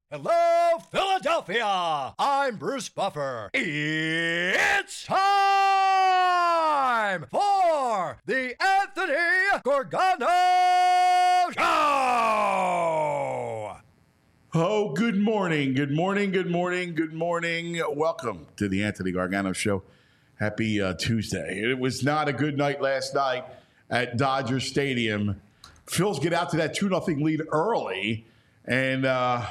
Hello, Philadelphia! I'm Bruce Buffer. It's time for the Anthony Gargano Show! Oh, good morning. Good morning. Good morning. Good morning. Welcome to the Anthony Gargano Show. Happy Tuesday. It was not a good night last night at Dodger Stadium. Phils get out to that 2-0 lead early, and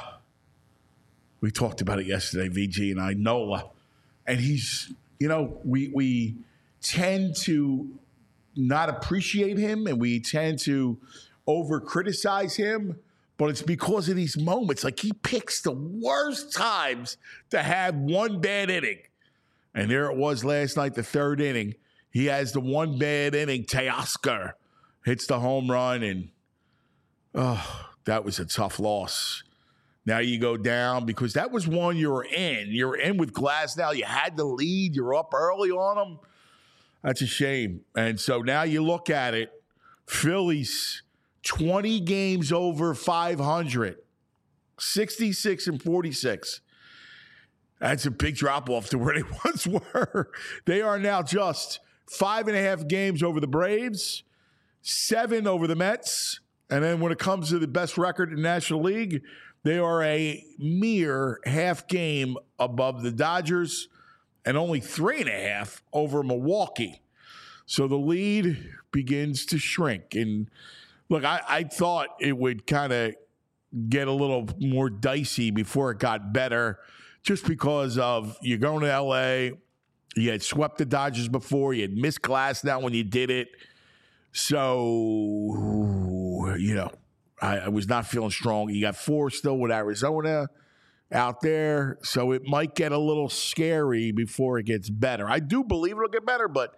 we talked about it yesterday, VG and I, Nola. And he's, we tend to not appreciate him and we tend to over-criticize him, but it's because of these moments. Like, he picks the worst times to have one bad inning. And there it was last night, the third inning. He has the one bad inning. Teoscar hits the home run, and that was a tough loss. Now you go down because that was one you were in. You were in with Glasnow. You had the lead. You're up early on them. That's a shame. And so now you look at it. Phillies, 20 games over 500, 66 and 46. That's a big drop-off to where they once were. They are now just 5.5 games over the Braves, 7 over the Mets. And then when it comes to the best record in the National League, they are a mere half game above the Dodgers and only 3.5 over Milwaukee. So the lead begins to shrink. And look, I thought it would kind of get a little more dicey before it got better, just because of you're going to L.A., you had swept the Dodgers before, you had missed Glasnow when you did it. So, I was not feeling strong. You got 4 still with Arizona out there, so it might get a little scary before it gets better. I do believe it'll get better, but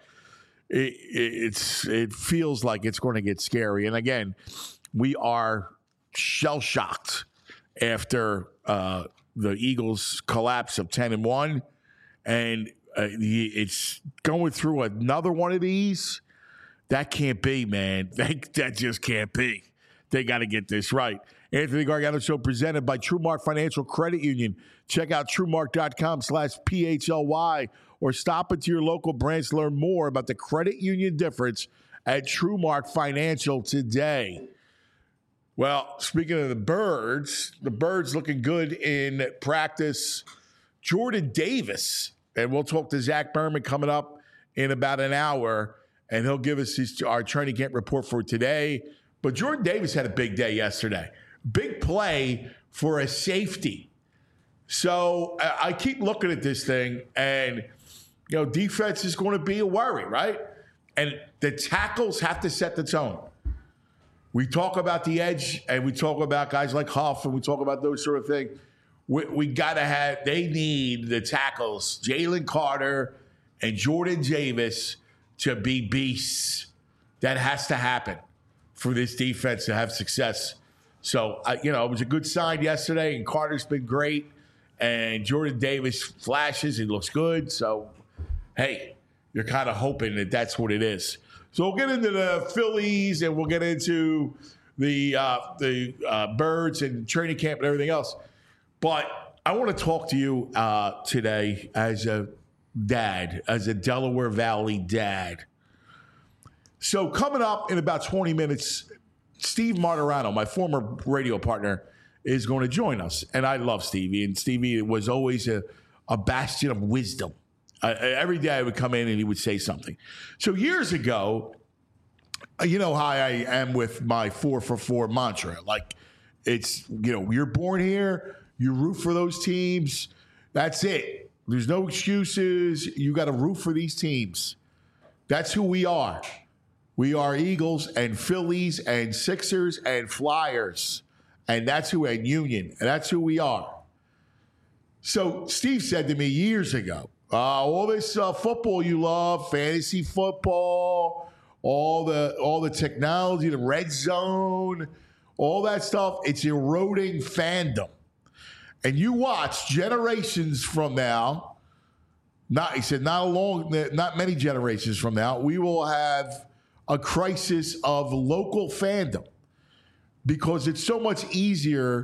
it feels like it's going to get scary. And again, we are shell-shocked after the Eagles' collapse of 10-1, and it's going through another one of these. That can't be, man. That just can't be. They got to get this right. Anthony Gargano Show presented by TrueMark Financial Credit Union. Check out TrueMark.com/PHLY or stop into your local branch to learn more about the credit union difference at TrueMark Financial today. Well, speaking of the Birds looking good in practice. Jordan Davis, and we'll talk to Zach Berman coming up in about an hour, and he'll give us our training camp report for today. But Jordan Davis had a big day yesterday. Big play for a safety. So I keep looking at this thing, and, defense is going to be a worry, right? And the tackles have to set the tone. We talk about the edge, and we talk about guys like Huff, and we talk about those sort of things. We got to they need the tackles, Jalen Carter and Jordan Davis, to be beasts. That has to happen for this defense to have success. So, it was a good sign yesterday, and Carter's been great, and Jordan Davis flashes. He looks good. So, hey, you're kind of hoping that that's what it is. So we'll get into the Phillies, and we'll get into the Birds and training camp and everything else. But I want to talk to you today as a dad, as a Delaware Valley dad. So coming up in about 20 minutes, Steve Martirano, my former radio partner, is going to join us. And I love Stevie. And Stevie was always a bastion of wisdom. Every day I would come in and he would say something. So years ago, you know how I am with my 4-for-4 mantra. Like, it's, you're born here, you root for those teams. That's it. There's no excuses. You got to root for these teams. That's who we are. We are Eagles and Phillies and Sixers and Flyers. And that's who, and Union. And that's who we are. So Steve said to me years ago, all this football you love, fantasy football, all the technology, the red zone, all that stuff, it's eroding fandom. And you watch generations from now, not many generations from now, we will have a crisis of local fandom, because it's so much easier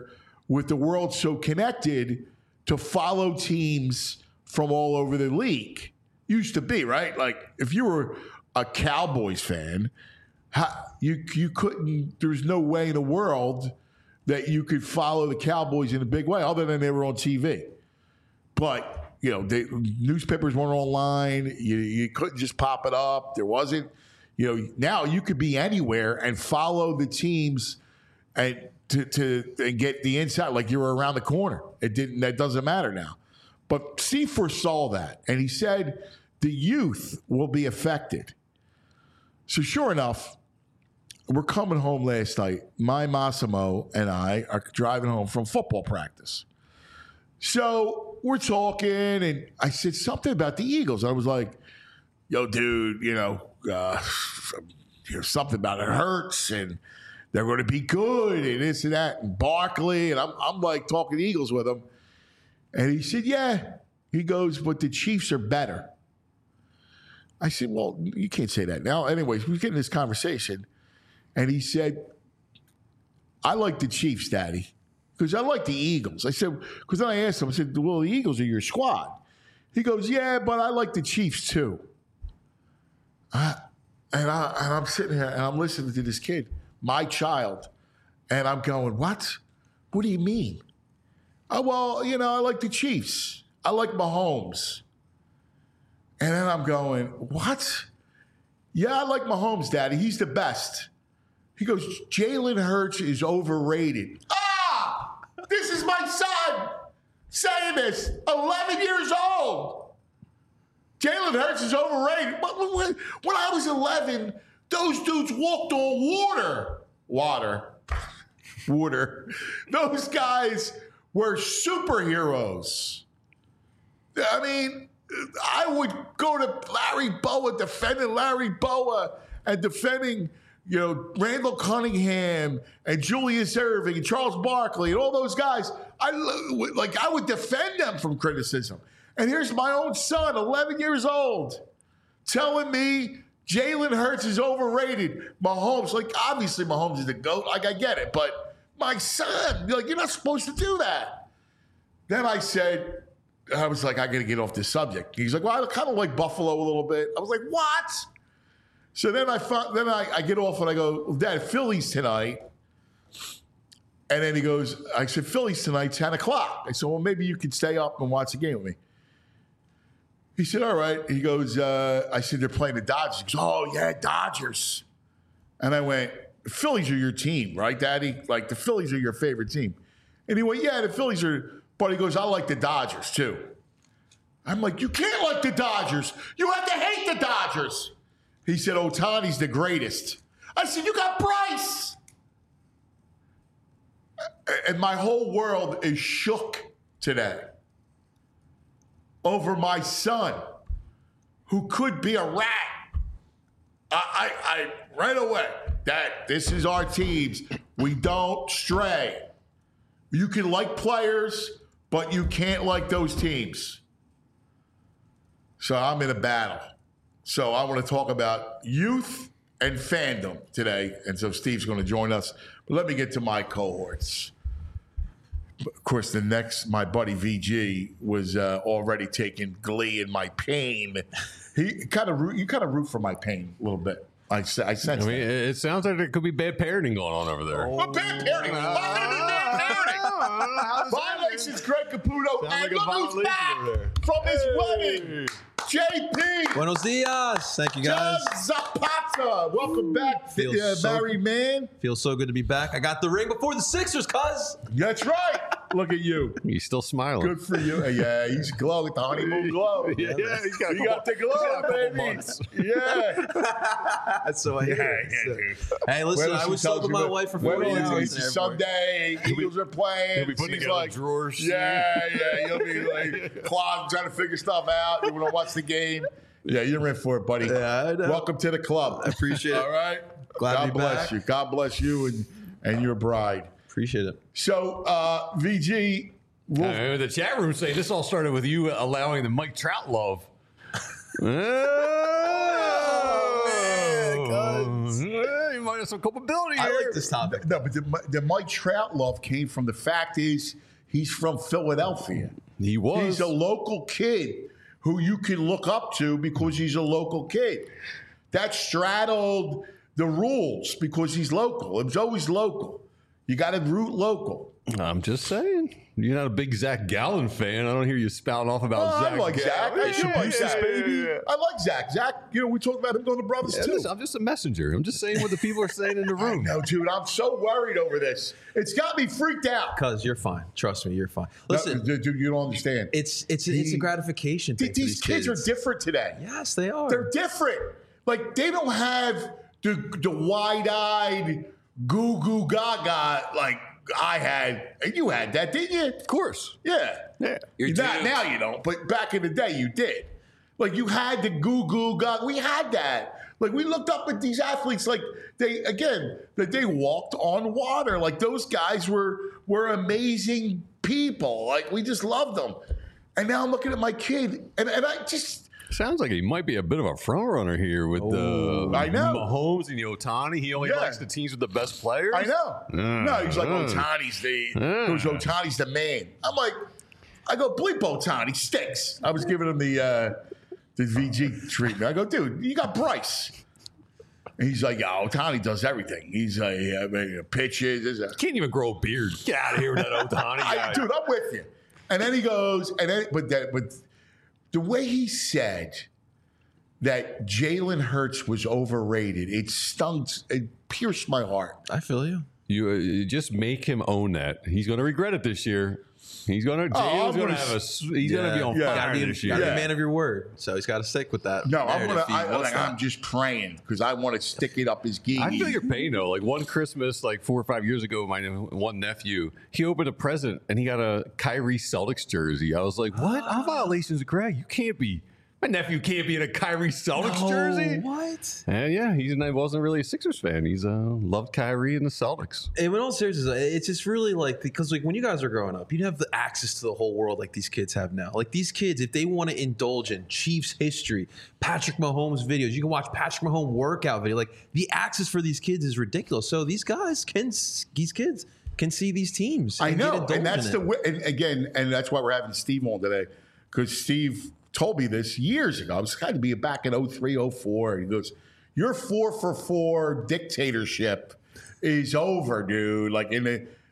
with the world so connected to follow teams from all over the league. Used to be, right? Like if you were a Cowboys fan, you couldn't, there's no way in the world that you could follow the Cowboys in a big way other than they were on TV. But, you know, newspapers weren't online. You couldn't just pop it up. There wasn't, you know, now you could be anywhere and follow the teams and and get the inside like you were around the corner. That doesn't matter now. But Steve foresaw that, and he said the youth will be affected. So sure enough, we're coming home last night. My Massimo and I are driving home from football practice. So we're talking, and I said something about the Eagles. I was like, yo, dude, something about it hurts, and they're going to be good, and this and that, and Barkley, and I'm like talking Eagles with him. And he said, yeah. He goes, but the Chiefs are better. I said, well, you can't say that now. Anyways, we get in this conversation, and he said, I like the Chiefs, Daddy, because I like the Eagles. I said, because then I asked him, I said, well, the Eagles are your squad. He goes, yeah, but I like the Chiefs too. And I'm sitting here, and I'm listening to this kid, my child, and I'm going, what? What do you mean? Oh, well, I like the Chiefs. I like Mahomes. And then I'm going, what? Yeah, I like Mahomes, Daddy. He's the best. He goes, Jalen Hurts is overrated. Ah! This is my son saying this, 11 years old. Jalen Hurts is overrated. When I was 11, those dudes walked on water. Those guys were superheroes. I mean, I would go to Larry Bowa, defending Larry Bowa and defending, Randall Cunningham and Julius Erving and Charles Barkley and all those guys. I would defend them from criticism. And here's my own son, 11 years old, telling me Jalen Hurts is overrated. Mahomes, obviously Mahomes is the GOAT. I get it. But my son, you're not supposed to do that. Then I was like, I got to get off this subject. He's like, well, I kind of like Buffalo a little bit. I was like, what? So then I get off and I go, well, Dad, Phillies tonight. And then he goes, I said, Phillies tonight, 10 o'clock. I said, well, maybe you could stay up and watch the game with me. He said, all right. He goes, I said, they're playing the Dodgers. He goes, oh, yeah, Dodgers. And I went, the Phillies are your team, right, Daddy? Like, the Phillies are your favorite team. And he went, yeah, the Phillies are, but he goes, I like the Dodgers, too. I'm like, you can't like the Dodgers. You have to hate the Dodgers. He said, Ohtani's the greatest. I said, you got Bryce. And my whole world is shook today over my son, who could be a rat. I right away, this is our teams. We don't stray. You can like players, but you can't like those teams. So I'm in a battle. So I want to talk about youth and fandom today. And so Steve's going to join us. But let me get to my cohorts. Of course, my buddy VG was already taking glee in my pain. You kind of root for my pain a little bit. I sense that. It sounds like there could be bad parenting going on over there. What bad parenting? Why would it be bad parenting? Violations, Greg Caputo. And look who's back from his wedding. JP. Buenos dias. Thank you, guys. John Zapata. Welcome back, married man. Feels so good to be back. I got the ring before the Sixers, cuz. That's right. Look at you. He's still smiling. Good for you. Yeah, he's glowing, the honeymoon glow. Yeah, he's got you got the glow, baby. Yeah. So hey, listen, I was sold with my wife for 40 hours. It's Sunday. Eagles are playing. He'll be putting together drawers. Yeah. You'll be like closet trying to figure stuff out. You want to watch the game. Yeah, you're in for it, buddy. Yeah, I know. Welcome to the club. I appreciate it. All right. Glad to be bless back. you. God bless you and your bride. Appreciate it. So, VG. The chat room saying this all started with you allowing the Mike Trout love. You might there's some culpability I here. like this topic. No, but the Mike Trout love came from the fact is he's from Philadelphia. He was. He's a local kid who you can look up to because he's a local kid. That straddled the rules because he's local. It was always local. You got to root local. I'm just saying. You're not a big Zach Gallen fan. I don't hear you spouting off about Zach. I like Zach. I support Zach, baby. I like Zach. Zach, we talked about him going to Brothers too. Listen, I'm just a messenger. I'm just saying what the people are saying in the room. No, dude, I'm so worried over this. It's got me freaked out. Cuz you're fine. Trust me, you're fine. Listen, No, dude, you don't understand. it's a gratification thing. These kids are different today. Yes, they are. They're different. Like, they don't have the wide-eyed, goo-goo gaga like I had. And you had that, didn't you? Of course. Yeah. You're Not due. now you don't, but back in the day you did. Like, you had the goo-goo gaga. We had that. Like, we looked up at these athletes like that they walked on water. Like, those guys were amazing people. Like, we just loved them. And now I'm looking at my kid, and I just... Sounds like he might be a bit of a front runner here with I know. Mahomes and the Otani. He only likes the teams with the best players. I know. No, he's like, Otani's the man. I'm like, I go, bleep Otani, stinks. I was giving him the VG treatment. I go, dude, you got Bryce. And he's like, yeah, Otani does everything. He's pitches. Can't even grow a beard. Get out of here with that Otani guy. Dude, I'm with you. And then he goes, but the way he said that Jalen Hurts was overrated, it pierced my heart. I feel you. You just make him own that. He's going to regret it this year. He's going to. Jalen's going to have He's going to be on fire this year. Gotta be a man of your word, so he's got to stick with that. No, narrative. I'm just praying because I want to stick it up his geese. I feel your pain though. Like one Christmas, like 4 or 5 years ago, my one nephew, he opened a present and he got a Kyrie Celtics jersey. I was like, "What? How violations of Greg? You can't be. My nephew can't be in a Kyrie Celtics jersey." What? And yeah, he wasn't really a Sixers fan. He's loved Kyrie and the Celtics. And in all seriousness, it's just really like, because like when you guys are growing up, you didn't have the access to the whole world like these kids have now. Like these kids, if they want to indulge in Chiefs history, Patrick Mahomes videos, you can watch Patrick Mahomes workout video. Like the access for these kids is ridiculous. So these kids can see these teams. I know, and that's and that's why we're having Steve on today, because Steve told me this years ago. I was kind of be back in 03, 04. He goes, your 4 for 4 dictatorship is over, dude. Like in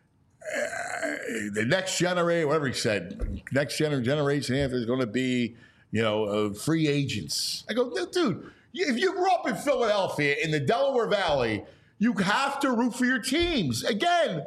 the next generation, whatever he said, next generation after is going to be, free agents. I go, dude, if you grew up in Philadelphia in the Delaware Valley, you have to root for your teams. Again,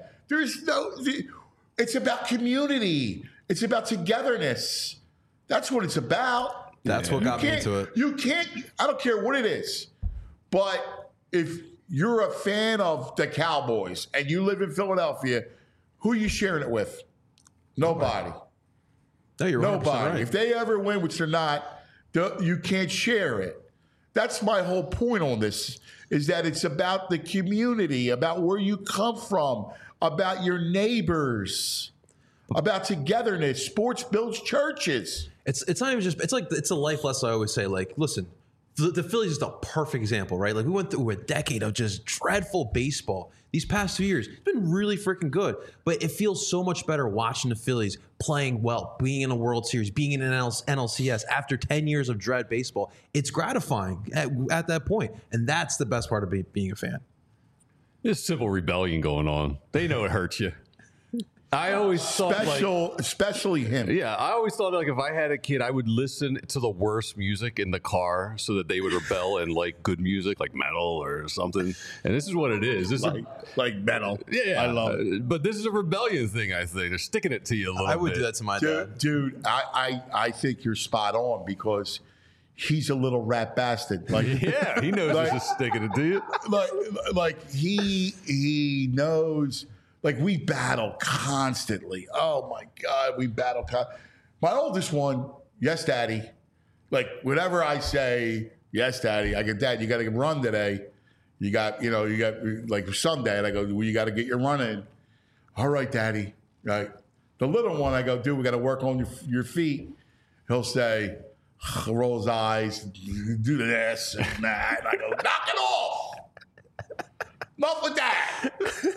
it's about community. It's about togetherness. That's what it's about. That's what got me into it. You can't, I don't care what it is, but if you're a fan of the Cowboys and you live in Philadelphia, who are you sharing it with? Nobody. No, you're Nobody. right. If they ever win, which they're not, you can't share it. That's my whole point on this, is that it's about the community, about where you come from, about your neighbors, about togetherness. Sports builds churches. It's not even just, it's a life lesson I always say, like, listen, the Phillies is the perfect example, right? Like we went through a decade of just dreadful baseball. These past 2 years, it's been really freaking good, but it feels so much better watching the Phillies playing well, being in a World Series, being in an NLCS after 10 years of dread baseball. It's gratifying at that point, and that's the best part of being a fan. There's civil rebellion going on. They know it hurts you. I always thought, especially him. Yeah, I always thought like if I had a kid, I would listen to the worst music in the car so that they would rebel and like good music, like metal or something. And this is what it is. This is like metal. Yeah, I love it. But this is a rebellion thing. I think they're sticking it to you a little bit. I would do that to my dad. Dude, I think you're spot on because he's a little rat bastard. Like, yeah, he knows this is sticking it to you. Like he knows. Like, we battle constantly. Oh, my God, we battle. My oldest one, yes, Daddy. Like, whenever I say, yes, Daddy, I go, Dad, you got to run today. You got, like, Sunday. And I go, well, you got to get your run in. All right, Daddy. Right. The little one, I go, dude, we got to work on your feet. He'll say, roll his eyes, do this and that. And I go, knock it off. Enough with that.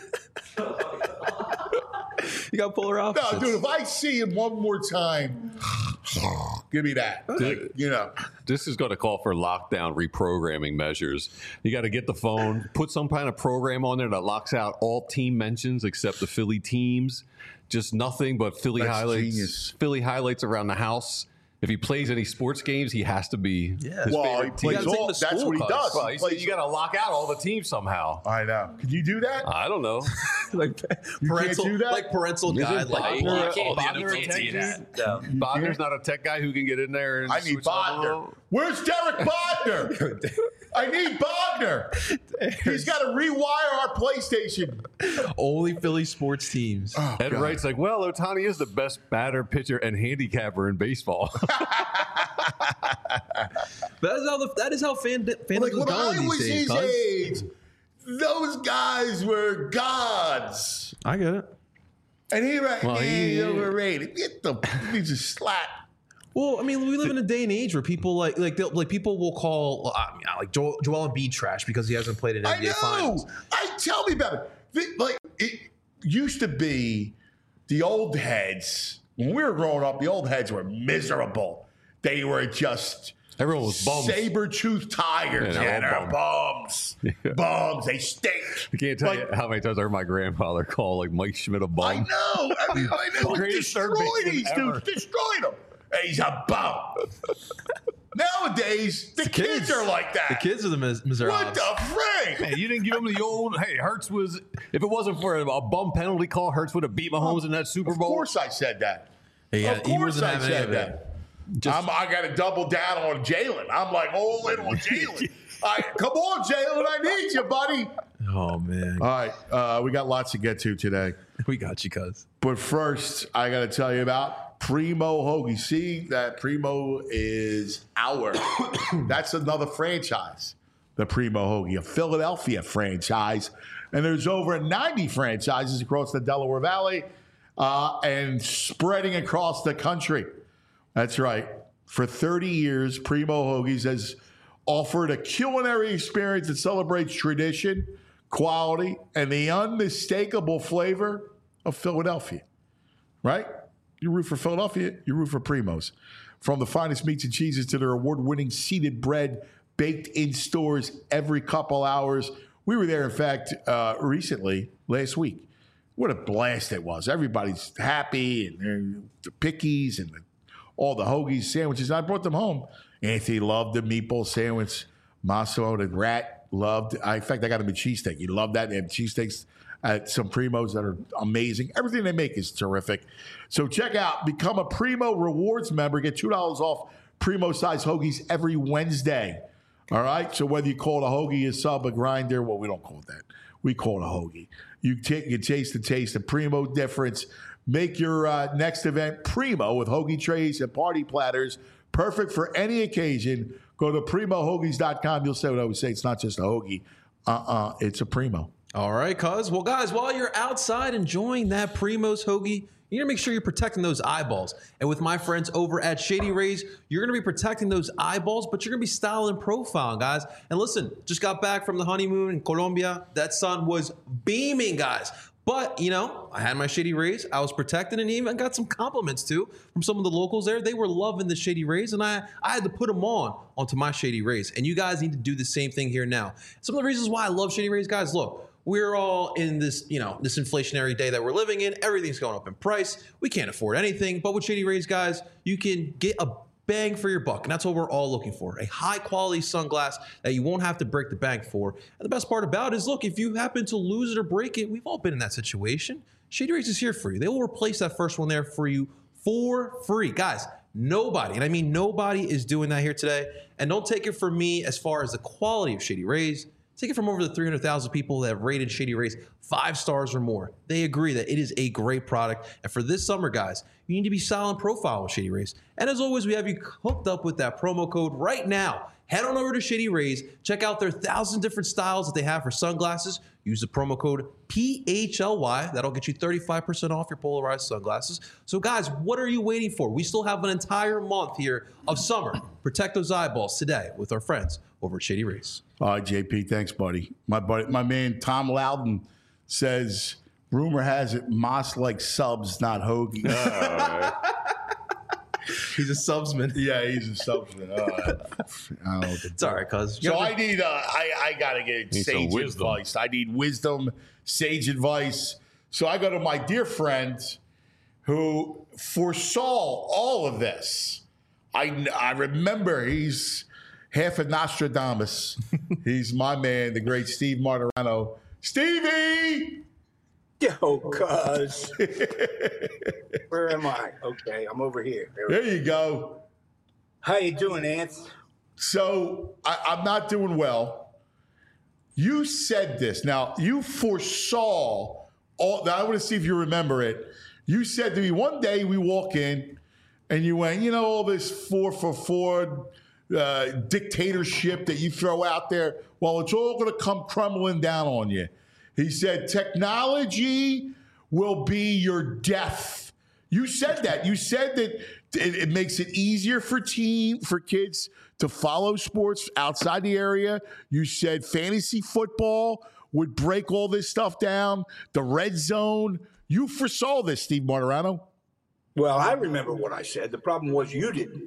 You got polar opposites. No, dude, if I see him one more time, give me that. You know. This is going to call for lockdown reprogramming measures. You got to get the phone, put some kind of program on there that locks out all team mentions except the Philly teams. Just nothing but Philly That's highlights. genius. Philly highlights around the house. If he plays any sports games, he has to be. Yeah. his Well, favorite he team. plays gotta take all. him to That's school, what he cuz. does. Well, He he said plays- you got to lock out all the teams somehow. I know. Can you do that? I don't know. Like You parental, can't do that? like parental Isn't guidelines. Bodner- You can't- Bodner you a can't tech do dude? that. No. Bodner's not a tech guy who can get in there and I need switch it up a Bodner. little? Where's Derek Bodner? I need Bodner. He's got to rewire our PlayStation. Only Philly sports teams. Ed God. Wright's like, well, Ohtani is the best batter, pitcher, and handicapper in baseball. That is how fandom Like is when I going was these days. his Cuz. age, those guys were gods. I get it. And he right, Well, he- overrated. Get the he's a slap. Well, I mean, we live in a day and age where people like people will call like Joel Embiid trash because he hasn't played in I NBA know. Finals. Tell me about it. Like it used to be, the old heads when we were growing up. The old heads were miserable. They were just Everyone was bummed. saber-toothed tigers. Yeah, Yeah, they're all they're bums. Bums. They stink. I can't tell Like, you how many times I heard my grandfather call like Mike Schmidt a bum. I know. I mean, they Greatest third destroyed baseman these ever. dudes. Destroyed them. He's a bum. Nowadays, the kids are like that. The kids are the miserables. What the frick? Man, you didn't give him the old, hey, Hurts was, if it wasn't for a bum penalty call, Hurts would have beat Mahomes in that Super Of Bowl. course I said that. Yeah, Of he course wasn't I having any said of it. that. I got to double down on Jalen. I'm like all in on Jalen. Come on, Jalen. I need you, buddy. Oh man, All right. We got lots to get to today. we got you, cuz. But first, I got to tell you about Primo Hoagie. See that Primo is our. That's another franchise, the Primo Hoagie, a Philadelphia franchise. And there's over 90 franchises across the Delaware Valley and spreading across the country. That's right. For 30 years, Primo Hoagies has offered a culinary experience that celebrates tradition, quality, and the unmistakable flavor of Philadelphia. Right? You root for Philadelphia, you root for Primo's. From the finest meats and cheeses to their award-winning seeded bread baked in stores every couple hours. We were there, in fact, recently, last week. What a blast it was. Everybody's happy, and the pickies and all the hoagies, sandwiches. I brought them home. Anthony loved the meatball sandwich. Massimo, the rat, loved. In fact, I got him a cheesesteak. He loved that. They have cheesesteaks at some Primos that are amazing. Everything they make is terrific. So check out, become a Primo Rewards member. Get $2 off Primo-size hoagies every Wednesday. All right? So whether you call it a hoagie, a sub, a grinder, well, we don't call it that. We call it a hoagie. You taste the taste, the Primo difference. Make your next event Primo with hoagie trays and party platters. Perfect for any occasion. Go to PrimoHoagies.com. You'll say what I always say. It's not just a hoagie. It's a Primo. All right, cuz. Well, guys, while you're outside enjoying that Primo's hoagie, you got to make sure you're protecting those eyeballs. And with my friends over at Shady Rays, you're going to be protecting those eyeballs, but you're going to be styling and profiling, guys. And listen, just got back from the honeymoon in Colombia. That sun was beaming, guys. But, you know, I had my Shady Rays. I was protected and even got some compliments, too, from some of the locals there. They were loving the Shady Rays, and I had to put them onto my Shady Rays. And you guys need to do the same thing here now. Some of the reasons why I love Shady Rays, guys, look. We're all in this, this inflationary day that we're living in. Everything's going up in price. We can't afford anything. But with Shady Rays, guys, you can get a bang for your buck. And that's what we're all looking for. A high quality sunglass that you won't have to break the bank for. And the best part about it is, look, if you happen to lose it or break it, we've all been in that situation. Shady Rays is here for you. They will replace that first one there for you for free. Guys, nobody, and I mean nobody, is doing that here today. And don't take it from me as far as the quality of Shady Rays. Take it from over the 300,000 people that have rated Shady Rays 5 stars or more. They agree that it is a great product. And for this summer, guys, you need to be silent profile with Shady Rays. And as always, we have you hooked up with that promo code right now. Head on over to Shady Rays. Check out their 1,000 different styles that they have for sunglasses. Use the promo code PHLY. That'll get you 35% off your polarized sunglasses. So, guys, what are you waiting for? We still have an entire month here of summer. Protect those eyeballs today with our friends over at Shady Rays. All right, JP, thanks, buddy. My man Tom Loudon says, rumor has it Moss likes subs, not hoagies. He's a subsman. Yeah, he's a subsman. I don't know. It's all right, cuz. So I need, I got to get Need some sage wisdom. advice. I need wisdom, sage advice. So I go to my dear friend who foresaw all of this. I remember he's half a Nostradamus. He's my man, the great Steve Martirano. Stevie! Yo, cuz. Where am I? Okay, I'm over here. There you go. How you doing, Ant? So I'm not doing well. You said this. Now, you foresaw all. Now, I want to see if you remember it. You said to me one day we walk in and you went, all this 4-for-4 dictatorship that you throw out there, well, it's all going to come crumbling down on you. He said, technology will be your death. You said that. You said that it makes it easier for kids to follow sports outside the area. You said fantasy football would break all this stuff down, the red zone. You foresaw this, Steve Martirano. Well, I remember what I said. The problem was you didn't.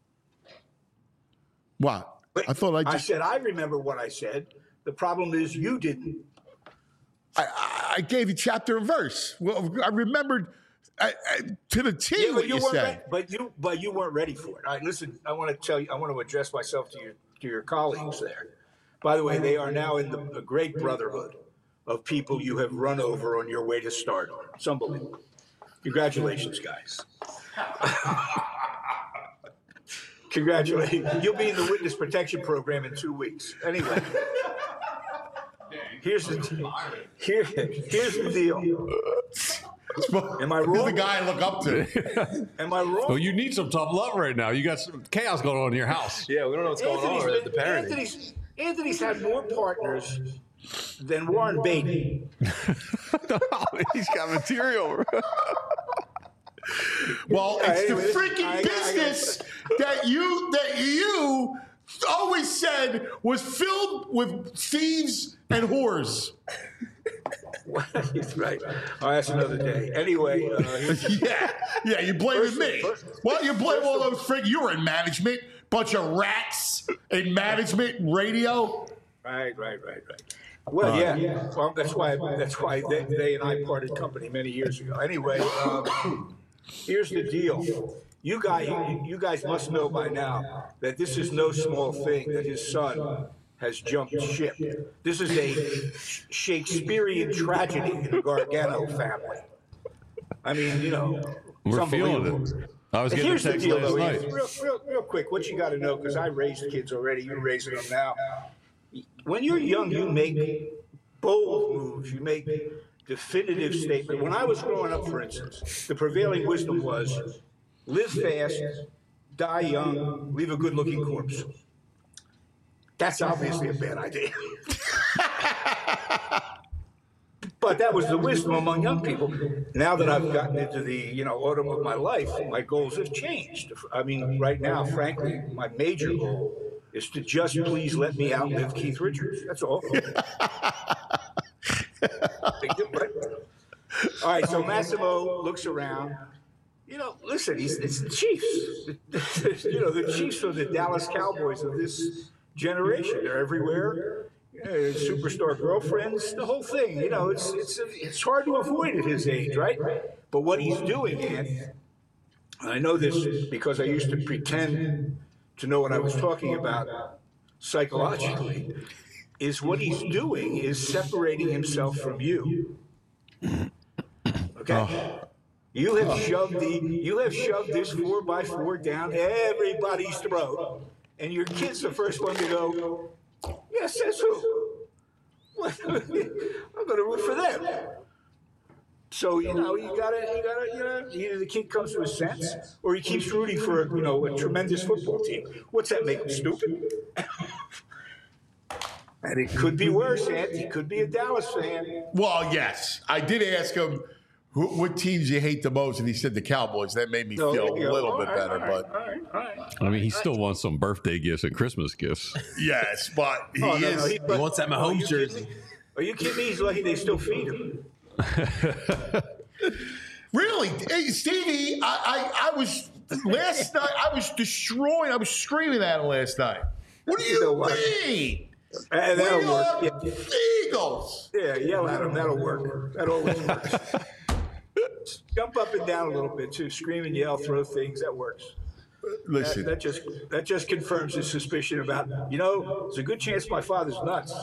What? I thought I said I remember what I said. The problem is you didn't. I gave you chapter and verse. Well, I remembered to the T what you said. But you weren't ready for it. All right, listen. I want to tell you. I want to address myself to your colleagues there. By the way, they are now in the great brotherhood of people you have run over on your way to stardom. It's unbelievable. Congratulations, guys. Congratulations. You'll be in the witness protection program in 2 weeks. Anyway. Here's the deal. Am I wrong? He's the guy I look up to. Am I wrong? Well, you need some tough love right now. You got some chaos going on in your house. Yeah, we don't know what's going on with the parenting. Anthony's had more partners than Warren Beatty. He's got material. Well, it's the freaking business that you always said was filled with thieves and whores. That's right. Oh, that's another day. Anyway. Yeah, you blaming me. Well, you blame all those you were in management. Bunch of rats in management and radio. Right. Well, yeah. Well, that's why they and I parted company many years ago. Anyway, here's the deal. You guys must know by now that this is no small thing that his son has jumped ship. This is a Shakespearean tragedy in the Gargano family. I mean, We're feeling it. I was getting a Here's the text deal, last though, night. Ian. Real quick, what you got to know, because I raised kids already, you're raising them now. When you're young, you make bold moves. You make definitive statements. When I was growing up, for instance, the prevailing wisdom was live fast, die young, leave a good-looking corpse. That's obviously a bad idea. But that was the wisdom among young people. Now that I've gotten into the autumn of my life, my goals have changed. I mean, right now, frankly, my major goal is to just please let me outlive Keith Richards. That's all. All right, so Massimo looks around. Listen, it's the Chiefs. The Chiefs are the Dallas Cowboys of this generation. They're everywhere. Superstar girlfriends, the whole thing. It's hard to avoid at his age, right? But what he's doing, and I know this because I used to pretend to know what I was talking about psychologically, is what he's doing is separating himself from you. Okay? You have shoved this 4x4 down everybody's throat, and your kid's the first one to go, yes, says who? I'm going to root for them. So, you gotta, either the kid comes to his sense or he keeps rooting for, a tremendous football team. What's that make him stupid? And it could be worse, Ant. He could be a Dallas fan. Well, yes. I did ask him what teams you hate the most, and he said the Cowboys. That made me feel a little bit better. But I mean, he still wants some birthday gifts and Christmas gifts. yes, but he is. He wants that Mahomes jersey. Are you kidding me? He's lucky they still feed him. Really, hey, Stevie, I was last night. I was screaming at him last night. What do you mean? That'll work. The Eagles. Yeah, yell at him. That'll work. That always works. Jump up and down a little bit too. Scream and yell, throw things. That works. Listen, That just confirms his suspicion about, there's a good chance my father's nuts.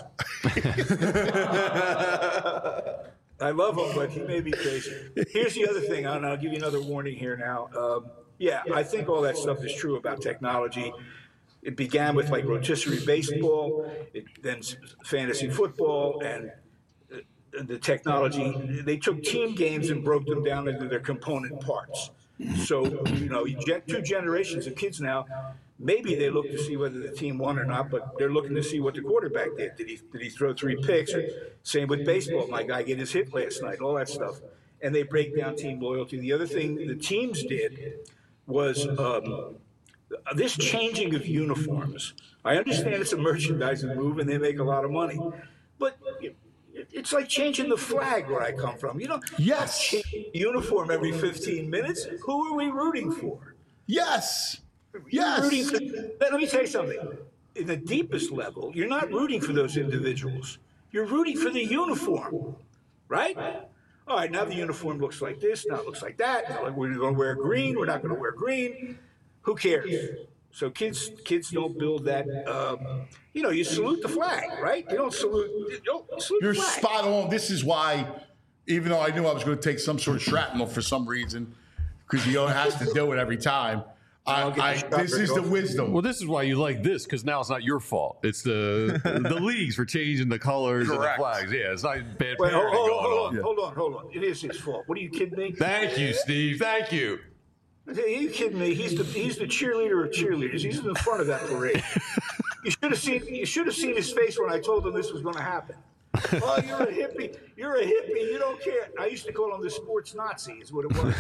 I love him, but he may be crazy. Here's the other thing, and I'll give you another warning here now. I think all that stuff is true about technology. It began with like rotisserie baseball, then fantasy football, and the technology. They took team games and broke them down into their component parts. So, you get 2 generations of kids now. Maybe they look to see whether the team won or not, but they're looking to see what the quarterback did. Did he throw 3 picks? Or same with baseball. My guy get his hit last night, all that stuff. And they break down team loyalty. The other thing the teams did was this changing of uniforms. I understand it's a merchandising move and they make a lot of money, but it's like changing the flag where I come from. Yes. Change the uniform every 15 minutes. Who are we rooting for? yes. Let me tell you something. In the deepest level, you're not rooting for those individuals. You're rooting for the uniform, right? All right, now the uniform looks like this, now it looks like that. Now we're going to wear green, we're not going to wear green. Who cares? So kids don't build that. You salute the flag, right? You don't salute. You're the flag. spot on. This is why, even though I knew I was going to take some sort of shrapnel for some reason, because he has to do it every time. This is the wisdom. Well, this is why you like this, because now it's not your fault. It's the leagues for changing the colors and the Correct. flags. Yeah, it's not bad Wait, parenting going on. hold on. It is his fault. What are you kidding me? Thank you, Steve. Thank you. Are you kidding me? He's the cheerleader of cheerleaders. He's in the front of that parade. You should have seen his face when I told him this was going to happen. Oh, you're a hippie. You're a hippie. You don't care. I used to call him the sports Nazi, is what it was.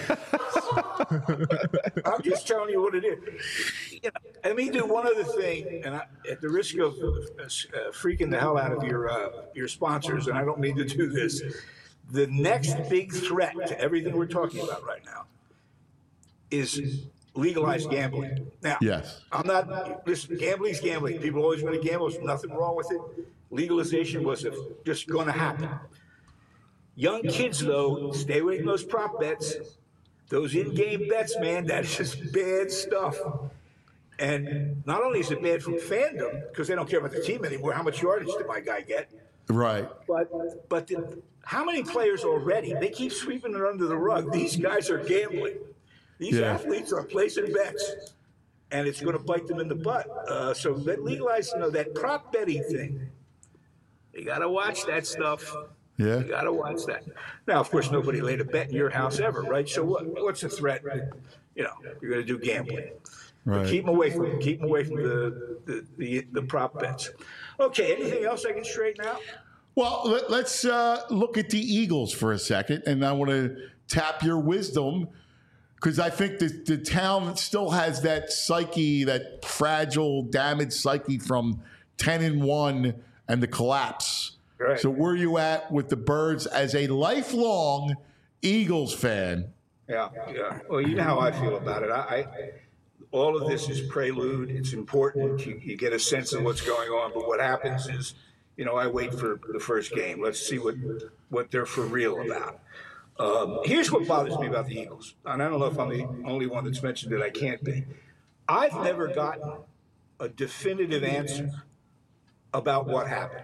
I'm just telling you what it is. Let me do one other thing, and at the risk of freaking the hell out of your sponsors, and I don't mean to do this, the next big threat to everything we're talking about right now is legalized gambling. Now, Yes. listen, gambling's gambling. People always want to gamble. There's nothing wrong with it. Legalization was just going to happen. Young kids, though, stay away from those prop bets. Those in-game bets, man, that is just bad stuff. And not only is it bad from fandom, because they don't care about the team anymore, how much yardage did my guy get? Right. But how many players already? They keep sweeping it under the rug. These guys are gambling. These athletes are placing bets, and it's going to bite them in the butt. So legalize, that prop betting thing. You got to watch that stuff. Yeah. You got to watch that. Now, of course, nobody laid a bet in your house ever, right? So what's the threat? You're going to do gambling. Right. Keep them away from it. Keep them away from the prop bets. Okay, anything else I can straighten out? Well, let's look at the Eagles for a second, and I want to tap your wisdom because I think the town still has that psyche, that fragile, damaged psyche from 10-1 and the collapse. Right. So where are you at with the Birds as a lifelong Eagles fan? Yeah. Well, you know how I feel about it. All of this is prelude. It's important. You get a sense of what's going on. But what happens is, I wait for the first game. Let's see what they're for real about. Here's what bothers me about the Eagles. And I don't know if I'm the only one that's mentioned it. I can't be. I've never gotten a definitive answer about what happened.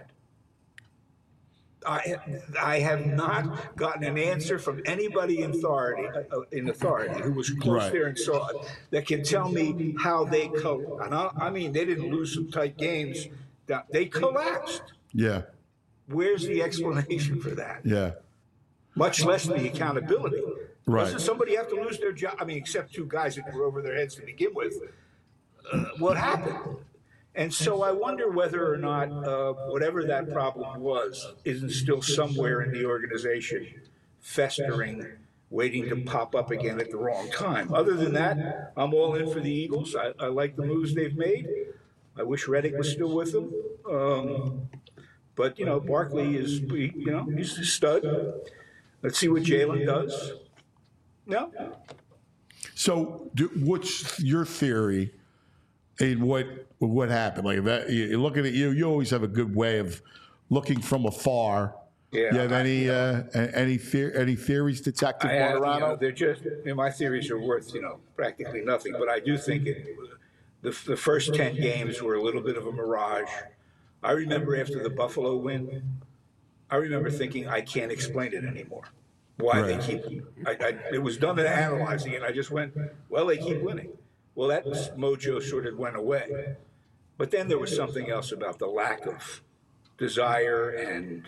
I have not gotten an answer from anybody in authority who was close there and saw it that can tell me how they I mean, they didn't lose some tight games. They collapsed. Yeah. Where's the explanation for that? Yeah. Much less the accountability. Right. Doesn't somebody have to lose their job? I mean, except 2 guys that were over their heads to begin with. What happened? And so I wonder whether or not whatever that problem was isn't still somewhere in the organization, festering, waiting to pop up again at the wrong time. Other than that, I'm all in for the Eagles. I like the moves they've made. I wish Reddick was still with them. But, you know, Barkley is, you know, he's a stud. Let's see what Jalen does. No? So, what's your theory in what happened? Like that, you're looking at you always have a good way of looking from afar. Yeah. You have any theories, Detective Martirano? You know, they're just, you know, my theories are worth, you know, practically nothing. But I do think the first 10 games were a little bit of a mirage. I remember after the Buffalo win, I remember thinking, I can't explain it anymore. Why they keep, it was done in analyzing it. I just went, well, they keep winning. Well, that mojo sort of went away. But then there was something else about the lack of desire and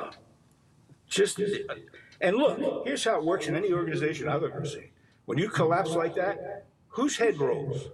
and look, here's how it works in any organization I've ever seen. When you collapse like that, whose head rolls?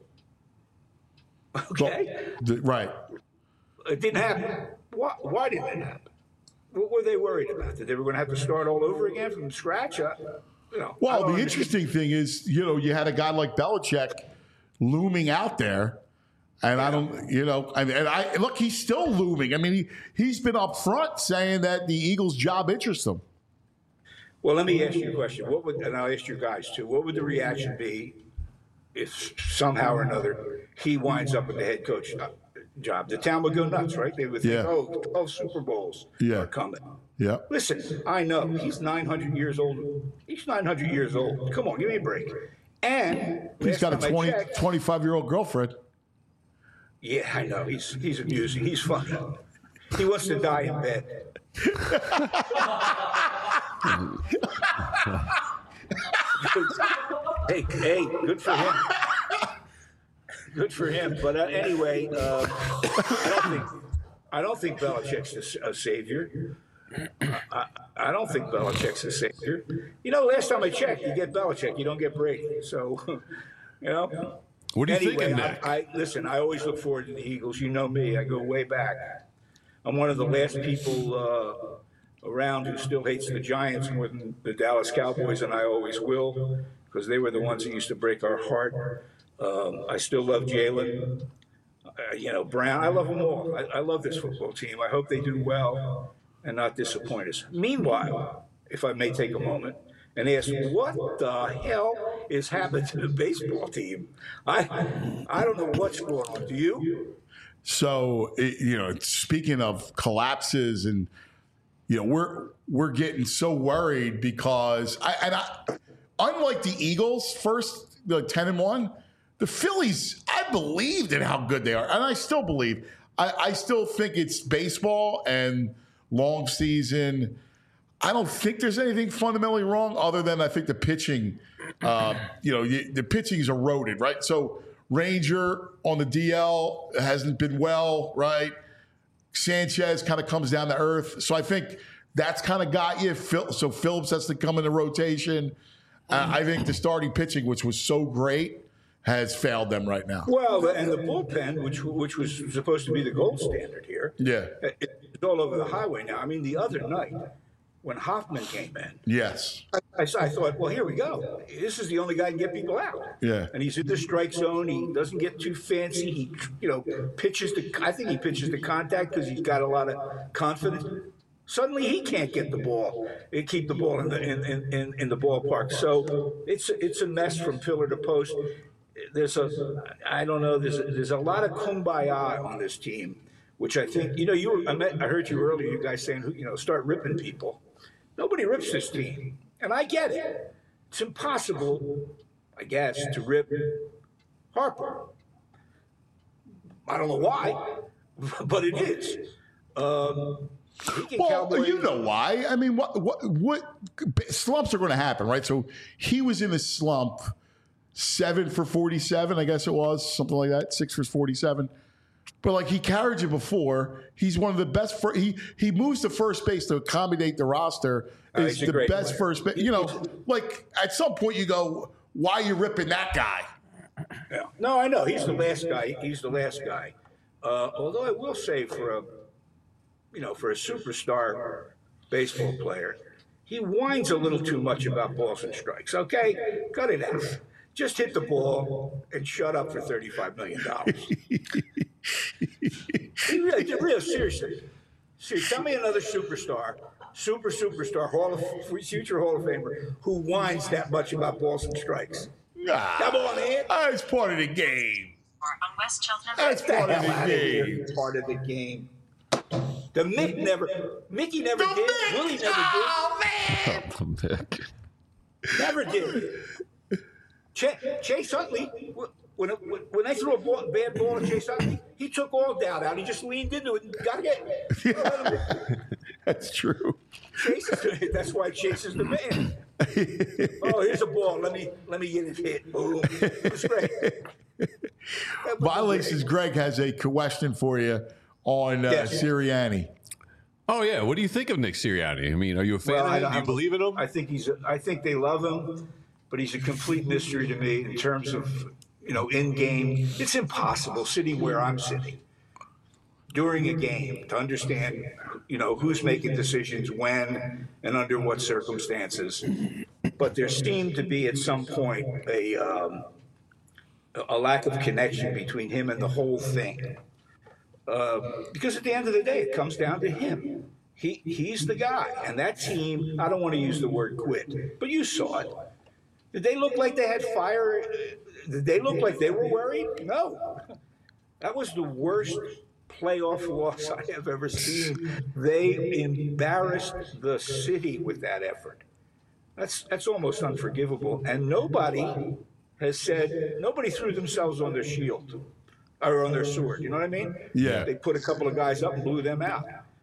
Okay? Right. It didn't happen. Why didn't it happen? What were they worried about? That they were going to have to start all over again from scratch? You know, well, the interesting thing is, you know, you had a guy like Belichick looming out there, and I don't, you know, I look, he's still looming. I mean, he's been up front saying that the Eagles' job interests him. Well, let me ask you a question. And I'll ask you guys too. What would the reaction be if somehow or another he winds up with the head coach job? The town would go nuts, right? They would think, oh, 12 Super Bowls are coming. Yeah. Listen, I know he's 900 years old. He's 900 years old. Come on, give me a break. And he's got a 25-year-old girlfriend. Yeah, I know. He's amusing. He's fun. He wants to die in bed. hey, good for him. Good for him. But anyway, I don't think Belichick's a savior. I don't think Belichick's a savior. You know, last time I checked, you get Belichick, you don't get Brady. So, you know. What are you anyway, thinking, Nick? Listen, I always look forward to the Eagles. You know me. I go way back. I'm one of the last people around who still hates the Giants more than the Dallas Cowboys, and I always will, because they were the ones that used to break our heart. I still love Jalen. You know, Brown. I love them all. I love this football team. I hope they do well and not disappoint us. Meanwhile, if I may take a moment and ask, what the hell is happening to the baseball team? I don't know what's going on. Do you? So, you know, speaking of collapses, and you know, we're getting so worried because unlike the Eagles, first the 10-1, the Phillies, I believed in how good they are, and I still believe. I still think it's baseball and long season. I don't think there's anything fundamentally wrong, other than I think the pitching. You know, the pitching is eroded, right? So Ranger on the DL hasn't been well, right? Sanchez kind of comes down to earth. So I think that's kind of got you. So Phillips has to come in the rotation. I think the starting pitching, which was so great, has failed them right now. Well, and the bullpen, which was supposed to be the gold standard here, it's all over the highway now. I mean, the other night when Hoffman came in, yes, I thought, well, here we go. This is the only guy who can get people out. Yeah, and he's in the strike zone. He doesn't get too fancy. He, you know, pitches the. I think he pitches the contact because he's got a lot of confidence. Suddenly, he can't get the ball and keep the ball in the ballpark. So it's a mess from pillar to post. There's a lot of kumbaya on this team, which I think, you know, I heard you earlier, you guys saying, you know, start ripping people. Nobody rips this team, and I get it. It's impossible, I guess, to rip Harper. I don't know why, but it is. Well, you know why. I mean, what slumps are going to happen, right? So he was in a slump, 7 for 47, I guess it was, something like that, 6 for 47. But like, he carried you before. He's one of the best. He moves to first base to accommodate the roster. Is the best player. First base. You know, like at some point you go, why are you ripping that guy? Yeah. No, I know he's the last guy. He's the last guy. Although I will say for a superstar baseball player, he whines a little too much about balls and strikes. Okay, cut it out. Just hit the ball and shut up for $35 million. Real seriously. Tell me another superstar, future Hall of Famer, who whines that much about balls and strikes. Come on, man. It's part of the game. On West Cheltenham. That's part of the game. Part of the game. Mickey never did. Willie never did. Oh, man. Mick. Never did. Chase Utley, when they threw a bad ball at Chase Utley, he took all doubt out. He just leaned into it and got it. That's true. That's why Chase is the man. Oh, here's a ball. Let me get it hit. Boom. It's great. Violations Greg has a question for you on Sirianni. Oh yeah, what do you think of Nick Sirianni? I mean, are you a fan of him? Do you believe in him? I think they love him, but he's a complete mystery to me in terms of in game. It's impossible sitting where I'm sitting during a game to understand who's making decisions when and under what circumstances. But there seemed to be at some point a lack of connection between him and the whole thing. Because at the end of the day, it comes down to him. He's the guy. And that team, I don't want to use the word quit, but you saw it. Did they look like they had fire? Did they look like they were worried? No. That was the worst playoff loss I have ever seen. They embarrassed the city with that effort. That's almost unforgivable. And nobody threw themselves on their shield or on their sword. You know what I mean? Yeah. They put a couple of guys up and blew them out.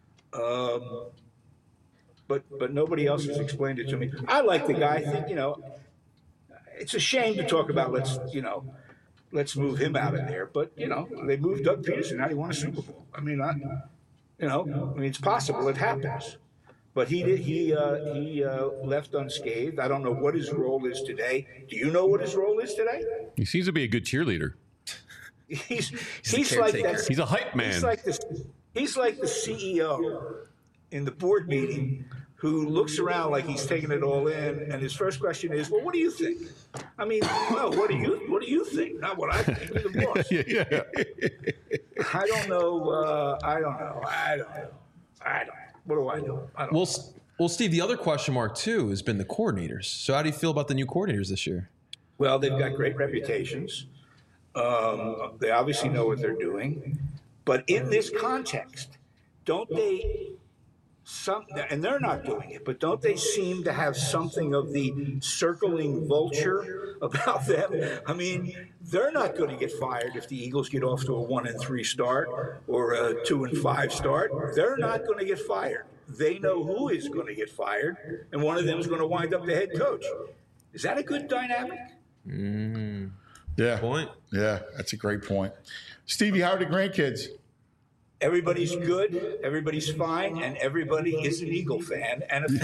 But nobody else has explained it to me. I like the guy. I think, it's a shame to talk about let's move him out of there. But, they moved Doug Peterson. How do you want a Super Bowl? I mean, it's possible. It happens. But he left unscathed. I don't know what his role is today. Do you know what his role is today? He seems to be a good cheerleader. He's like that. He's a hype man. He's like the CEO in the board meeting who looks around like he's taking it all in, and his first question is, "Well, what do you think?" I mean, no, what do you think? Not what I think. You're the boss. Yeah. I don't know. I don't know. What do I know? I don't know. Well, Steve, the other question mark too has been the coordinators. So how do you feel about the new coordinators this year? Well, they've got great reputations. They obviously know what they're doing. But in this context, don't they, and they're not doing it, but don't they seem to have something of the circling vulture about them? I mean, they're not going to get fired if the Eagles get off to a 1-3 start or a 2-5 start. They're not going to get fired. They know who is going to get fired, and one of them is going to wind up the head coach. Is that a good dynamic? Yeah. Point. Yeah, that's a great point. Stevie, how are the grandkids? Everybody's good, everybody's fine, and everybody is an Eagle fan and a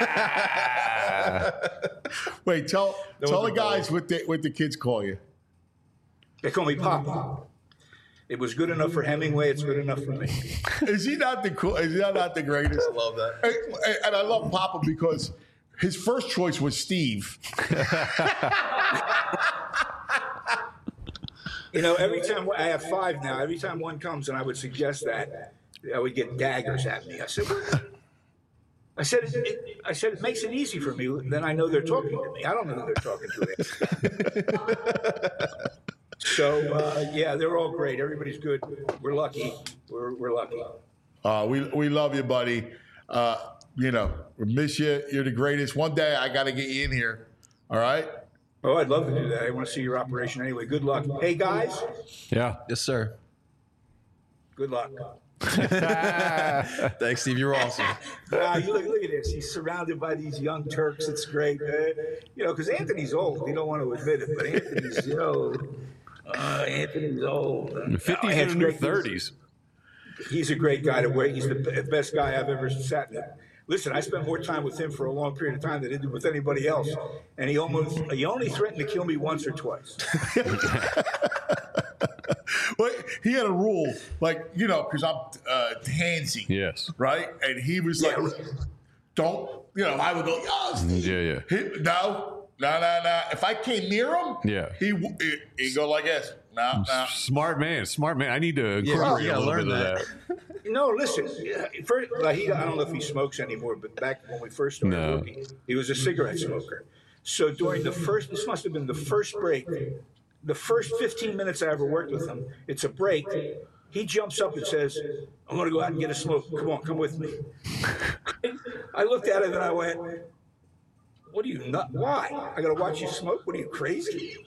Phillies. Wait, tell the guys what the kids call you. They call me Papa. It was good enough for Hemingway. It's good enough for me. Is he not the greatest? I love that. And I love Papa because his first choice was Steve. Every time I have 5 now, every time one comes and I would suggest that, I would get daggers at me. I said, it makes it easy for me. Then I know they're talking to me. I don't know who they're talking to. So yeah, they're all great. Everybody's good. We're lucky. We're lucky. We love you, buddy. We miss you. You're the greatest. One day I got to get you in here. All right. Oh, I'd love to do that. I want to see your operation anyway. Good luck. Hey, guys. Yeah. Yes, sir. Good luck. Thanks, Steve. You're awesome. You look at this. He's surrounded by these young Turks. It's great. Because Anthony's old. You don't want to admit it, but Anthony's, Anthony's old. 50s and new 30s. He's a great guy to wear. He's the best guy I've ever sat in. Listen, I spent more time with him for a long period of time than I did with anybody else, and he only threatened to kill me once or twice. Well, he had a rule, like, because I'm handsy. Yes. Right? And he was like, don't, I would go, Yeah. no. If I came near him, Yeah. he'd go like this. No. Smart man. I need to incorporate a little bit of that. No, listen. First, I don't know if he smokes anymore, but back when we first started working, he was a cigarette smoker. So during this must have been the first break, the first 15 minutes I ever worked with him. It's a break. He jumps up and says, "I'm going to go out and get a smoke. Come with me." I looked at him and I went, "What are you not? Why? I got to watch you smoke? What are you, crazy?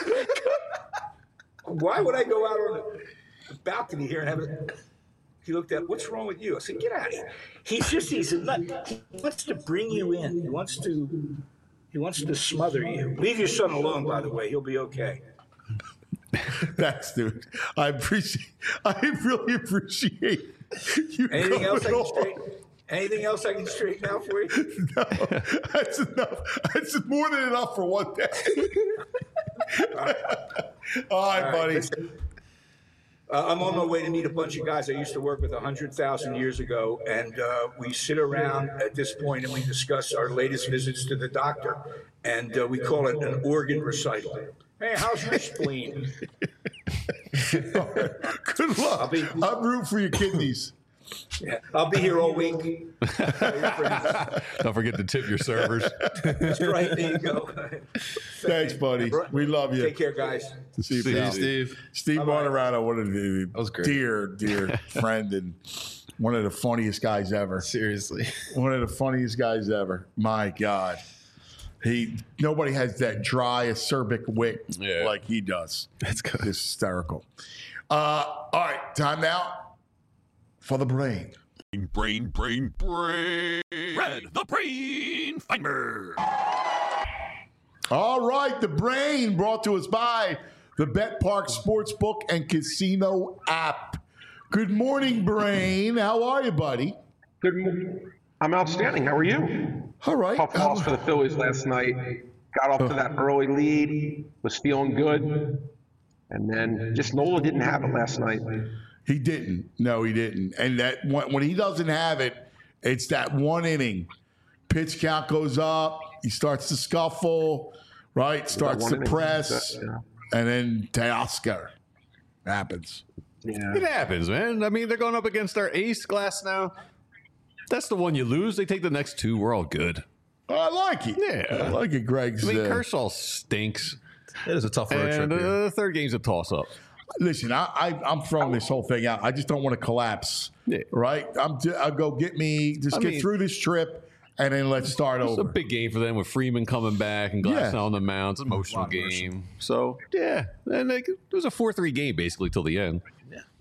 Why would I go out on the balcony here and have it?" He looked at, "What's wrong with you?" I said, "Get out of here." He's a nut. He wants to bring you in. He wants to smother you. Leave your son alone, by the way. He'll be okay. Thanks, dude. I really appreciate you. Anything else I can straighten out for you? No, that's enough. That's more than enough for one day. All right, buddy. Listen, I'm on my way to meet a bunch of guys I used to work with 100,000 years ago, and we sit around at this point and we discuss our latest visits to the doctor, and we call it an organ recital. Hey, how's your spleen? Good luck. I'm rooting for your kidneys. Yeah, I'll be here all week. Don't forget to tip your servers. That's right. There you go. Thanks, buddy. We love you. Take care, guys. See you, pal. Steve. Steve Martirano, what a was great. dear friend and one of the funniest guys ever. Seriously. One of the funniest guys ever. My God. Nobody has that dry, acerbic wit like he does. That's good. It's hysterical. All right, time now for the brain. Brain. Red, the brain finder. All right, the brain brought to us by the Bet Park Sportsbook and Casino app. Good morning, Brain. How are you, buddy? Good morning. I'm outstanding. How are you? All right. Tough loss for the Phillies last night. Got off to that early lead. Was feeling good. And then just Nola didn't have it last night. He didn't. No, he didn't. And that when he doesn't have it, it's that one inning. Pitch count goes up. He starts to scuffle, right? Starts to press. And then Teoscar happens. Yeah. It happens, man. I mean, they're going up against our ace Glass now. That's the one you lose. They take the next two. We're all good. I like it. Yeah. I like it, Greg's. I mean, Kershaw stinks. It is a tough road trip And here. the third game's a toss-up. Listen, I'm throwing this whole thing out. I just don't want to collapse, right? I'll go get through this trip, and then let's start It's over. a big game for them with Freeman coming back and Glass on the mound. It's an emotional game. So, yeah. And it was a 4-3 game basically till the end.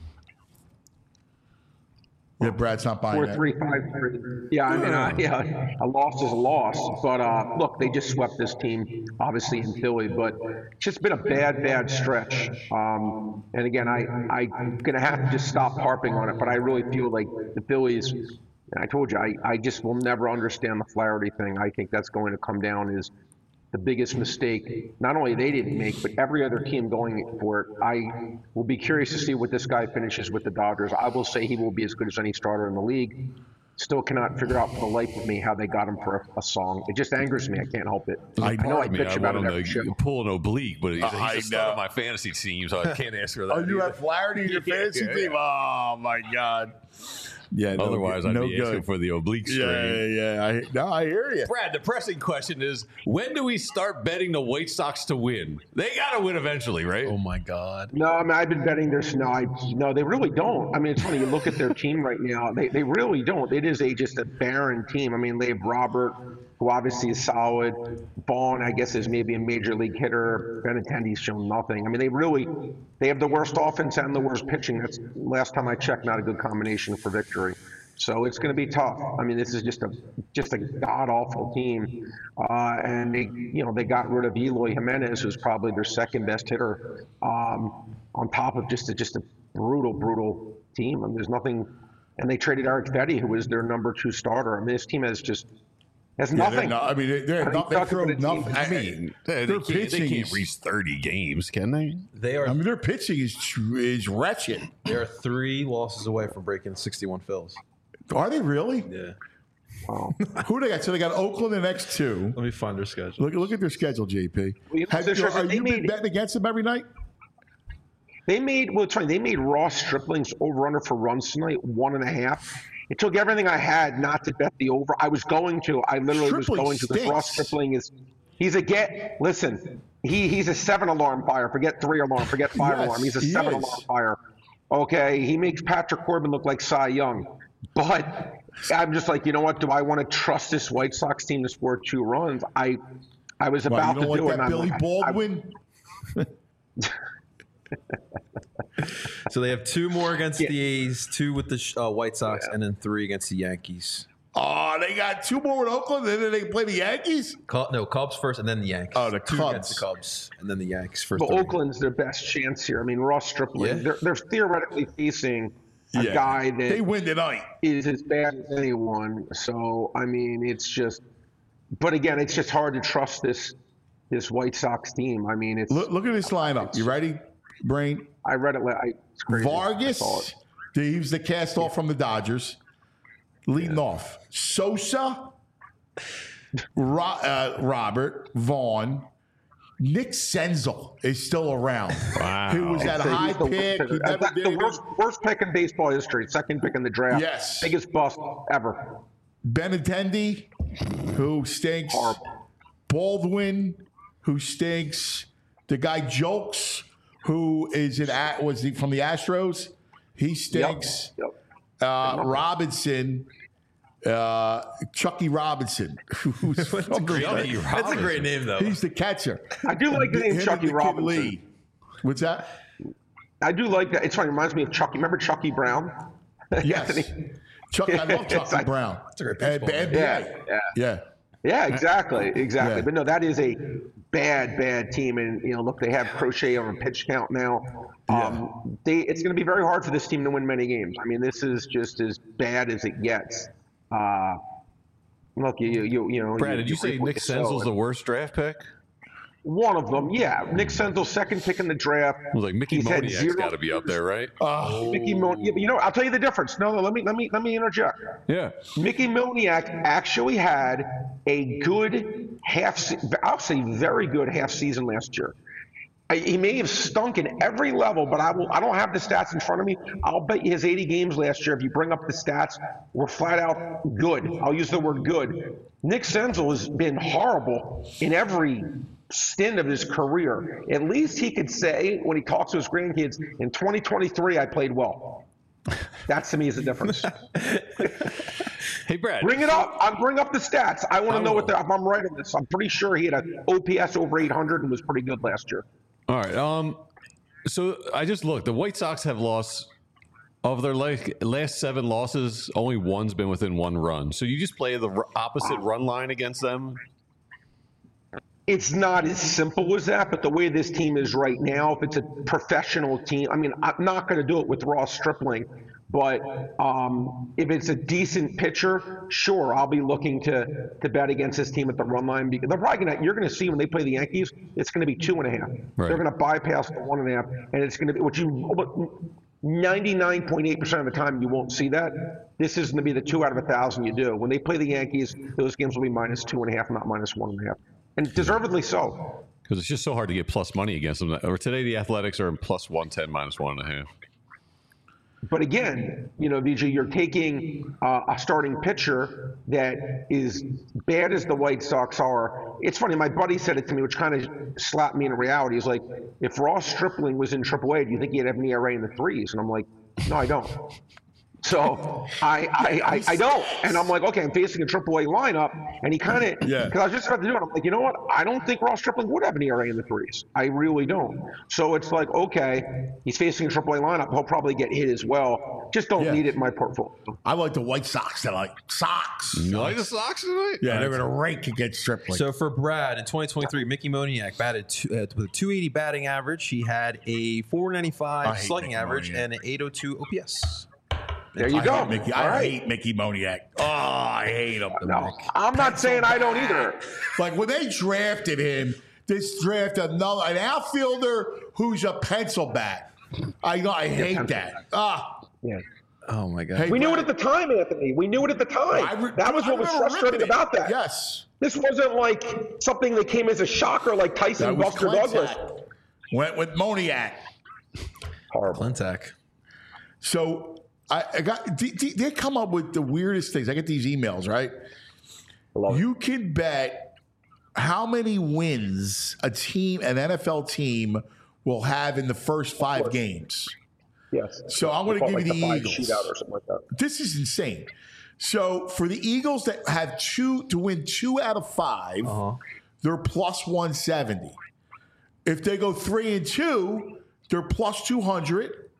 Yeah, Brad's not buying 4-3, 5-3. Yeah, I mean, a loss is a loss. But look, they just swept this team, obviously in Philly. But it's just been a bad stretch. And again, I'm gonna have to just stop harping on it. But I really feel like the Phillies. I told you, I just will never understand the Flaherty thing. I think that's going to come down as the biggest mistake, not only they didn't make, but every other team going for it. I will be curious to see what this guy finishes with the Dodgers. I will say he will be as good as any starter in the league. Still cannot figure out for the life of me how they got him for a song. It just angers me. I can't help it. I know I bitch about it every show. Pull an oblique, but he's the star know. of my fantasy team, so I can't ask for that. Oh, you either. have Flaherty in your fantasy team? Oh, my God. Yeah, Otherwise, I'd be asking for the oblique strain. Yeah. I hear you. Brad, the pressing question is, when do we start betting the White Sox to win? They got to win eventually, right? Oh, my God. No, I mean, I've been betting this. No, they really don't. I mean, it's funny. You look at their team right now. They really don't. It is just a barren team. I mean, they have Robert, who obviously is solid. Vaughn, I guess, is maybe a major league hitter. Benintendi's shown nothing. I mean, they have the worst offense and the worst pitching. That's last time I checked, not a good combination for victory. So it's going to be tough. I mean, this is just a god awful team. And they got rid of Eloy Jimenez, who's probably their second best hitter. On top of just a brutal team. I mean, there's nothing. And they traded Eric Fetty, who was their number 2 starter. I mean, this team has just Has Yeah, nothing. I mean, they're not. They Kentucky throw with a team. nothing. I mean, they their can't pitching is. reach 30 games, can they? They are I mean, their pitching is wretched. they are 3 losses away from breaking 61 fills. Are they really? Yeah. Wow. Who they got? So they got Oakland the next 2. Let me find their schedule. Look at their schedule, JP. Well, you know, Are they you been made- betting against them every night? They made They made Ross Stripling's over/under for runs tonight 1.5. It took everything I had not to bet the over. I was going to. I literally was Stripling going to. Because Ross stinks. Stripling is. He's a get. Listen, he's a 7-alarm fire. Forget 3-alarm. Forget 5-alarm. Yes, He's a he 7-alarm is. fire. Okay, he makes Patrick Corbin look like Cy Young. But I'm just like, you know what? Do I want to trust this White Sox team to score 2 runs? I was Well, about you to don't do like it. that and Billy I'm- Baldwin? So they have 2 more against the A's, 2 with the White Sox, and then 3 against the Yankees. Oh, they got 2 more with Oakland, and then they play the Yankees? Cubs first, and then the Yankees. Oh, the 2 Cubs. against the Cubs, and then the Yankees first. But Oakland's their best chance here. I mean, Ross Stripling, Yeah. they're theoretically facing a Yeah. guy They that win tonight. is as bad as anyone. So, I mean, it's just, but again, it's just hard to trust this White Sox team. I mean, it's, Look at this lineup. You ready, Brain? I read it, it's crazy. I saw Vargas, it. he was the cast off from the Dodgers. Leading off, Sosa, Robert, Vaughn, Nick Senzel is still around. Wow. He was that So high he's the pick. worst He pick. never That's did the anything. worst pick in baseball history, second pick in the draft. Yes. Biggest bust ever. Benintendi, who stinks. Horrible. Baldwin, who stinks. The guy Jokes, who is from the Astros. He stinks. Yep. Robinson, Chucky Robinson, who's from the- That's a great name, though. He's the catcher. I do like the name Him and Chucky the kid Robinson. Lee. What's that? I do like that. It's funny. It reminds me of Chucky. Remember Chucky Brown? Yes. Chuck, I love Chucky like- Brown. a great And baseball name. NBA. Yeah. Yeah. Yeah, exactly. Yeah. But no, that is a bad team. And, look, they have Crochet on a pitch count now. It's going to be very hard for this team to win many games. I mean, this is just as bad as it gets. Look, Brad, did you say reap what Nick you sow. Senzel's the worst draft pick? One of them, yeah. Nick Senzel, second pick in the draft. I was like, Mickey He's had Moniak's 0 got to be up there, right? Mickey Moniak. Yeah, but I'll tell you the difference. No, let me interject. Yeah. Mickey Moniak actually had a good I'll say very good half season last year. He may have stunk in every level, but I don't have the stats in front of me. I'll bet you his 80 games last year, if you bring up the stats, were flat out good. I'll use the word good. Nick Senzel has been horrible in every stint of his career. At least he could say, when he talks to his grandkids, in 2023, I played well. That to me is the difference. Hey, Brad. Bring it up. Bring up the stats. I want to know if I'm right on this. I'm pretty sure he had an OPS over 800 and was pretty good last year. All right. So I just looked. The White Sox have lost of their last 7 losses. Only one's been within 1 run. So you just play the opposite run line against them. It's not as simple as that, but the way this team is right now, if it's a professional team, I mean, I'm not going to do it with Ross Stripling, but if it's a decent pitcher, sure, I'll be looking to bet against this team at the run line. Because they're probably you're going to see when they play the Yankees, it's going to be 2.5. Right. They're going to bypass the 1.5, and it's going to be 99.8% of the time you won't see that. This is going to be the 2 out of 1,000 you do. When they play the Yankees, those games will be minus 2.5, not minus 1.5. And deservedly so. Because it's just so hard to get plus money against them. Or today, the Athletics are in plus 110, minus 1.5. But again, VJ, you're taking a starting pitcher that is bad as the White Sox are. It's funny, my buddy said it to me, which kind of slapped me in reality. He's like, if Ross Stripling was in AAA, do you think he'd have an ERA in the 3s? And I'm like, no, I don't. So I don't. And I'm like, okay, I'm facing a AAA lineup. And he kind of, because I was just about to do it. I'm like, you know what? I don't think Ross Stripling would have an ERA in the 3s. I really don't. So it's like, okay, he's facing a AAA lineup. He'll probably get hit as well. Just don't need it in my portfolio. I like the White Sox. I like Sox. You like the Sox tonight? Yeah, they're going to rank against Stripling. So for Brad in 2023, Mickey Moniak batted with a 280 batting average. He had a 495 slugging Mickey average Moniak. and an 802 OPS. There you go. I hate Mickey Moniak. Oh, I hate him. No, I'm not saying I don't either. Like when they drafted him, this draft an outfielder who's a pencil bat. I hate that. Yeah. Oh my God. Hey, We knew it at the time, Anthony. We knew it at the time. That was what was frustrating about that. Yes. This wasn't like something that came as a shocker like Tyson That and was Buster Douglas. Clintack. Went with Moniak. Horrible. Clintack. So I got they come up with the weirdest things. I get these emails, right? You can bet how many wins an NFL team will have in the first 5 games. Yes. So I'm going to give you the Eagles. Shootout or something like that. This is insane. So for the Eagles that have to win 2 out of 5, they're plus 170. If they go 3-2, they're plus 200.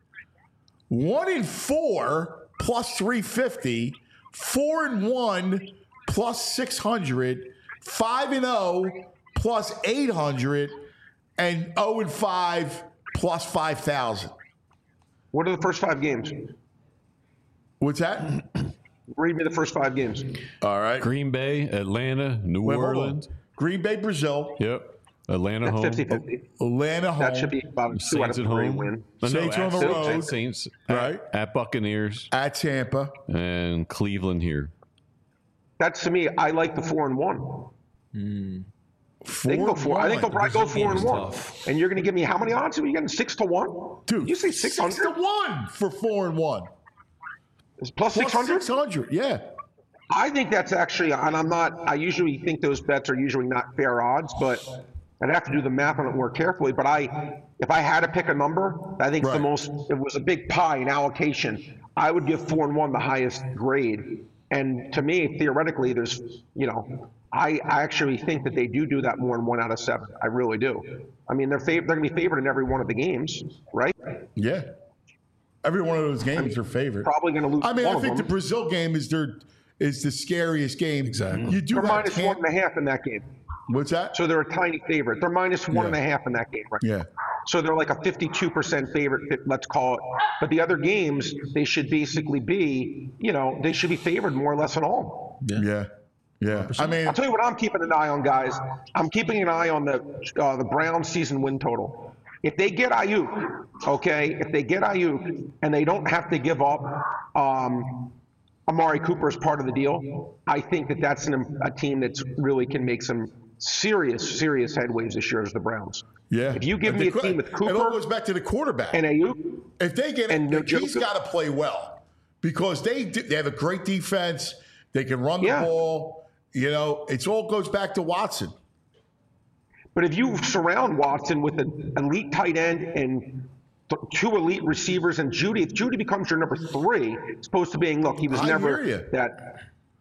1-4 plus 350. 4-1 plus 600. 5-0 plus 800, and 0-5 plus 5,000. What are the first 5 games? What's that? Read me the first 5 games. All right. Green Bay, Atlanta, New Wait, hold on. Orleans. Green Bay, Brazil. Yep. Atlanta That's home. 50-50. Atlanta home. That should be about a 2 out of Saints at 3 home. win. Saints on the at road. Saints Right. at Buccaneers At Tampa. and Cleveland here. That's to me. I like the 4-1. They can go 4. I think they'll probably go 4-1. And you're going to give me how many odds? Are you getting 6-1? Dude, you say 600? 6-1 for 4-1. It's plus 600? 600, yeah. I think that's actually, and I usually think those bets are usually not fair odds, but I'd have to do the math on it more carefully. But if I had to pick a number, I think Right. it was a big pie in allocation. I would give 4-1 the highest grade. And to me, theoretically, there's, I actually think that they do that more than 1 out of 7. I really do. I mean, they're going to be favored in every one of the games, right? Yeah. Every one of those games are favored. Probably going to lose. I mean, one I think of the them. Brazil game is the scariest game. Exactly. You do They're have minus 1.5 in that game. What's that? So they're a tiny favorite. They're minus 1.5 in that game, right? Yeah. So they're like a 52% favorite, let's call it. But the other games, they should basically be, they should be favored more or less in all. Yeah. Yeah. I mean, I'll tell you what I'm keeping an eye on, guys. I'm keeping an eye on the Browns season win total. If they get Ayuk, and they don't have to give up Amari Cooper as part of the deal, I think that's a team that's really can make some serious headways this year as the Browns. yeah. If you give me a team with Cooper, it all goes back to the quarterback. and Ayuk, If they get and it, he's got to play well because they have a great defense. They can run the ball. It all goes back to Watson. but if you surround Watson with an elite tight end and 2 elite receivers and Judy, if Judy becomes your number 3, as opposed to being, look, he was I never hear you. that.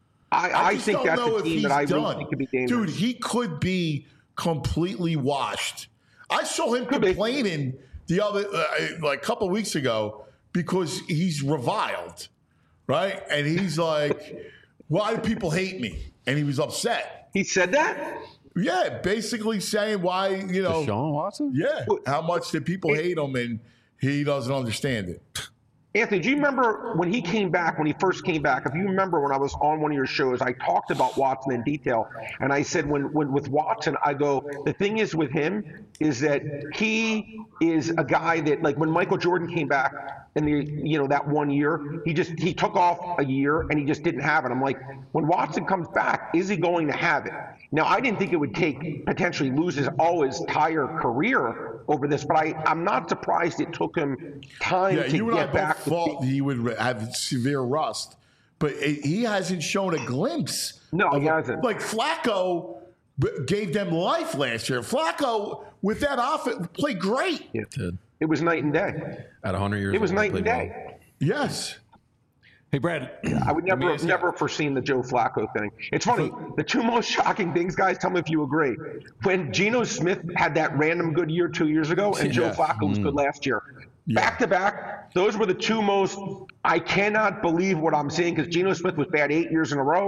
I just think don't that's know a if team he's that I really done. think could be dangerous. Dude, he could be completely washed. I saw him Could be. complaining the other like a couple of weeks ago because he's reviled, right? And he's like, "Why do people hate me?" And he was upset. He said that? Yeah, basically saying why, Deshaun Watson? yeah, how much did people hate him, and he doesn't understand it. Anthony, do you remember when he came back, when he first came back? If you remember when I was on one of your shows, I talked about Watson in detail. And I said, when with Watson, I go, the thing is with him is that he is a guy that, like when Michael Jordan came back in that 1 year, he took off a year and he just didn't have it. I'm like, when Watson comes back, is he going to have it? Now, I didn't think it would potentially lose his entire career over this, but I'm not surprised it took him time Yeah, to you and I get both back. thought he would have severe rust, but he hasn't shown a glimpse. No, of he it. hasn't. Like Flacco gave them life last year. Flacco, with that offense, played great. Yeah. Did. It was night and day. At 100 years It was old, night played and well. day. Yes. Hey, Brad. I would never foreseen the Joe Flacco thing. It's funny. The 2 most shocking things, guys, tell me if you agree. When Geno Smith had that random good year 2 years ago and Joe Flacco was good last year. Back to back, those were the 2 most, I cannot believe what I'm seeing because Geno Smith was bad 8 years in a row.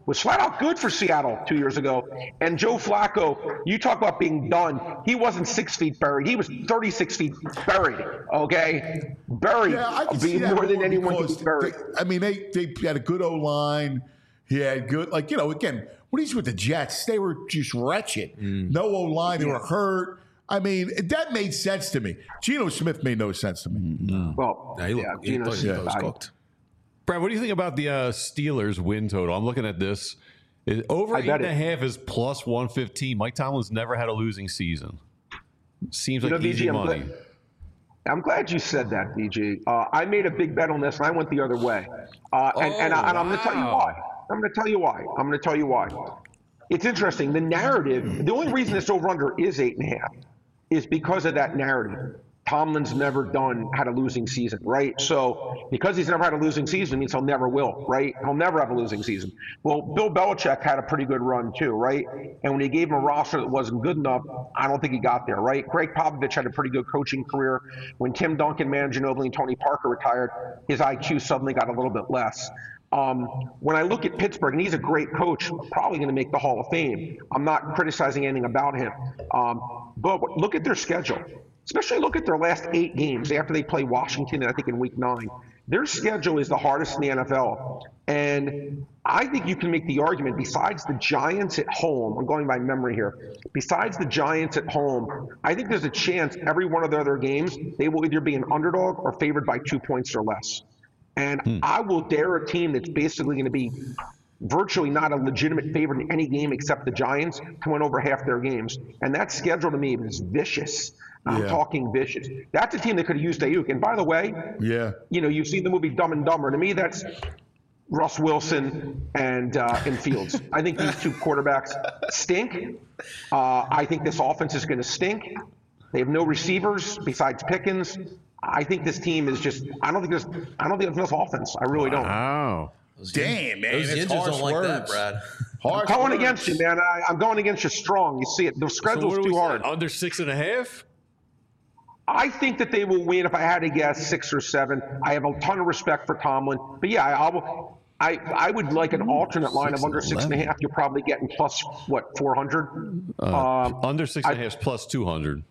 was flat out good for Seattle 2 years ago. And Joe Flacco, you talk about being done. He wasn't 6 feet buried. He was 36 feet buried, okay? Buried. Yeah, I can see that more than anyone could be buried. They had a good O-line. He had good, again, when he's with the Jets, they were just wretched. No O-line. They were hurt. I mean, that made sense to me. Geno Smith made no sense to me. Well, Geno he Smith, was cooked. Brad, what do you think about the Steelers win total? I'm looking at this. Over 8.5 is plus 115. Mike Tomlin's never had a losing season. Seems like easy money. I'm glad you said that, BG. I made a big bet on this, and I went the other way. And I'm going to tell you why. I'm going to tell you why. It's interesting. The narrative, the only reason this over-under is 8.5 is because of that narrative. Tomlin's never had a losing season, right? So because he's never had a losing season, it means he'll never will, right? He'll never have a losing season. Well, Bill Belichick had a pretty good run too, right? And when he gave him a roster that wasn't good enough, I don't think he got there, right? Greg Popovich had a pretty good coaching career. When Tim Duncan, Manu Ginobili, and Tony Parker retired, his IQ suddenly got a little bit less. When I look at Pittsburgh, and he's a great coach, probably going to make the Hall of Fame. I'm not criticizing anything about him. But look at their schedule. Especially look at their last 8 games after they play Washington, I think, in week 9. Their schedule is the hardest in the NFL. And I think you can make the argument, besides the Giants at home, I'm going by memory here, besides the Giants at home, I think there's a chance every one of their other games, they will either be an underdog or favored by 2 points or less. And I will dare a team that's basically going to be virtually not a legitimate favorite in any game except the Giants to win over half their games. And that schedule to me is vicious. I'm talking vicious. That's a team that could have used Ayuk. And by the way, you've seen the movie Dumb and Dumber. To me, that's Russ Wilson and Fields. I think these two quarterbacks stink. I think this offense is going to stink. They have no receivers besides Pickens. I think this team is just. I don't think there's enough offense. I really don't. Wow. Damn, man. Those Ninjas don't like that, Brad. I'm going against you, man. I'm going against you strong. You see it. The schedule's too hard. Under 6.5? I think that they will win. If I had to guess, 6 or 7. I have a ton of respect for Tomlin, but yeah, I would like an alternate line of under 6.5. You're probably getting plus 400. Under 6.5 is plus 200.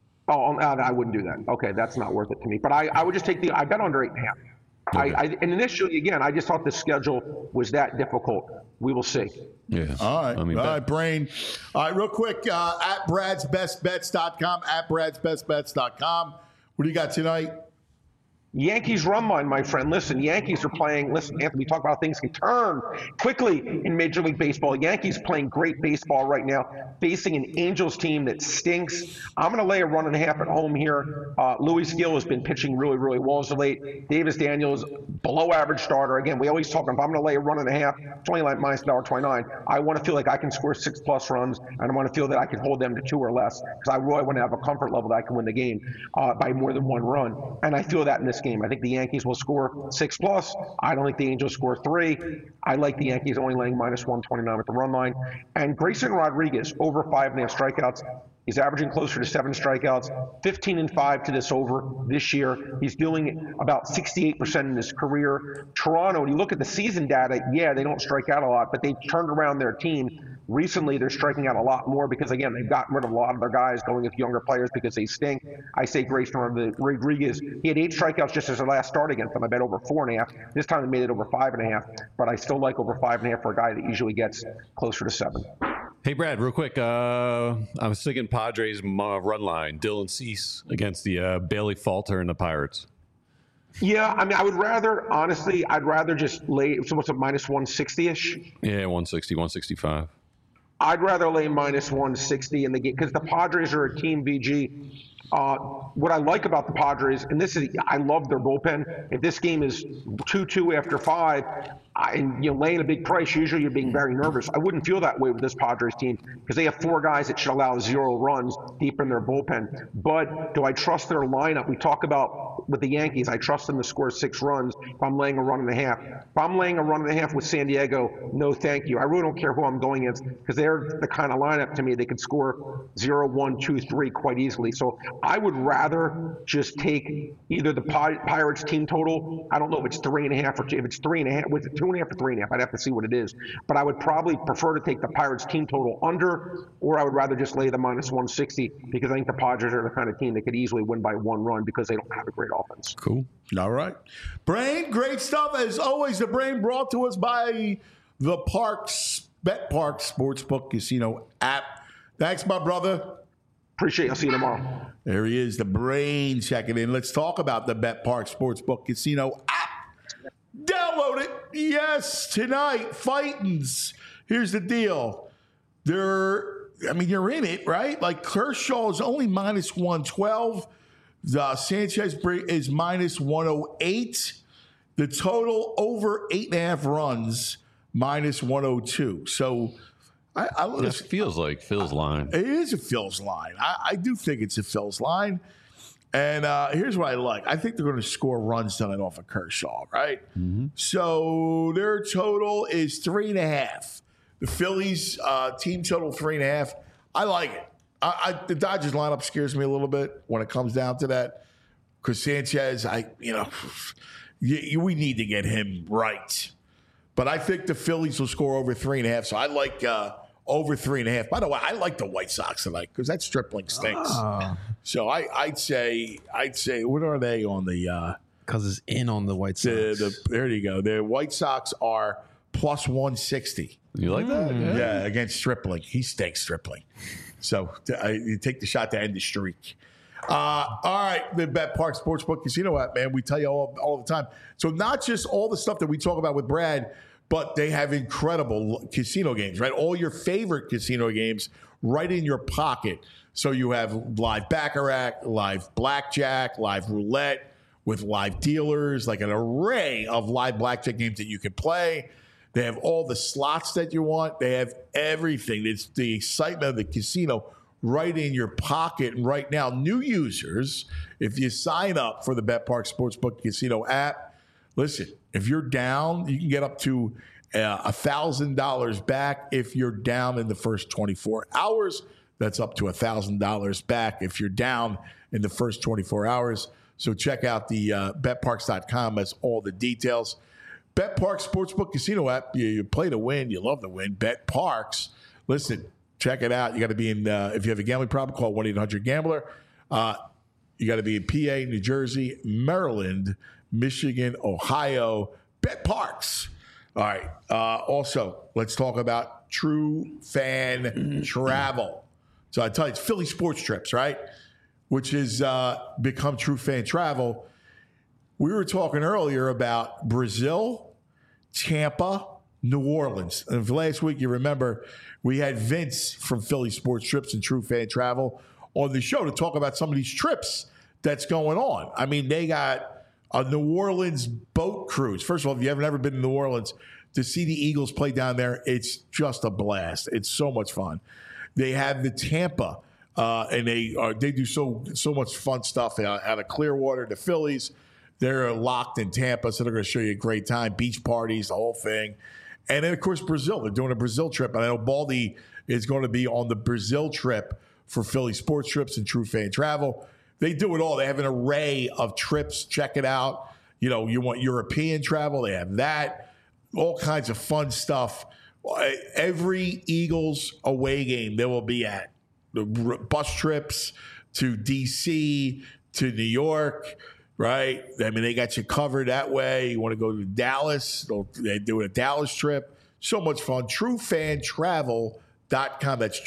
Oh, I wouldn't do that. Okay, that's not worth it to me. But I would just take I bet under 8.5. Okay. And initially, again, I just thought the schedule was that difficult. We will see. Yeah. All right. All right, Brain. All right, real quick, at Brad'sBestBets.com, at Brad'sBestBets.com. What do you got tonight? Yankees run line, my friend. Listen, Yankees are playing. Listen, Anthony, we talk about things can turn quickly in Major League Baseball. Yankees playing great baseball right now, facing an Angels team that stinks. I'm going to lay a 1.5 at home here. Luis Gil has been pitching really, really well as of late. Davis Daniels, below average starter. Again, we always talk about if I'm going to lay a 1.5, it's only like minus $1.29. I want to feel like I can score 6+ runs, and I want to feel that I can hold them to 2 or less because I really want to have a comfort level that I can win the game by more than 1 run. And I feel that in this game. I think the Yankees will score 6+. I don't think the Angels score 3. I like the Yankees only laying minus 129 at the run line. And Grayson Rodriguez, over 5.5 strikeouts. He's averaging closer to 7 strikeouts, 15-5 to this over this year. He's doing about 68% in his career. Toronto, when you look at the season data, yeah, they don't strike out a lot, but they've turned around their team. Recently, they're striking out a lot more because, again, they've gotten rid of a lot of their guys going with younger players because they stink. I say Grayson Rodriguez. He had 8 strikeouts just as their last start against them. I bet over 4.5. This time they made it over 5.5, but I still like over 5.5 for a guy that usually gets closer to 7. Hey, Brad, real quick. I was thinking Padres run line. Dylan Cease against the Bailey Falter and the Pirates. Yeah, I mean, I would rather, honestly, just lay, so what's a minus 160-ish? Yeah, 160, 165. I'd rather lay minus 160 in the game because the Padres are a team, VG. What I like about the Padres, and this is, I love their bullpen. If this game is 2-2 after 5, and you're laying a big price, usually you're being very nervous. I wouldn't feel that way with this Padres team because they have 4 guys that should allow 0 runs deep in their bullpen. But do I trust their lineup? We talk about with the Yankees, I trust them to score 6 runs if I'm laying a 1.5. If I'm laying a 1.5 with San Diego, no thank you. I really don't care who I'm going against because they're the kind of lineup to me they could score 0, 1, 2, 3 quite easily. So I would rather just take either the Pirates team total. I don't know if it's 3.5 or if it's 3.5. Was it 2.5 or 3.5? I'd have to see what it is. But I would probably prefer to take the Pirates team total under, or I would rather just lay the minus 160 because I think the Padres are the kind of team that could easily win by 1 run because they don't have a great offense. Cool. All right. Brain, great stuff. As always, the Brain brought to us by the Bet Parks Sportsbook Casino app. Thanks, my brother. Appreciate it. I'll see you tomorrow. There he is, the Brain checking in. Let's talk about the Bet Parks Sportsbook Casino app. Download it. Yes, tonight, Fightins. Here's the deal. You're in it, right? Like Kershaw is only minus 112. Sanchez is minus 108. The total over 8.5 runs, minus 102. So It feels like Phil's line. it is a Phil's line. I do think it's a Phil's line. And here's what I like. I think they're going to score runs tonight off of Kershaw, right? Mm-hmm. So their total is 3.5. The Phillies team total 3.5. I like it. The Dodgers lineup scares me a little bit when it comes down to that. Because Sanchez, we need to get him right. But I think the Phillies will score over 3.5. So I like over 3.5. By the way, I like the White Sox tonight because that Stripling stinks. So I'd say, what are they on the? Because it's in on the White Sox. There you go. The White Sox are plus 160. You like that? Yeah, against Stripling. He stinks, Stripling. So you take the shot to end the streak. All right, the Bet Park Sportsbook Casino app, man. We tell you all the time. So not just all the stuff that we talk about with Brad, but they have incredible casino games, right? All your favorite casino games right in your pocket. So you have live baccarat, live blackjack, live roulette with live dealers, like an array of live blackjack games that you can play. They have all the slots that you want. They have everything. It's the excitement of the casino right in your pocket. And right now, new users, if you sign up for the Bet Park Sportsbook Casino app, listen, if you're down, you can get up to $1,000 back if you're down in the first 24 hours. That's up to $1,000 back if you're down in the first 24 hours. So check out the betparks.com. That's all the details. Bet Parks Sportsbook Casino app. You play to win. You love to win. Bet Parks. Listen, check it out. You got to be in, if you have a gambling problem, call 1-800-GAMBLER. You got to be in PA, New Jersey, Maryland, Michigan, Ohio. Bet Parks. All right. Also, let's talk about True Fan Travel. So I tell you, it's Philly Sports Trips, right? Which has become True Fan Travel. We were talking earlier about Brazil, Tampa, New Orleans. And last week, you remember, we had Vince from Philly Sports Trips and True Fan Travel on the show to talk about some of these trips that's going on. I mean, they got a New Orleans boat cruise. First of all, if you haven't ever been to New Orleans, to see the Eagles play down there, it's just a blast. It's so much fun. They have the Tampa, and they do so much fun stuff out of Clearwater. The Phillies, they're locked in Tampa, so they're going to show you a great time. Beach parties, the whole thing. And then, of course, Brazil. They're doing a Brazil trip. And I know Baldy is going to be on the Brazil trip for Philly Sports Trips and True Fan Travel. They do it all. They have an array of trips. Check it out. You know, you want European travel, they have that. All kinds of fun stuff. Every Eagles away game they will be at. The bus trips to D.C., to New York, right? I mean, they got you covered that way. You want to go to Dallas, they do a Dallas trip. So much fun. TrueFanTravel.com. That's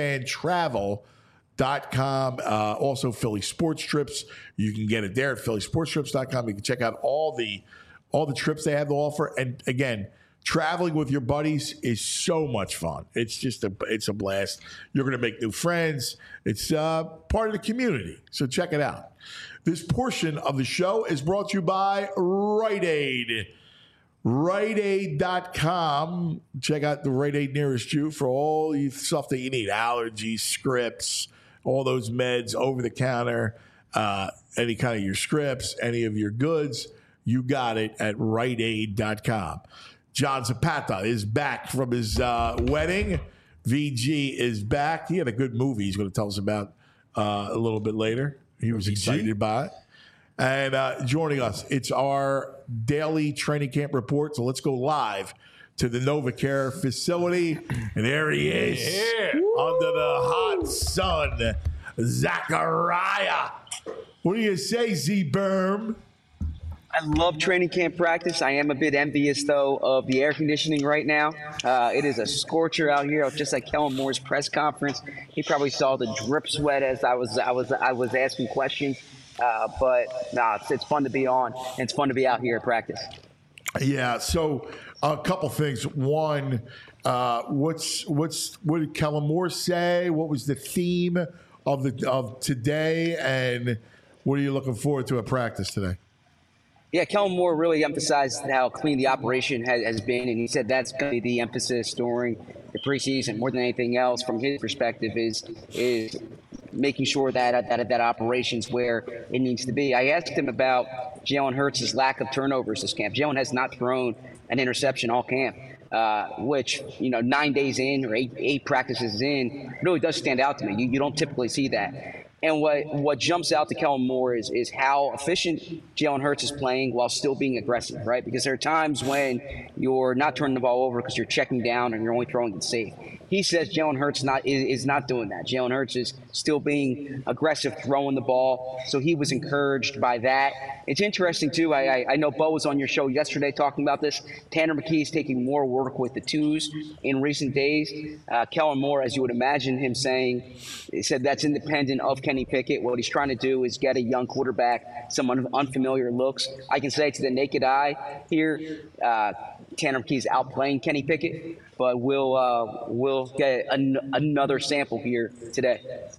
TrueFanTravel.com. Also, Philly Sports Trips. You can get it there at PhillySportsTrips.com. You can check out all the trips they have to offer. And again, traveling with your buddies is so much fun. It's a blast. You're going to make new friends. It's part of the community. So check it out. This portion of the show is brought to you by Rite Aid. RiteAid.com. Check out the Rite Aid nearest you for all the stuff that you need. Allergies, scripts, all those meds, over the counter, any kind of your scripts, any of your goods. You got it at RiteAid.com. John Zapata is back from his wedding. VG is back. He had a good movie he's going to tell us about a little bit later. He was excited by it. And joining us, it's our daily training camp report. So let's go live to the NovaCare facility. And there he is, under the hot sun, Zachariah. What do you say, Z-Berm? I love training camp practice. I am a bit envious, though, of the air conditioning right now. It is a scorcher out here. Just like Kellen Moore's press conference, he probably saw the drip sweat as I was asking questions. But it's fun to be on, and it's fun to be out here at practice. Yeah. So a couple things. One, what did Kellen Moore say? What was the theme of today, and what are you looking forward to at practice today? Yeah, Kellen Moore really emphasized how clean the operation has been, and he said that's going to be the emphasis during the preseason more than anything else. From his perspective, is making sure that operation's where it needs to be. I asked him about Jalen Hurts' lack of turnovers this camp. Jalen has not thrown an interception all camp, which 9 days in or eight practices in really does stand out to me. You don't typically see that. And what jumps out to Kellen Moore is how efficient Jalen Hurts is playing while still being aggressive, right? Because there are times when you're not turning the ball over because you're checking down and you're only throwing it safe. He says Jalen Hurts is not doing that. Jalen Hurts is still being aggressive, throwing the ball. So he was encouraged by that. It's interesting, too. I know Bo was on your show yesterday talking about this. Tanner McKee is taking more work with the twos in recent days. Kellen Moore, as you would imagine him saying, he said that's independent of Kenny Pickett. What he's trying to do is get a young quarterback some unfamiliar looks. I can say to the naked eye here, Tanner McKee's outplaying Kenny Pickett, but we'll get another sample here today.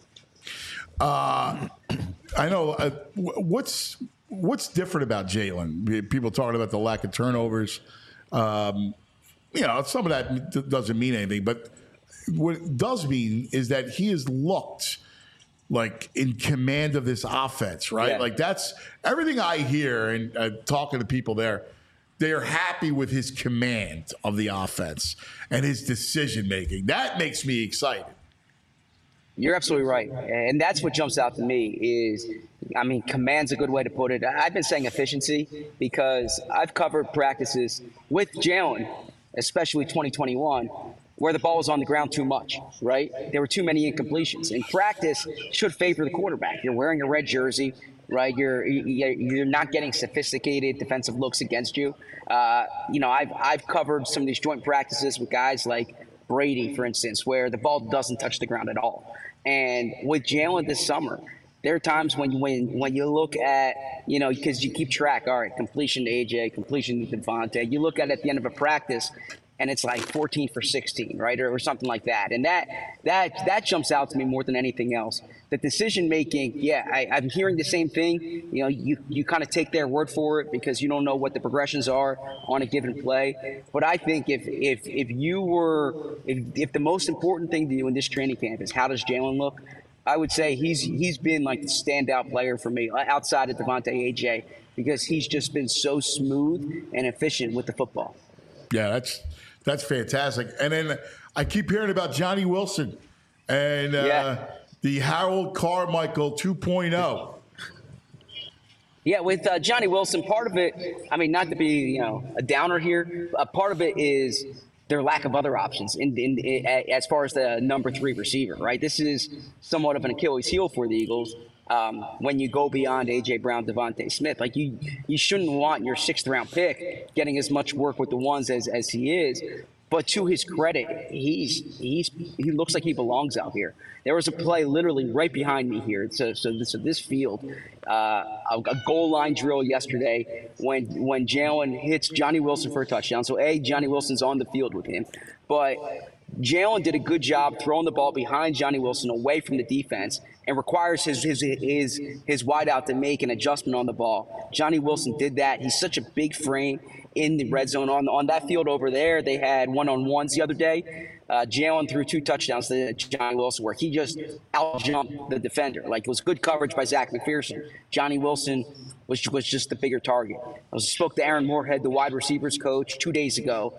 I know what's different about Jalen. People talking about the lack of turnovers. Some of that doesn't mean anything, but what it does mean is that he has looked like in command of this offense, right? Yeah. Like that's everything I hear and talking to people there. They're happy with his command of the offense and his decision making. That makes me excited. You're absolutely right. And that's what jumps out to me is, command's a good way to put it. I've been saying efficiency because I've covered practices with Jalen, especially 2021, where the ball was on the ground too much, right? There were too many incompletions. And practice should favor the quarterback. You're wearing a red jersey, right? You're not getting sophisticated defensive looks against you. I've covered some of these joint practices with guys like Brady, for instance, where the ball doesn't touch the ground at all. And with Jalen this summer, there are times when you look at, because you keep track, all right, completion to AJ, completion to Devontae. You look at it at the end of a practice, and it's like 14 for 16, right, or something like that. And that jumps out to me more than anything else. The decision making, I'm hearing the same thing. You kind of take their word for it because you don't know what the progressions are on a given play. But I think if the most important thing to you in this training camp is how does Jalen look, I would say he's been like the standout player for me outside of Devontae AJ because he's just been so smooth and efficient with the football. Yeah, that's fantastic. And then I keep hearing about Johnny Wilson and the Harold Carmichael 2.0. Yeah, with Johnny Wilson, part of it, not to be a downer here, part of it is their lack of other options as far as the number 3 receiver, right? This is somewhat of an Achilles heel for the Eagles. When you go beyond A.J. Brown, Devontae Smith, like you shouldn't want your 6th round pick getting as much work with the ones as he is. But to his credit, he looks like he belongs out here. There was a play literally right behind me here. So this field, a goal line drill yesterday when Jalen hits Johnny Wilson for a touchdown. So Johnny Wilson's on the field with him, but Jalen did a good job throwing the ball behind Johnny Wilson away from the defense and requires his wideout to make an adjustment on the ball. Johnny Wilson did that. He's such a big frame in the red zone. On that field over there, they had one-on-ones the other day. Jalen threw 2 touchdowns to Johnny Wilson where he just out-jumped the defender. Like, it was good coverage by Zach McPherson. Johnny Wilson was just the bigger target. I spoke to Aaron Moorhead, the wide receivers coach, 2 days ago,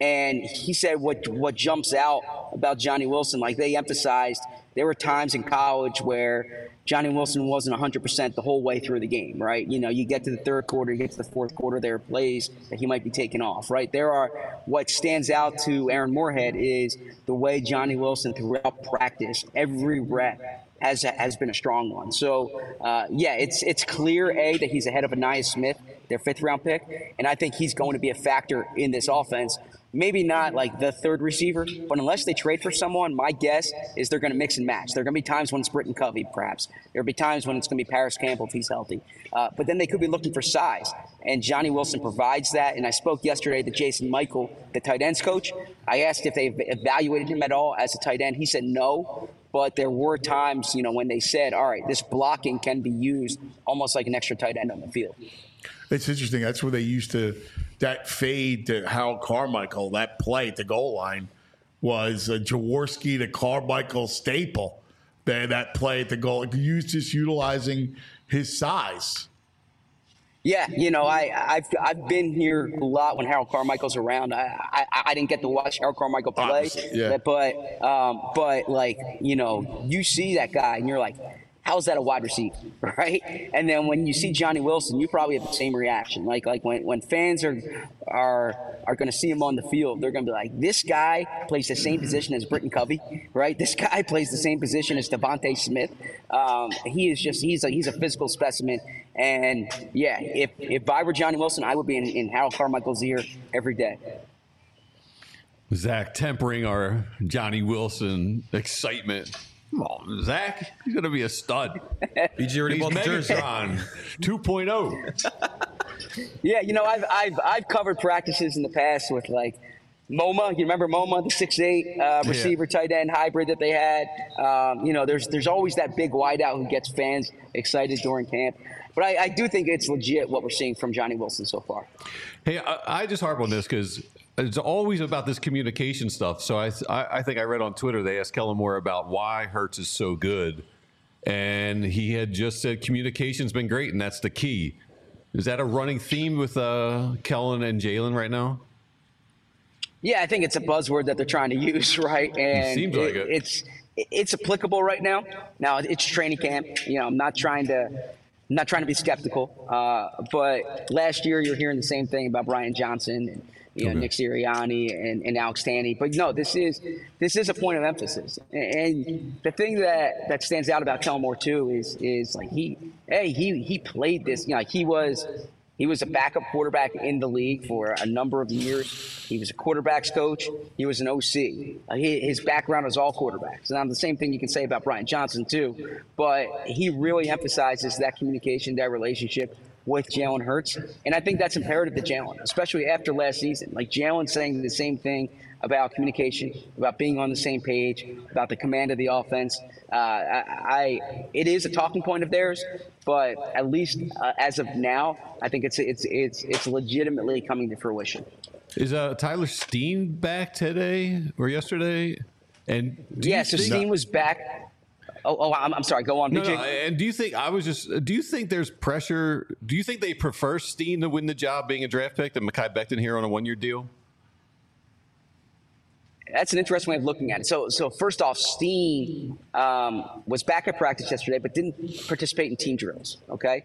And he said what jumps out about Johnny Wilson, like they emphasized, there were times in college where Johnny Wilson wasn't 100% the whole way through the game, right? You know, you get to the third quarter, you get to the fourth quarter, there are plays that he might be taking off, right? What stands out to Aaron Moorhead is the way Johnny Wilson throughout practice, every rep has been a strong one. So, it's clear, that he's ahead of Ainias Smith, their 5th-round pick, and I think he's going to be a factor in this offense. Maybe not like the third receiver, but unless they trade for someone, my guess is they're going to mix and match. There are going to be times when it's Britton Covey, perhaps. There'll be times when it's going to be Paris Campbell if he's healthy. But then they could be looking for size, and Johnny Wilson provides that. And I spoke yesterday to Jason Michael, the tight ends coach. I asked if they've evaluated him at all as a tight end. He said no, but there were times, when they said, all right, this blocking can be used almost like an extra tight end on the field. It's interesting. That's where they used to that fade to Harold Carmichael. That play at the goal line was a Jaworski to Carmichael staple. That play at the goal, just utilizing his size. Yeah, I've been here a lot when Harold Carmichael's around. I didn't get to watch Harold Carmichael play, but you see that guy and you're like, how is that a wide receiver, right? And then when you see Johnny Wilson, you probably have the same reaction. Like when fans are going to see him on the field, they're going to be like, this guy plays the same position as Britton Covey, right? This guy plays the same position as Devontae Smith. He's a physical specimen. And yeah, if I were Johnny Wilson, I would be in Harold Carmichael's ear every day. Zach tempering our Johnny Wilson excitement. Come on, Zach. He's going to be a stud. BG already bought the jersey. Megatron 2.0. Yeah, I've covered practices in the past with like MoMA. You remember MoMA, the 6'8" receiver tight end hybrid that they had? There's always that big wideout who gets fans excited during camp. But I do think it's legit what we're seeing from Johnny Wilson so far. Hey, I just harp on this because it's always about this communication stuff. So I think I read on Twitter, they asked Kellen Moore about why Hurts is so good. And he had just said communication's been great, and that's the key. Is that a running theme with Kellen and Jalen right now? Yeah, I think it's a buzzword that they're trying to use, right? And it seems like it. It's applicable right now. Now, it's training camp. I'm not trying to be skeptical, but last year you're hearing the same thing about Brian Johnson and Nick Sirianni and Alex Tanney. But no, this is a point of emphasis. And the thing that stands out about Kellen Moore too is like he played this. He was a backup quarterback in the league for a number of years. He was a quarterbacks coach. He was an OC. His background was all quarterbacks. And the same thing you can say about Brian Johnson too. But he really emphasizes that communication, that relationship with Jalen Hurts. And I think that's imperative to Jalen, especially after last season. Like Jalen saying the same thing about communication, about being on the same page, about the command of the offense. It is a talking point of theirs, but at least as of now, I think it's legitimately coming to fruition. Is Tyler Steen back today or yesterday? And so Steen was back. I'm sorry. Go on, BJ. No, and do you think there's pressure? Do you think they prefer Steen to win the job being a draft pick than Mekhi Becton here on a 1-year deal? That's an interesting way of looking at it. So first off, Steen was back at practice yesterday, but didn't participate in team drills. Okay.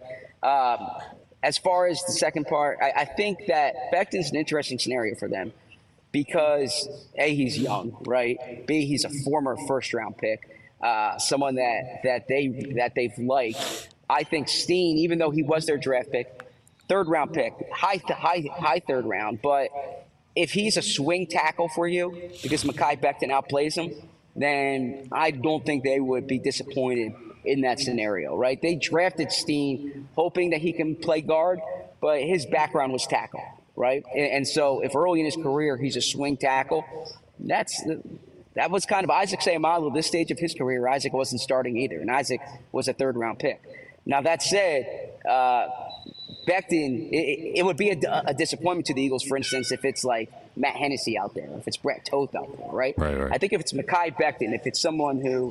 As far as the second part, I think that Becton's an interesting scenario for them because A, he's young, right? B, he's a former first-round pick. Someone that they've liked. I think Steen, even though he was their draft pick, third-round pick, high third round, but if he's a swing tackle for you because Mekhi Becton outplays him, then I don't think they would be disappointed in that scenario, right? They drafted Steen hoping that he can play guard, but his background was tackle, right? And so if early in his career he's a swing tackle, that was kind of Isaac Seumalo. This stage of his career, Isaac wasn't starting either, and Isaac was a third-round pick. Now, that said, Becton, it would be a disappointment to the Eagles, for instance, if it's like Matt Hennessy out there, if it's Brett Toth out there, right? Right. I think if it's Mekhi Becton, if it's someone who,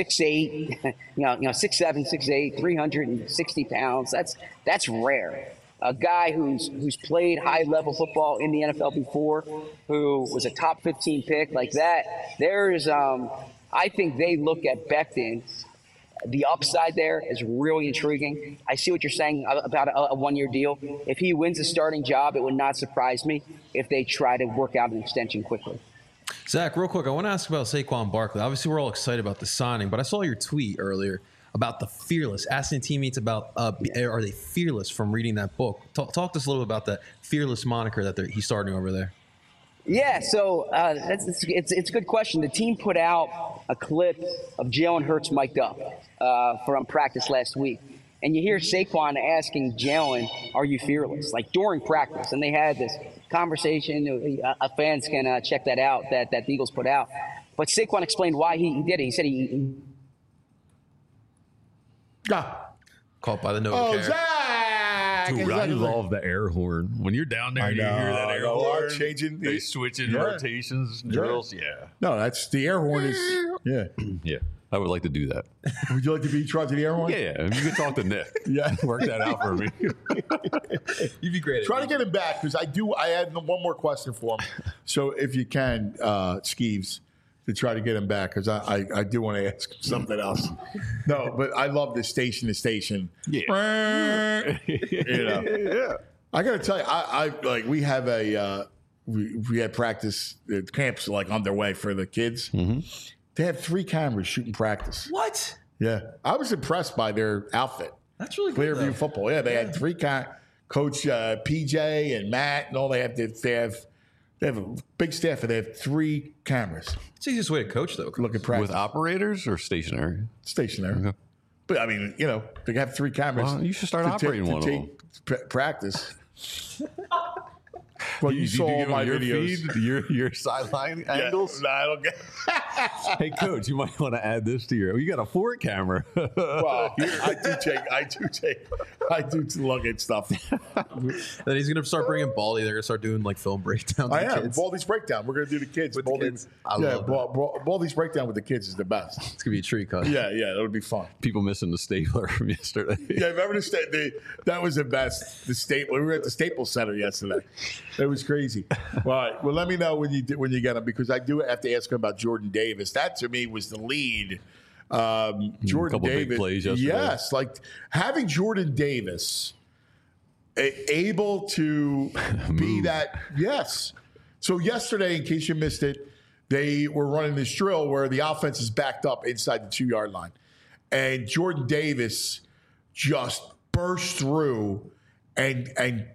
6'8", 6'7", 6'8", 360 pounds, that's rare. a guy who's played high-level football in the NFL before, who was a top 15 pick like that. There's, I think they look at Becton. The upside there is really intriguing. I see what you're saying about a one-year deal. If he wins a starting job, it would not surprise me if they try to work out an extension quickly. Zach, real quick, I want to ask about Saquon Barkley. Obviously, we're all excited about the signing, but I saw your tweet earlier about the fearless, asking teammates about are they fearless from reading that book. Talk to us a little bit about that fearless moniker that he's starting over there. Yeah, so it's a good question. The team put out a clip of Jalen Hurts mic'd up from practice last week. And you hear Saquon asking Jalen, are you fearless? Like during practice. And they had this conversation. Fans can check that out, that the Eagles put out. But Saquon explained why he did it. He said he Caught by the Oh, Novacare. Zach! Dude, I love the air horn. When you're down there, you hear that air horn. Changing. They switching rotations, drills. Yeah. No, that's the air horn is. Yeah. Yeah. I would like to do that. Would you like to be charged to the air horn? Yeah. You can talk to Nick. Yeah. Work that out for me. You'd be great. Try to get him back because I had one more question for him. So if you can, Skeeves, to try to get him back because I do want to ask him something else. No, but I love this station to station. Yeah. Yeah. I got to tell you, I like we have we had practice camps like underway for the kids. Mm-hmm. They had 3 cameras shooting practice. What? Yeah, I was impressed by their outfit. That's really good. Clearview football. Yeah, they had 3 Coach PJ and Matt and all. They have a big staff, and they have 3 cameras. It's the easiest way to coach, though. Look at practice. With operators or stationary? Stationary. Okay. But I mean, they have 3 cameras. Well, you should start operating one of them. Practice. Well, you saw all my your videos. Feed, your sideline angles. No, I don't get. Hey, coach, you might want to add this to your. You got a forward camera. Well, I do look at stuff. Then he's gonna start bringing Baldy. They're gonna start doing like film breakdowns. I am. Baldy's breakdown. We're gonna do the kids. With Baldy, the kids. I love that. Baldy's breakdown with the kids is the best. It's gonna be a treat, cut. Yeah, that'll be fun. People missing the stapler from yesterday. Yeah, remember that was the best. The Staples. We were at the Staples Center yesterday. It was crazy. All right. Well, let me know when you get them because I do have to ask him about Jordan Davis. That to me was the lead. Jordan couple Davis. big plays yesterday. Yes, like having Jordan Davis able to be that. Yes. So yesterday, in case you missed it, they were running this drill where the offense is backed up inside the 2-yard line, and Jordan Davis just burst through and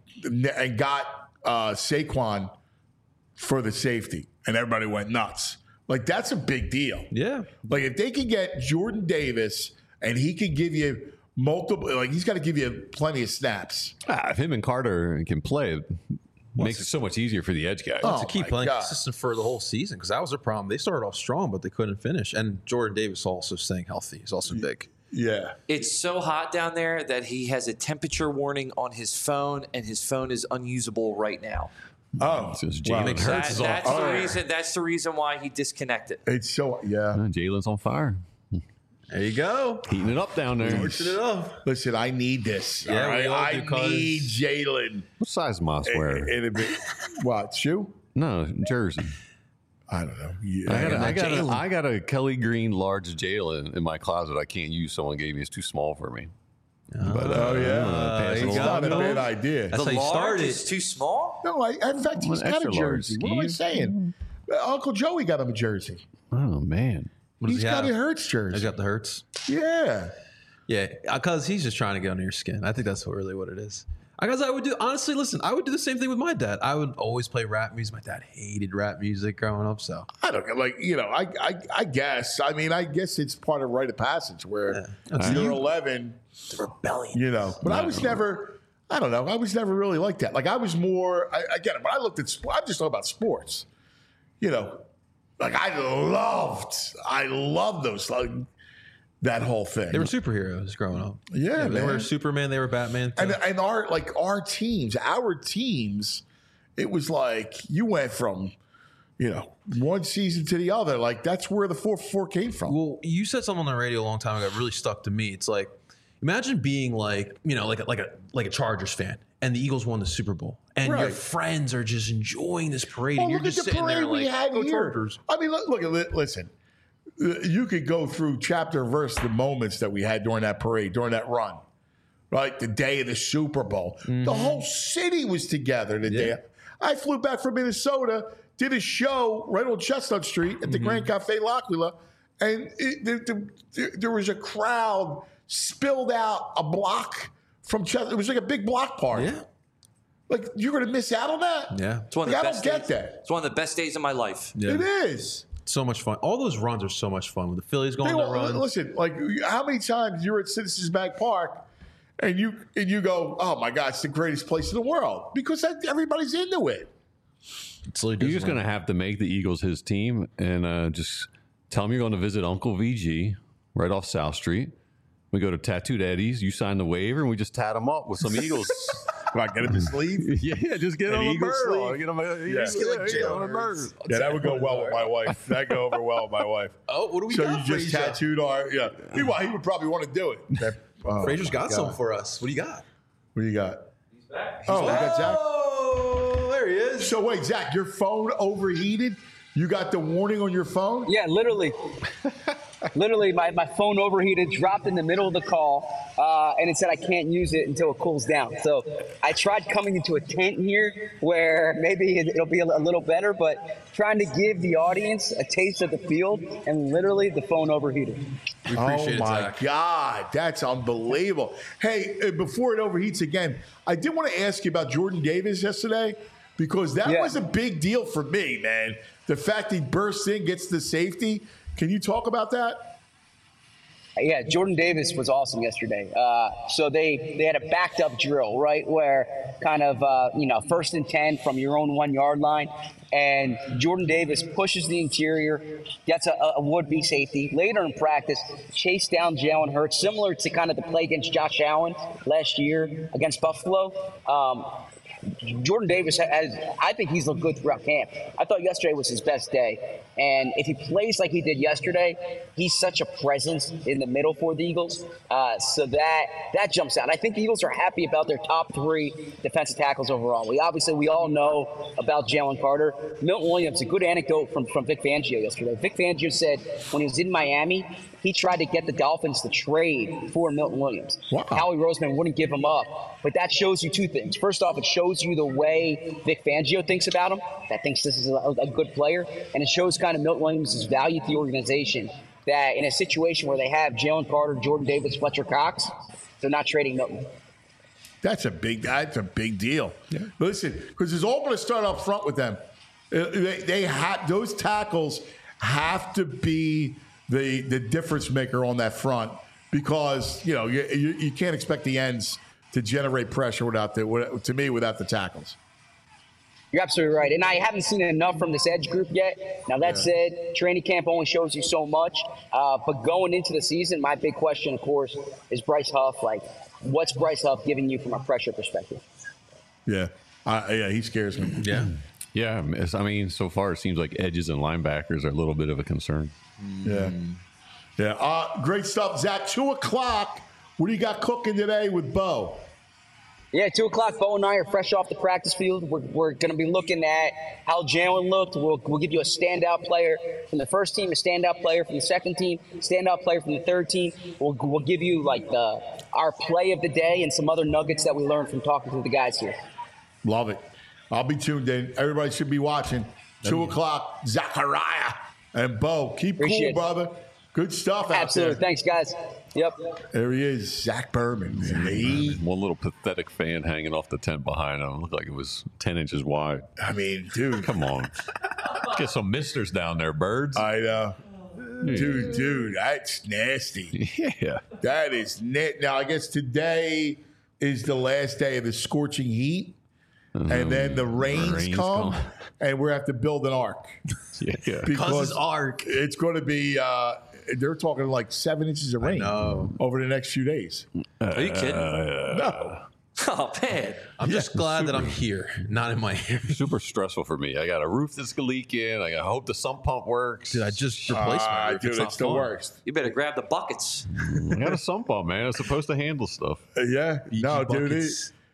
got Saquon for the safety, and everybody went nuts. Like, that's a big deal. Yeah. Like, if they can get Jordan Davis and he can give you multiple, like, he's got to give you plenty of snaps. If him and Carter can play, it makes it so much easier for the edge guy. Oh, To keep my playing God. consistent for the whole season because that was their problem. They started off strong, but they couldn't finish. And Jordan Davis also staying healthy. He's also big. Yeah. It's so hot down there that he has a temperature warning on his phone, and his phone is unusable right now. Oh, Since wow. Jalen Hurts is on That's fire. the reason. That's the reason why he disconnected. It's so, yeah. Jalen's on fire. There you go. Heating it up down there. Pushing it up. Listen, I need this. Yeah, all right? we all do, I cuz. need Jalen. What size Moss wear? What, shoe? No, jersey. I don't know. Yeah. I got a Kelly Green large Jalen in my closet. I can't use. Someone gave me. It's too small for me. Oh, yeah. pass it It's along. not a bad idea. That's how you Large started. is too small. No, in fact, he's An got a extra large, jersey. What am I Steve. saying? Uncle Joey got him a jersey. Oh man. What does He's he got have? a Hurts He's jersey. got the Hurts. Yeah. Yeah, because he's just trying to get under your skin. I think that's really what it is. Because I would do, honestly, listen, I would do the same thing with my dad. I would always play rap music. My dad hated rap music growing up, so. I don't know. Like, I guess. I mean, I guess it's part of rite of passage where you're 11. Rebellion. But I was never, I don't know. I was never really like that. Like, I was more, again, when I looked at sports, I'm just talking about sports. Like, I loved those, like, that whole thing. They were superheroes growing up. Yeah, They man. were Superman. They were Batman. Too. And our teams, it was like you went from, one season to the other. Like that's where the 4-4 came from. Well, you said something on the radio a long time ago that really stuck to me. It's like, imagine being like a Chargers fan, and the Eagles won the Super Bowl, and your friends are just enjoying this parade, and you're look at just the sitting there parade we like, had "Go here." Chargers." I mean, listen. You could go through chapter verse the moments that we had during that parade, during that run. Right, the day of the Super Bowl. The whole city was together the day. I flew back from Minnesota, did a show right on Chestnut Street at the Grand Cafe L'Aquila, and there was a crowd spilled out a block from Chestnut. It was like a big block party. Yeah. Like, you're going to miss out on that? Yeah. It's one of the I best don't get days. that. It's one of the best days of my life. Yeah. It is. So much fun. All those runs are so much fun. When the Phillies go on their run. Listen, like, how many times you're at Citizens Bank Park and you go, oh my God, it's the greatest place in the world, because everybody's into it. You're just going to have to make the Eagles his team and just tell him you're going to visit Uncle VG right off South Street. We go to Tattooed Eddie's. You sign the waiver, and we just tat him up with some Eagles. I get him a sleeve? Yeah, just get him a Eagle bird. sleeve? Get him a bird. Yeah, that would go well with my wife. That'd go over well with my wife. Oh, what do we so got? So you just Frazier? tattooed our, Meanwhile, he would probably want to do it. Frazier's got some for us. What do you got? What do you got? He's back. We got Zach? Oh, there he is. So wait, Zach, your phone overheated? You got the warning on your phone? Yeah, literally. Literally, my phone overheated, dropped in the middle of the call, and it said I can't use it until it cools down. So I tried coming into a tent here where maybe it'll be a little better, but trying to give the audience a taste of the field, and literally the phone overheated. We appreciate Oh my Zach. God, that's unbelievable. Hey, before it overheats again, I did want to ask you about Jordan Davis yesterday, because that was a big deal for me, man. The fact he bursts in, gets the safety. Can you talk about that? Yeah, Jordan Davis was awesome yesterday. So they had a backed up drill, right, where kind of, 1st and 10 from your own 1 yard line. And Jordan Davis pushes the interior, gets a would-be safety. Later in practice, chased down Jalen Hurts, similar to kind of the play against Josh Allen last year against Buffalo. Jordan Davis I think he's looked good throughout camp. I thought yesterday was his best day. And if he plays like he did yesterday, he's such a presence in the middle for the Eagles. So that jumps out. I think the Eagles are happy about their top 3 defensive tackles overall. We all know about Jalen Carter. Milton Williams, a good anecdote from Vic Fangio yesterday. Vic Fangio said when he was in Miami, he tried to get the Dolphins to trade for Milton Williams. Wow. Howie Roseman wouldn't give him up. But that shows you 2 things. First off, it shows you the way Vic Fangio thinks about him, that thinks this is a good player. And it shows kind of Milton Williams' value to the organization, that in a situation where they have Jalen Carter, Jordan Davis, Fletcher Cox, they're not trading Milton. That's a big deal. Yeah. Listen, because it's all going to start up front with them. They have those tackles have to be the difference maker on that front, because you can't expect the ends to generate pressure without the tackles. You're absolutely right. And I haven't seen enough from this edge group yet. Now, that said, training camp only shows you so much. But going into the season, my big question, of course, is Bryce Huff. Like, what's Bryce Huff giving you from a pressure perspective? Yeah. He scares me. Yeah. Yeah. I mean, so far it seems like edges and linebackers are a little bit of a concern. Yeah. Yeah. Great stuff, Zach. 2:00. What do you got cooking today with Bo? Yeah, 2 o'clock. Bo and I are fresh off the practice field. We're going to be looking at how Jalen looked. We'll give you a standout player from the first team, a standout player from the second team, standout player from the third team. We'll give you our play of the day and some other nuggets that we learned from talking to the guys here. Love it. I'll be tuned in. Everybody should be watching. 2:00. Zachariah and Bo. Keep Appreciate cool, brother. Good stuff out Absolutely. there. Thanks, guys. Yep. There he is, Zach Berman. One little pathetic fan hanging off the tent behind him. Looked like it was 10 inches wide. I mean, dude. Come on. Get some misters down there, birds. I know. Dude, that's nasty. Yeah. That is Now, I guess today is the last day of the scorching heat. And then the rains come, and we have to build an ark. Yeah. Because it's ark. It's going to be, they're talking like 7 inches of rain over the next few days. Are you kidding? No. Oh, man. I'm just glad that I'm here, not in my area. Super stressful for me. I got a roof that's leaking. I hope the sump pump works. Dude, I just replaced my roof. Dude, it's the worst. You better grab the buckets. I got a sump pump, man. It's supposed to handle stuff. Yeah. No, dude.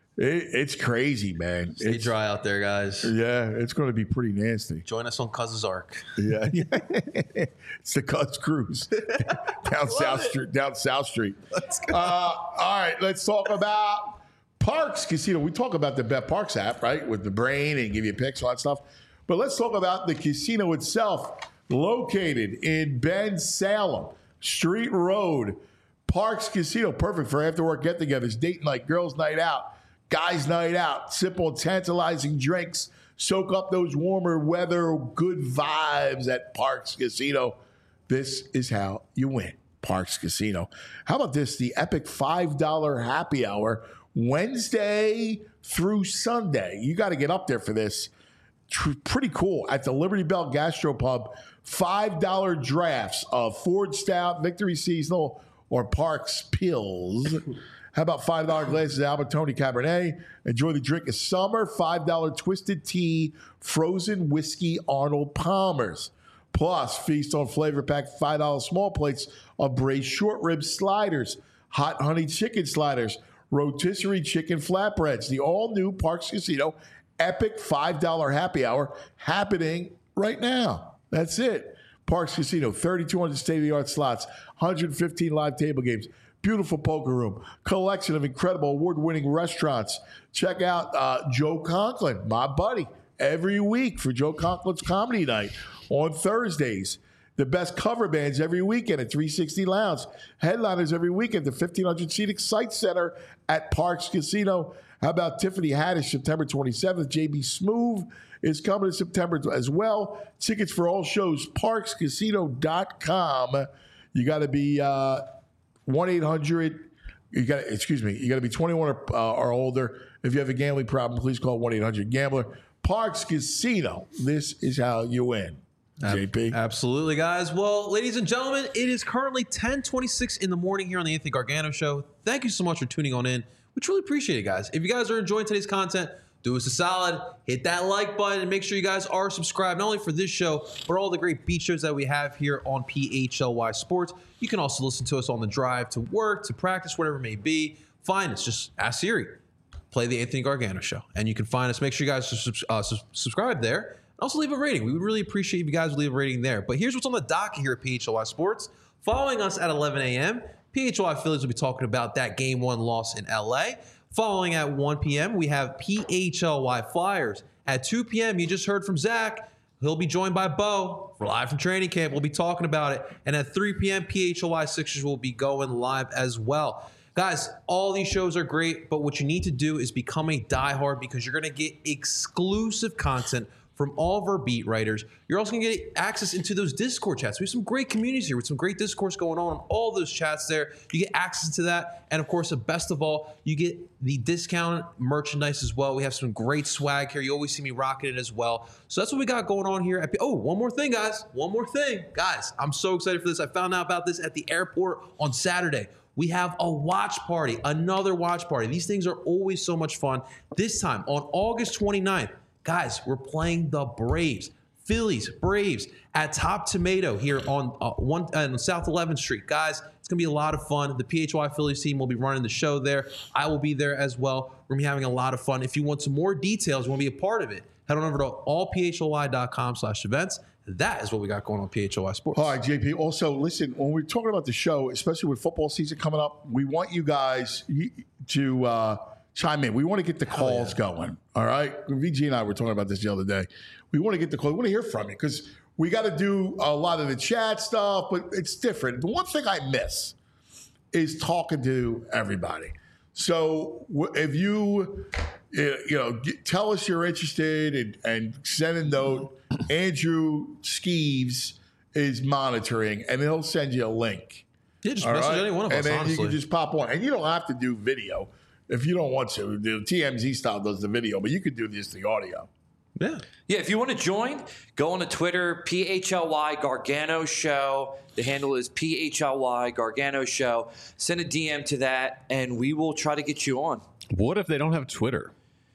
It's crazy, man. Stay It's dry out there, guys. Yeah, it's going to be pretty nasty. Join us on Cuz's Arc. Yeah, it's the Cuz Cruise down South Street. All right, let's talk about Parx Casino. We talk about the Bet Parx app, right, with the brain and give you picks, all that stuff. But let's talk about the casino itself, located in Bensalem, Street Road. Parx Casino, perfect for after-work get-togethers, date night, girls' night out, guys' night out, sip on tantalizing drinks, soak up those warmer weather, good vibes at Parx Casino. This is how you win, Parx Casino. How about this? The epic $5 happy hour, Wednesday through Sunday. You got to get up there for this. Pretty cool. At the Liberty Bell Gastropub, $5 drafts of Ford Stout, Victory Seasonal, or Parx Pills. How about $5 glasses of Albertoni Cabernet? Enjoy the drink of summer. $5 Twisted Tea, frozen whiskey Arnold Palmer's. Plus, feast on flavor pack $5 small plates of braised short rib sliders, hot honey chicken sliders, rotisserie chicken flatbreads. The all-new Parx Casino epic $5 happy hour happening right now. That's it. Parx Casino, 3,200 state-of-the-art slots, 115 live table games, beautiful poker room, collection of incredible award-winning restaurants. Check out Joe Conklin, my buddy, every week for Joe Conklin's Comedy Night on Thursdays. The best cover bands every weekend at 360 Lounge. Headliners every weekend at the 1,500-seat Excite Center at Parx Casino. How about Tiffany Haddish, September 27th? JB Smoove is coming in September as well. Tickets for all shows, parxcasino.com. You got to be 1-800. You got to be 21 or older. If you have a gambling problem, please call 1-800-GAMBLER. Parx Casino. This is how you win. JP. Absolutely, guys. Well, ladies and gentlemen, it is currently 10:26 in the morning here on the Anthony Gargano Show. Thank you so much for tuning on in. We truly appreciate it, guys. If you guys are enjoying today's content, do us a solid, hit that like button, and make sure you guys are subscribed, not only for this show, but all the great beat shows that we have here on PHLY Sports. You can also listen to us on the drive to work, to practice, whatever it may be. Find us. Just ask Siri. Play the Anthony Gargano Show. And you can find us. Make sure you guys subscribe there. Also leave a rating. We would really appreciate if you guys would leave a rating there. But here's what's on the docket here at PHLY Sports. Following us at 11 a.m., PHLY Phillies will be talking about that Game 1 loss in L.A. Following at 1 p.m., we have PHLY Flyers. At 2 p.m., you just heard from Zach. He'll be joined by Bo. We're live from training camp. We'll be talking about it. And at 3 p.m., PHLY Sixers will be going live as well. Guys, all these shows are great, but what you need to do is become a diehard because you're going to get exclusive content from all of our beat writers. You're also going to get access into those Discord chats. We have some great communities here with some great discourse going on all those chats there. You get access to that. And of course, the best of all, you get the discounted merchandise as well. We have some great swag here. You always see me rocking it as well. So that's what we got going on here. One more thing, guys. One more thing. Guys, I'm so excited for this. I found out about this at the airport on Saturday. We have a watch party, another watch party. These things are always so much fun. This time on August 29th, guys, we're playing the Braves, Phillies, Braves at Top Tomato here on South 11th Street. Guys, it's going to be a lot of fun. The PHY Phillies team will be running the show there. I will be there as well. We're going to be having a lot of fun. If you want some more details, you want to be a part of it, head on over to allphly.com/events. That is what we got going on PHLY Sports. All right, JP. Also, listen, when we're talking about the show, especially with football season coming up, we want you guys to chime in. We want to get the calls going. All right? VG and I were talking about this the other day. We want to get the call. We want to hear from you because we got to do a lot of the chat stuff, but it's different. The one thing I miss is talking to everybody. So if you tell us you're interested and send a note, Andrew Skeeves is monitoring, and he'll send you a link. Yeah, just message any one of us, and then honestly. you can just pop on. And you don't have to do video if you don't want to. The TMZ style does the video, but you could do just the audio. Yeah. Yeah, if you want to join, go on to Twitter, PHLY Gargano Show. The handle is PHLY Gargano Show. Send a DM to that, and we will try to get you on. What if they don't have Twitter?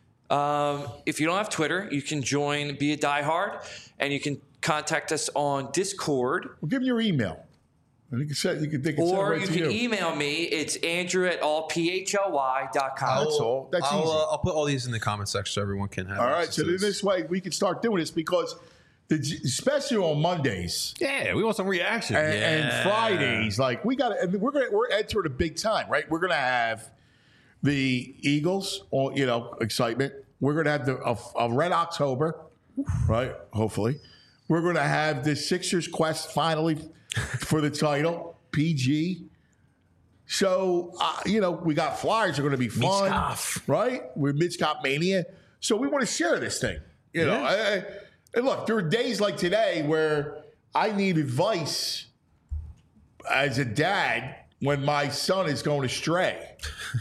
If you don't have Twitter, you can join, be a diehard, and you can contact us on Discord. Well, give me your email. You can send it Or right you to can email me. It's andrew@allphly.com. That's all. That's easy. I'll put all these in the comment section so everyone can have. All right, access so to then this way we can start doing this because, especially on Mondays Yeah, we want some reaction. and Fridays, like we're entering a big time, right? We're gonna have the Eagles, excitement. We're gonna have a Red October, right? Hopefully, we're gonna have the Sixers quest finally for the title, PG. So, we got Flyers are going to be fun, right? We're Mid-Scop Mania. So we want to share this thing. And look, there are days like today where I need advice as a dad when my son is going astray.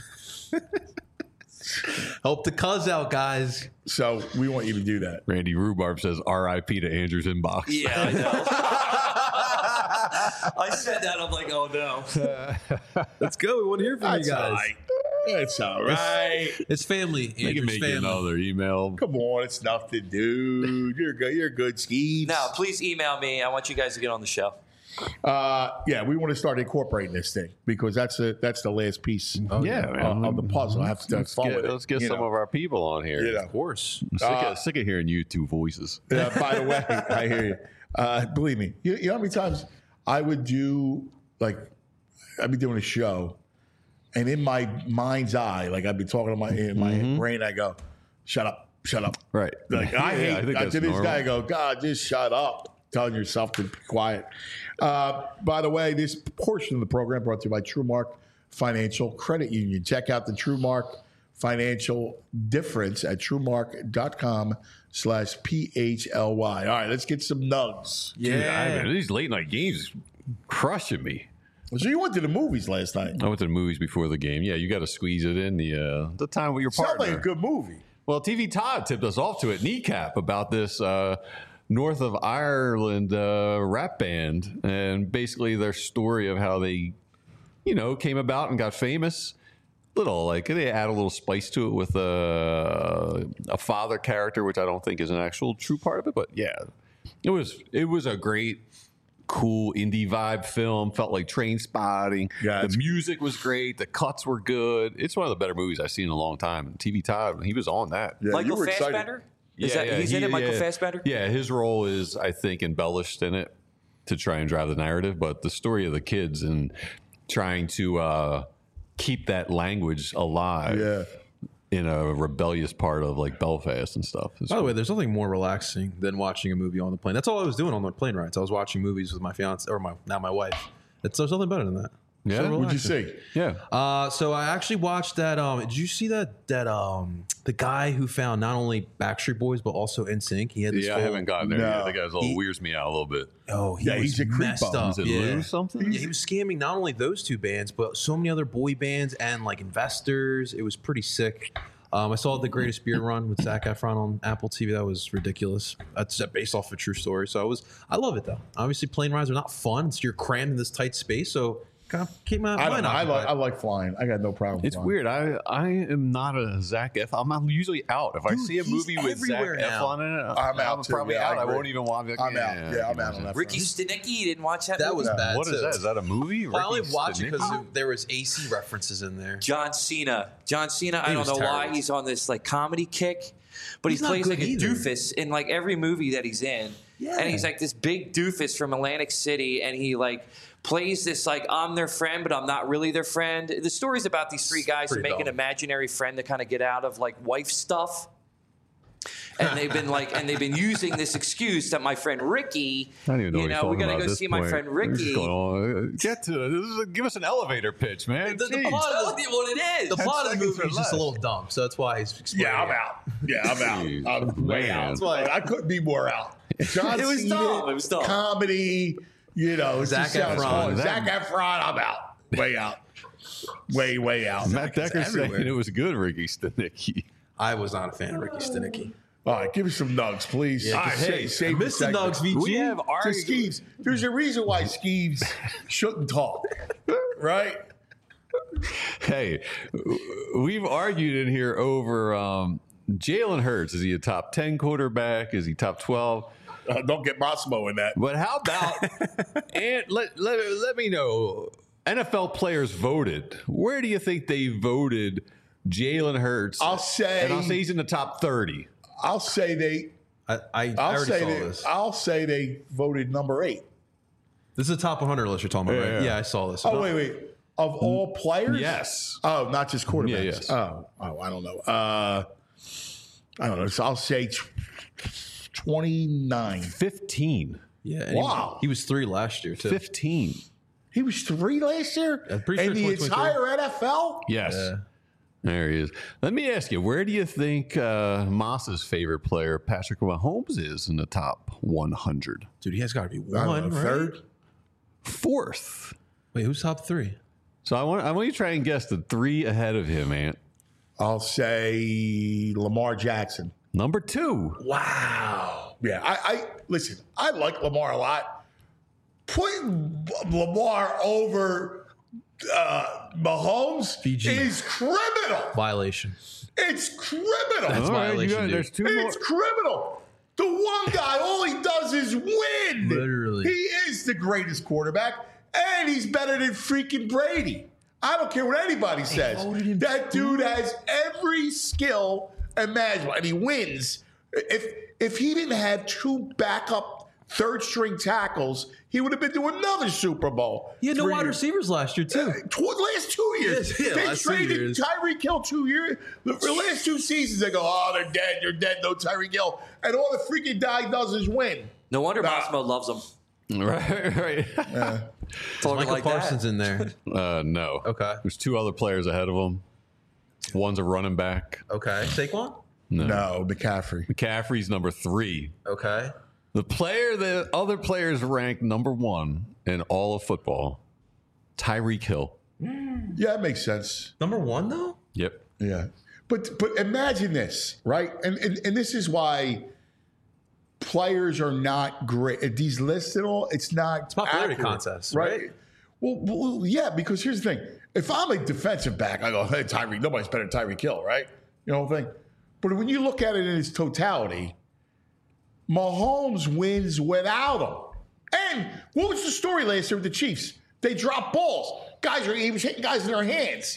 Help the cuz out, guys. So we want you to do that. Randy Rhubarb says R.I.P. to Andrew's inbox. Yeah, I know. I said that. I'm like, oh no. Let's go. We want to hear from you guys. That's all right. It's family. They can Andrew's make family. another email. Come on, it's nothing, dude. You're good. You're good, Skeeves. No, please email me. I want you guys to get on the show. Yeah, we want to start incorporating this thing because that's the last piece. Man. Of the puzzle. I have to Let's get you some know. of our people on here. You know. Of course. I'm sick of hearing you two voices. By the way, I hear you. Believe me, you know how many times I would do I'd be doing a show, and in my mind's eye, like I'd be talking to in my brain, I go, "Shut up, shut up." Right. Like I think that's to this normal. guy, I go, "God, just shut up." Telling yourself to be quiet. By the way, this portion of the program brought to you by TrueMark Financial Credit Union. Check out the TrueMark Financial difference at truemark.com/PHLY. All right, let's get some nugs. Dude, these late night games crushing me. So you went to the movies last night. I went to the movies before the game. Yeah, you got to squeeze it in the time with your Sounds partner. like a good movie. Well, TV Todd tipped us off to it, Kneecap, about this North of Ireland rap band, and basically their story of how they, came about and got famous. They add a little spice to it with a father character, which I don't think is an actual true part of it. But yeah, it was a great, cool indie vibe film. Felt like Train Spotting. Yeah, the music was great. The cuts were good. It's one of the better movies I've seen in a long time. TV Todd, he was on that. Yeah, you Michael were excited. Fassbender? He's in it, Michael Fassbender? Yeah, his role is, I think, embellished in it to try and drive the narrative. But the story of the kids and trying to keep that language alive in a rebellious part of Belfast and stuff. By the way, there's nothing more relaxing than watching a movie on the plane. That's all I was doing on the plane rides. I was watching movies with my fiance or my wife. There's nothing better than that. Yeah, So What'd you relaxing. see? Yeah. So I actually watched that. Did you see that the guy who found not only Backstreet Boys but also NSYNC? He had this I haven't gotten there yet. No. The guy's all weirds me out a little bit. He was he's a creepo. messed up. Is it Yeah. Lou something? Yeah, he was scamming not only those two bands but so many other boy bands and investors. It was pretty sick. I saw The Greatest Beer Run with Zac Efron on Apple TV. That was ridiculous. That's based off a true story. So I love it though. Obviously, plane rides are not fun. You're crammed in this tight space, so kind of keep my mind occupied. I like flying. I got no problem. It's flying. weird. I am not a Zac Efron. I'm usually out. If I see a movie with Zac everywhere now. Efron in it, I'm out too. probably Yeah, out. I I agree. won't even want to. I'm out. Yeah, I'm out on that. Ricky Stenicki, you didn't watch that That movie? was bad. What is too. that? Is that a movie? Well, I only Ricky watched it because Stenicki? there was AC references in there. John Cena. I don't was know why terrible. he's on this comedy kick, but He's he not plays good like a either. doofus in every movie that he's in. Yeah. And he's like this big doofus from Atlantic City, and he plays this I'm their friend, but I'm not really their friend. The story's about these three guys who pretty make an dumb. imaginary friend to kind of get out of wife stuff. And they've been using this excuse that my friend Ricky, I don't even know what he's we talking gotta about go at this see my point. friend We're just Ricky. going on. Get to it. Give us an elevator pitch, man. The I'm plot telling of you what it is. the plot of the seconds movie or is just a less. little dumb, so that's why he's explaining. Yeah, I'm it. out. Yeah, I'm out. I'm way Man. out. That's why- I couldn't be more out. John It was Cena, dumb. It was dumb. Comedy, it Zac just sounds Efron. fun. Zac Efron, I'm out. Way out. Way out. Matt Decker saying everywhere. it was good, Ricky Stenicki. I was not a fan of Ricky Stenicki. All right, give me some nugs, please. Yeah, All right, hey, save Mr. the Nugs, segment. VG. We have So argued. Skeeves, there's a reason why Skeeves shouldn't talk, right? Hey, we've argued in here over Jalen Hurts. Is he a top 10 quarterback? Is he top 12? Don't get Massimo in that. But how about and let me know. NFL players voted. Where do you think they voted Jalen Hurts? I'll say he's in the top 30. I'll say they. I already saw this. I'll say they voted number 8. This is a top 100 list you're talking about, right? Yeah, I saw this. Oh, wait. Of all players? Yes. Oh, not just quarterbacks. Yeah, yes. Oh, I don't know. I don't know. So I'll say 29. 15. Yeah. And Wow. He was 3 last year, too. 15. He was 3 last year? I'm pretty in sure the 2023. entire NFL? Yes. Yeah. There he is. Let me ask you, where do you think Moss's favorite player, Patrick Mahomes, is in the top 100? Dude, he has got to be I don't one, know, right? third? 4th. Wait, who's top 3? So I want you to try and guess the 3 ahead of him, Ant. I'll say Lamar Jackson. Number 2. Wow. Yeah, I listen, I like Lamar a lot. Putting Lamar over Mahomes BG. is criminal. Violation. It's criminal. That's violation, dude. There's 2 more. It's criminal. The one guy, all he does is win. Literally. He is the greatest quarterback, and he's better than freaking Brady. I don't care what anybody says. That dude has every skill imaginable, and he wins. If he didn't have 2 backup third-string tackles, he would have been to another Super Bowl. He had no 3 wide years. receivers last year, too. Last 2 years. Yeah, They last 2 traded years. Tyreek Hill 2 years. The last 2 seasons, they go, oh, they're dead, no Tyreek Hill. And all the freaking guy does is win. No wonder Massimo loves him. Right. Talking Michael like Parsons that. in there. No. Okay. There's 2 other players ahead of him. One's a running back. Okay. Saquon? No, McCaffrey. McCaffrey's number 3. Okay. The player that other players ranked number 1 in all of football, Tyreek Hill. Yeah, that makes sense. Number 1, though? Yep. Yeah. But imagine this, right? And this is why players are not great. At these lists and all, it's not popularity accurate, contest, right? right? Well, yeah, because here's the thing. If I'm a defensive back, I go, hey, Tyreek, nobody's better than Tyreek Hill, right? You know what I'm saying? But when you look at it in its totality, Mahomes wins without him. And what was the story last year with the Chiefs? They dropped balls. He was hitting guys in their hands.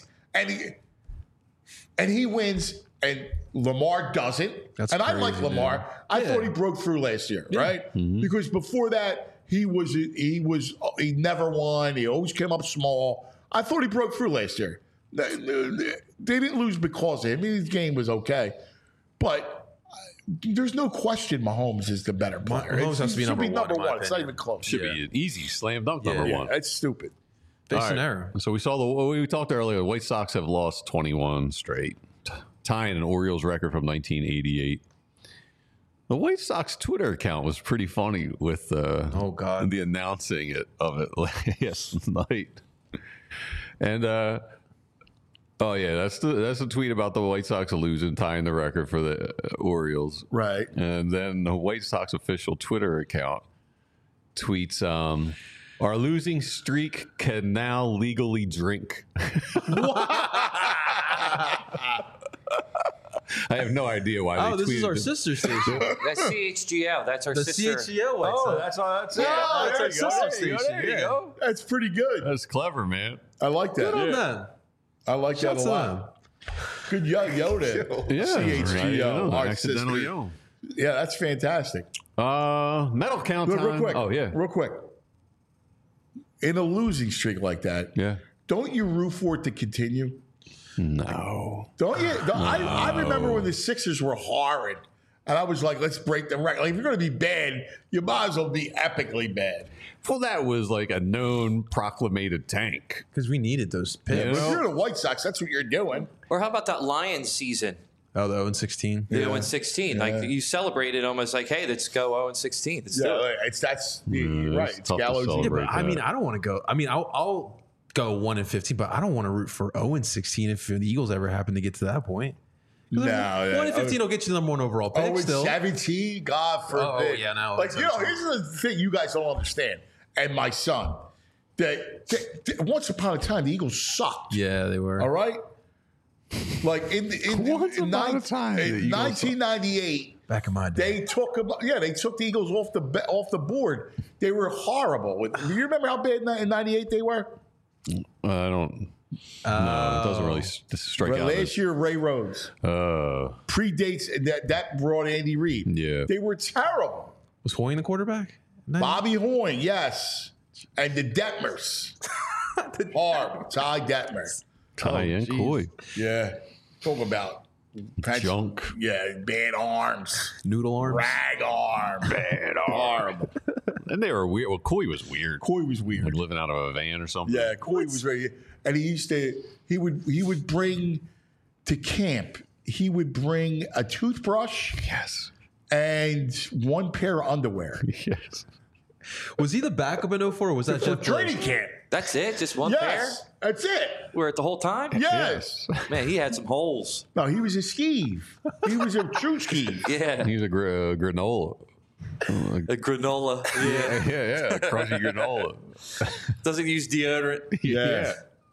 And he wins, and Lamar doesn't. That's and I crazy, like Lamar. dude. I thought he broke through last year, right? Because before that, he never won. He always came up small. I thought he broke through last year. They didn't lose because of him. I mean, his game was okay. But there's no question Mahomes is the better player. Mahomes has to be He should number one, in my It's not opinion. even close. Should be an easy slam dunk number Yeah, 1. that's stupid. Face All and right. error. So we saw we talked earlier, the White Sox have lost 21 straight, tying an Orioles record from 1988. The White Sox Twitter account was pretty funny with Oh, God. the announcing of it last night. And oh yeah, that's the tweet about the White Sox losing, tying the record for the Orioles. Right. And then the White Sox official Twitter account tweets, our losing streak can now legally drink. I have no idea why they Oh, this tweeted is our it. sister station. That's CHGO. That's our The sister. CHGO White Sox. that's all. That's Oh, that's there our you go, sister there you go, station. there you Yeah. go. That's pretty good. That's clever, man. I like that. Good on them. I like that Shouts a to lot. Good Yoda. Yeah, CHGO. Our accidental sister. yo. Yeah, that's fantastic. Medal count Look, time. real quick. Oh yeah, Real quick. In a losing streak like that, yeah. don't you root for it to continue? No. Don't you? I remember when the Sixers were horrid, and I was like, let's break the record. Like, if you're going to be bad, you might as well be epically bad. Well, that was like a known proclamated tank. Because we needed those picks. Yeah. If you're the White Sox, that's what you're doing. Or how about that Lions season? Oh, the 0-16. The 0-16. Like you celebrated almost like, hey, let's go 0-16. Let's do it. That's Mm, right. it's It's tough to gallows. celebrate. Yeah, but I that. mean, I don't want to go. I mean, I'll go 1-15, but I don't want to root for 0-16 if the Eagles ever happen to get to that point. No, 1-15 will get you the number 1 overall pick. Oh, still. 17, God forbid. Oh, yeah, now Like, it's you know, here's the thing you guys don't understand, and my son, that once upon a time, the Eagles sucked. Yeah, they were. All right? Like, in Once upon a time, the Eagles 1998, Back in my day. They took the Eagles off the board. They were horrible. Do you remember how bad in '98 they were? I don't. No, it doesn't really strike out. Last year, Ray Rhodes predates that brought Andy Reid. Yeah, they were terrible. Was Hoying the quarterback? Bobby Hoying, yes, and the Detmers. Horrible. Ty Detmer. Ty and Coy. Yeah, talk about junk. Yeah, bad arms, noodle arms, rag arm, bad arm. And they were weird. Well, Coy was weird. Like living out of a van or something. Yeah, Coy was very. And he would bring to camp. He would bring a toothbrush. Yes. And one pair of underwear. Yes. Was he the backup in 04 or was that Jeff training camp? That's it? Just one pair? Yes, that's it. We're at the whole time? Yes. Man, he had some holes. No, he was a skeeve. He was a true skeeve. Yeah. He was a granola. A granola. Yeah. Yeah. Crunchy granola. Doesn't use deodorant. Yeah.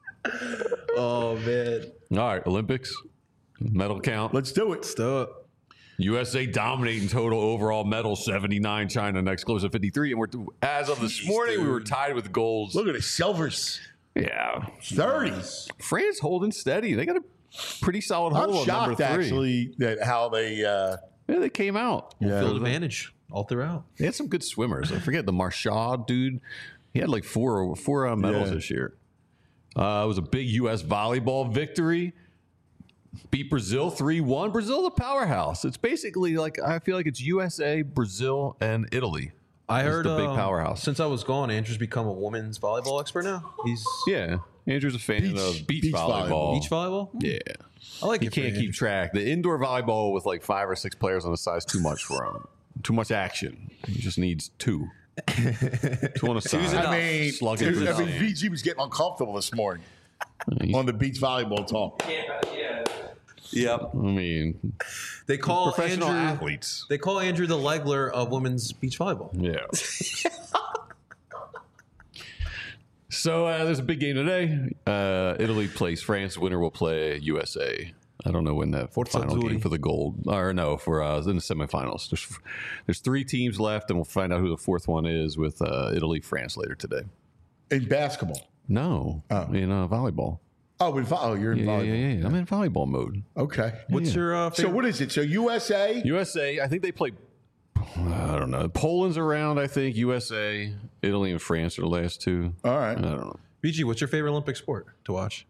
Oh, man. All right, Olympics. Medal count. Let's do it. Let's do it. USA dominating total overall medals, 79. China next close at 53. And as of this morning, we were tied with golds. Look at the silvers. Yeah. 30. France holding steady. They got a pretty solid hold on number 3. Actually, that how they... yeah, they came out. Field advantage all throughout. They had some good swimmers. I forget the Marchand dude. He had like four medals this year. It was a big U.S. volleyball victory. Beat Brazil 3-1. Brazil's a powerhouse. It's basically like, I feel like it's USA, Brazil, and Italy. I heard the big powerhouse. Since I was gone, Andrew's become a women's volleyball expert now. Andrew's a fan of beach volleyball. Beach volleyball? Yeah. I like he can't keep track. The indoor volleyball with like 5 or 6 players on the side is too much for him. Too much action. He just needs 2. 2 on the side. I mean, slugging through the sand. VG was getting uncomfortable this morning on the beach volleyball talk. Yep. I mean, they call professional Andrew, athletes. They call Andrew the Legler of women's beach volleyball. Yeah. So there's a big game today. Italy plays France. Winner will play USA. I don't know when that final game for the gold, or no, for in the semifinals. There's 3 teams left, and we'll find out who the 4th one is with Italy, France later today. In basketball? No, in volleyball. Oh, you're in volleyball. Yeah. I'm in volleyball mode. Okay. What's your favorite? So what is it? So USA? USA, I think they play, I don't know. Poland's around, I think. USA, Italy, and France are the last 2. All right. I don't know. BG, what's your favorite Olympic sport to watch?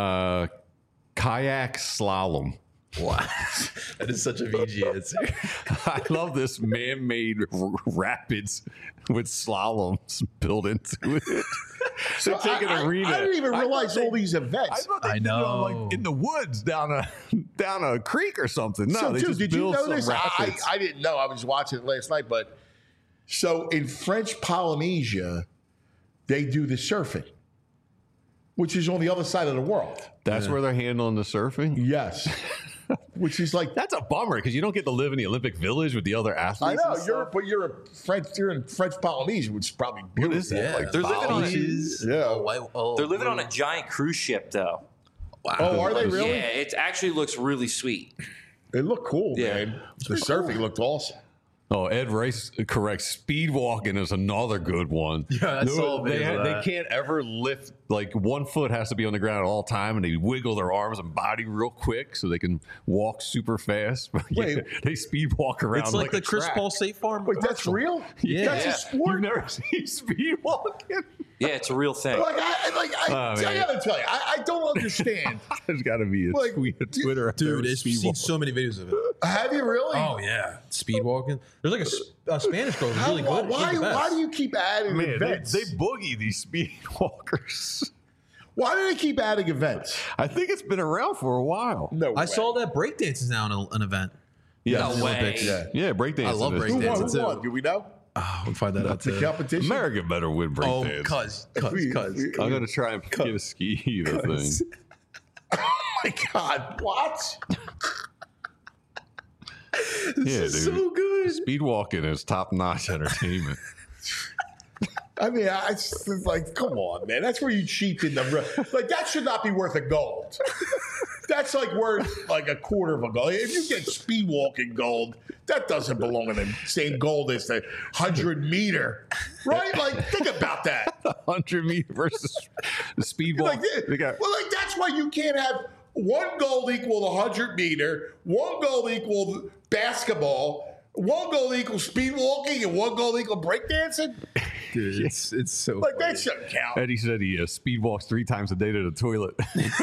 Kayak slalom. Wow. That is such a VG answer. I love this man-made rapids with slaloms built into it. So take an arena. I didn't even realize all these events. I know. Like in the woods down a creek or something. No, so, they dude, just did you build know some this? rapids. I didn't know. I was watching it last night. But so in French Polynesia, they do the surfing, which is on the other side of the world. That's where they're handling the surfing? Yes. Which is like, that's a bummer because you don't get to live in the Olympic Village with the other athletes. I know you're in French Polynesia, which is probably beautiful. What is that? Yeah. Like They're living on yeah. They're living on a giant cruise ship, though. Wow. Oh, are they really? Yeah, it actually looks really sweet. It looked cool, Yeah. man. The surfing looked awesome. Oh, Ed Rice correct. Speed walking is another good one. Yeah, I saw a video of they that. can't ever lift, like one foot has to be on the ground at all time, and they wiggle their arms and body real quick so they can walk super fast. Wait. They speed walk around. It's like the a Chris track. Paul State Farm. Wait, that's real? Yeah. That's a sport? You've never seen speed walking? Yeah, it's a real thing. I gotta tell you, I don't understand. There's got to be a tweet, a Twitter. out there Dude, with I've speed seen walk. so many videos of it. Have you really? Oh, yeah. Speed walking. There's like a Spanish girl who's really good. She's the best. Why do you keep adding Man, events? they boogie these speed walkers. Why do they keep adding events? I think it's been around for a while. No way. I saw that breakdance is now an event. Yeah, No way. Olympics. Yeah, breakdance. I love is- Who won? breakdancing Who won? too. Do we know? Oh, we'll find that out The too. competition? America better win Oh, breakdance. cuz. I'm going to try and get a ski either thing. Oh my God! What? Yeah, dude. So good. Speed walking is top notch entertainment. I mean, it's like, come on, man. That's where you cheat in the like. That should not be worth a gold. That's like worth like a quarter of a gold. If you get speed walking gold, that doesn't belong in the same gold as the 100-meter, right? Like, think about that. 100-meter versus the speed walk. Like that's why you can't have one gold equal the 100-meter, one gold equal basketball, one gold equal speed walking, and one gold equal breakdancing. Dude, it's so like funny. that shouldn't count. Eddie said he speed walks 3 times a day to the toilet.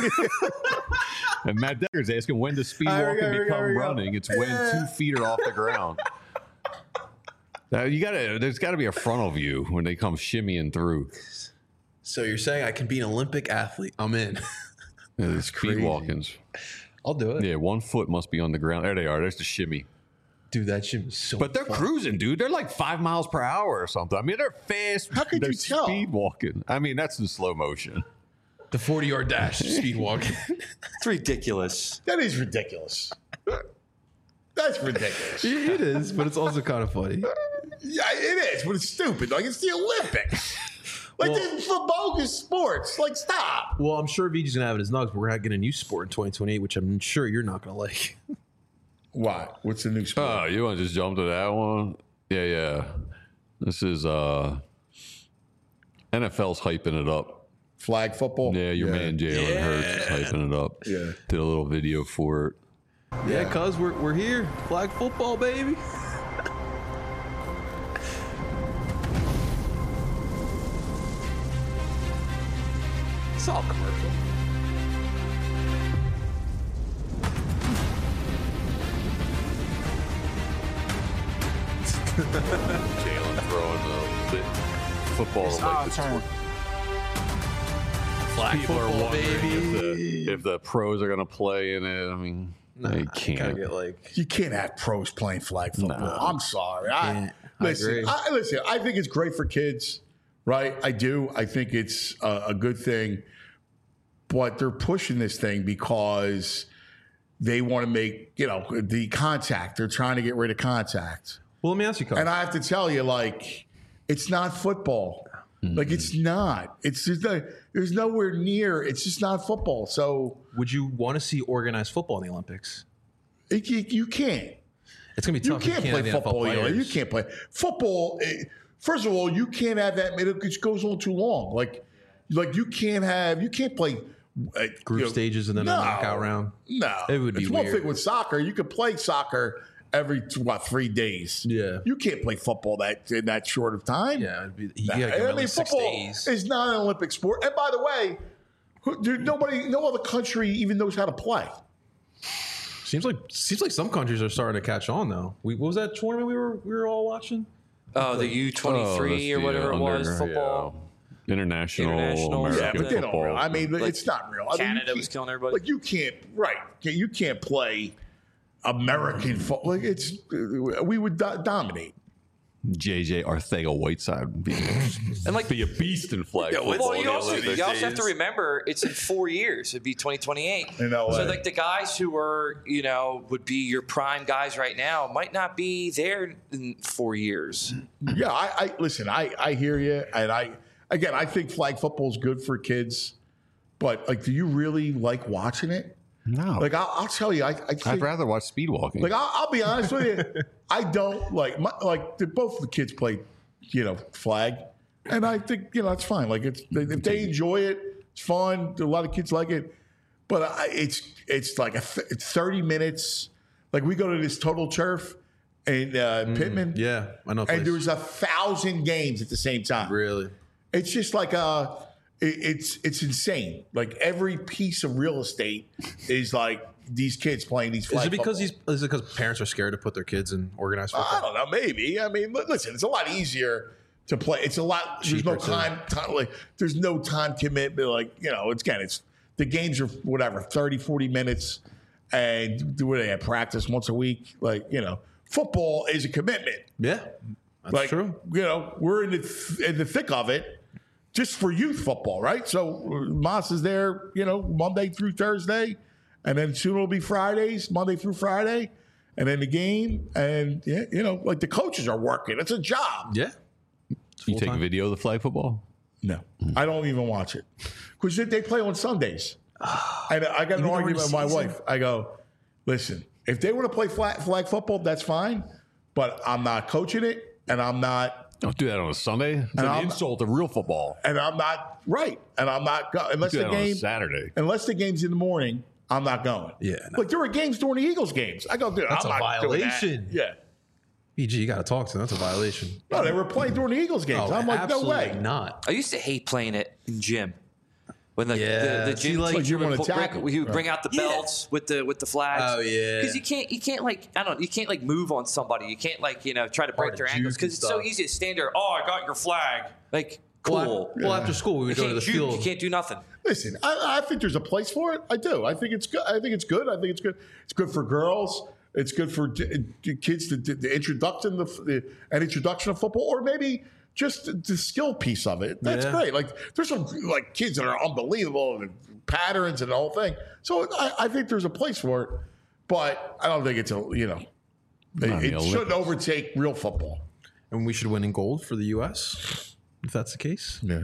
And Matt Decker's asking when does speed walking become running? It's when 2 feet are off the ground. Now, there's got to be a frontal view when they come shimmying through. So you're saying I can be an Olympic athlete? I'm in. It's speed walkings. I'll do it. Yeah, 1 foot must be on the ground. There they are. There's the shimmy. Dude, that shit is so But they're fun. cruising, dude. They're like 5 miles per hour or something. I mean, they're fast. How could they're you tell? speed walking. I mean, that's in slow motion. The 40-yard dash speed walk. It's ridiculous. That is ridiculous. That's ridiculous. It is, but it's also kind of funny. Yeah, it is, but it's stupid. Like, it's the Olympics. Like, this is for bogus sports. Like, stop. Well, I'm sure VG's going to have it in his nugs, but we're going to get a new sport in 2028, which I'm sure you're not going to like. What? What's the new sport? Oh, you want to just jump to that one? Yeah. This is NFL's hyping it up. Flag football? Yeah, your man Jalen Hurts is hyping it up. Yeah. Did a little video for it. Yeah, cuz we're here. Flag football, baby. It's all commercial. Jalen throwing the football to like the turn. Flag People are football, wondering baby. if the pros are going to play in it. I mean, they Gotta can't. get like You can't have pros playing flag football. No. I'm sorry. Can't. I agree. Listen, I think it's great for kids, right? I do. I think it's a good thing. But they're pushing this thing because they want to make, the contact. They're trying to get rid of contact. Well, let me ask you, cuz. And I have to tell you, like, it's not football. Like, it's not. It's just there's nowhere near. It's just not football. So Would you want to see organized football in the Olympics? you can't. It's going to be You tough. can't have play the NFL football. players. You can't play football. First of all, you can't have that. It goes on too long. Like you can't play Group stages and then a knockout round. No, It would be it's one weird. thing with soccer. You could play soccer every 3 days. Yeah. you can't play football in that short of time. Yeah, you gotta give them at least 6 football days. is not an Olympic sport. And by the way, no other country even knows how to play. Seems like some countries are starting to catch on though. What was that tournament we were all watching? Oh, the U23 or whatever it was, football. International International, American Yeah, but they don't. football. Real. I mean, Like, it's not real. I mean, Canada you was can't- killing everybody. Like you can't, right? You can't play American football. Like we would dominate. JJ Arcega-Whiteside would be a beast in flag football. Well, in you the also Olympic have to days. remember it's in 4 years. It'd be 2028. In LA. So like the guys who are, would be your prime guys right now might not be there in 4 years. Yeah, I listen. I hear you, and I think flag football is good for kids, but like, do you really like watching it? No. Like I'll tell you, I think, I'd rather watch speed walking. like I'll be honest with you, I don't like both the kids play, flag, and I think it's fine. Like if they enjoy it, it's fun. A lot of kids like it, but it's like it's 30 minutes. Like we go to this Total Turf in Pittman, Yeah, I know. and there's 1,000 games at the same time. really. It's just like it's insane. Like every piece of real estate is like these kids playing these. Is Flag it because football. is it because parents are scared to put their kids in organized I football? don't know. Maybe. I mean, listen. It's a lot easier to play. It's a lot. There's no Cheaper, too. time. Like there's no time commitment. Like it's the games are whatever 30, 40 minutes, and do what they have practice once a week. Like football is a commitment. Yeah, that's true. We're in the thick of it. Just for youth football, right? So Moss is there, Monday through Thursday, and then soon it'll be Fridays, Monday through Friday, and then the game, and like the coaches are working. It's a job. Yeah. you take a video of the flag football? No, I don't even watch it because they play on Sundays. And I got an Even argument with during my the season? wife. I go, listen, if they want to play flag football, that's fine, but I'm not coaching it, and I'm not. Don't do that on a Sunday. It's an insult to real football. And I'm not right. And I'm not going unless Do the that on a game Saturday. Unless the game's in the morning, I'm not going. Yeah, no. Like there were games during the Eagles games. I go, dude, That's I'm a not doing that. violation. Yeah. PG, you got to talk to them. That's a violation. No, they were playing during the Eagles games. Oh, I'm like, no absolutely way. not. I used to hate playing it in gym. When the See, gym like, teacher you wanna would tackle. he would bring out the belts with the flags. Oh, yeah. Because you can't like you can't like move on somebody. You can't like try to break Hard their to ankles juke because and it's so stuff. easy to stand there. Oh, I got your flag. Like cool. Well, after school, we You would go to can't the juke. field. You can't do nothing. Listen, I think there's a place for it. I do. I think it's good. I think it's good. I think it's good. It's good for girls. It's good for kids to the introduction an introduction of football, or maybe just the skill piece of it. That's great. Like there's some like kids that are unbelievable and patterns and the whole thing. So I think there's a place for it, but I don't think it's it shouldn't overtake real football. And we should win in gold for the U.S. if that's the case. Yeah.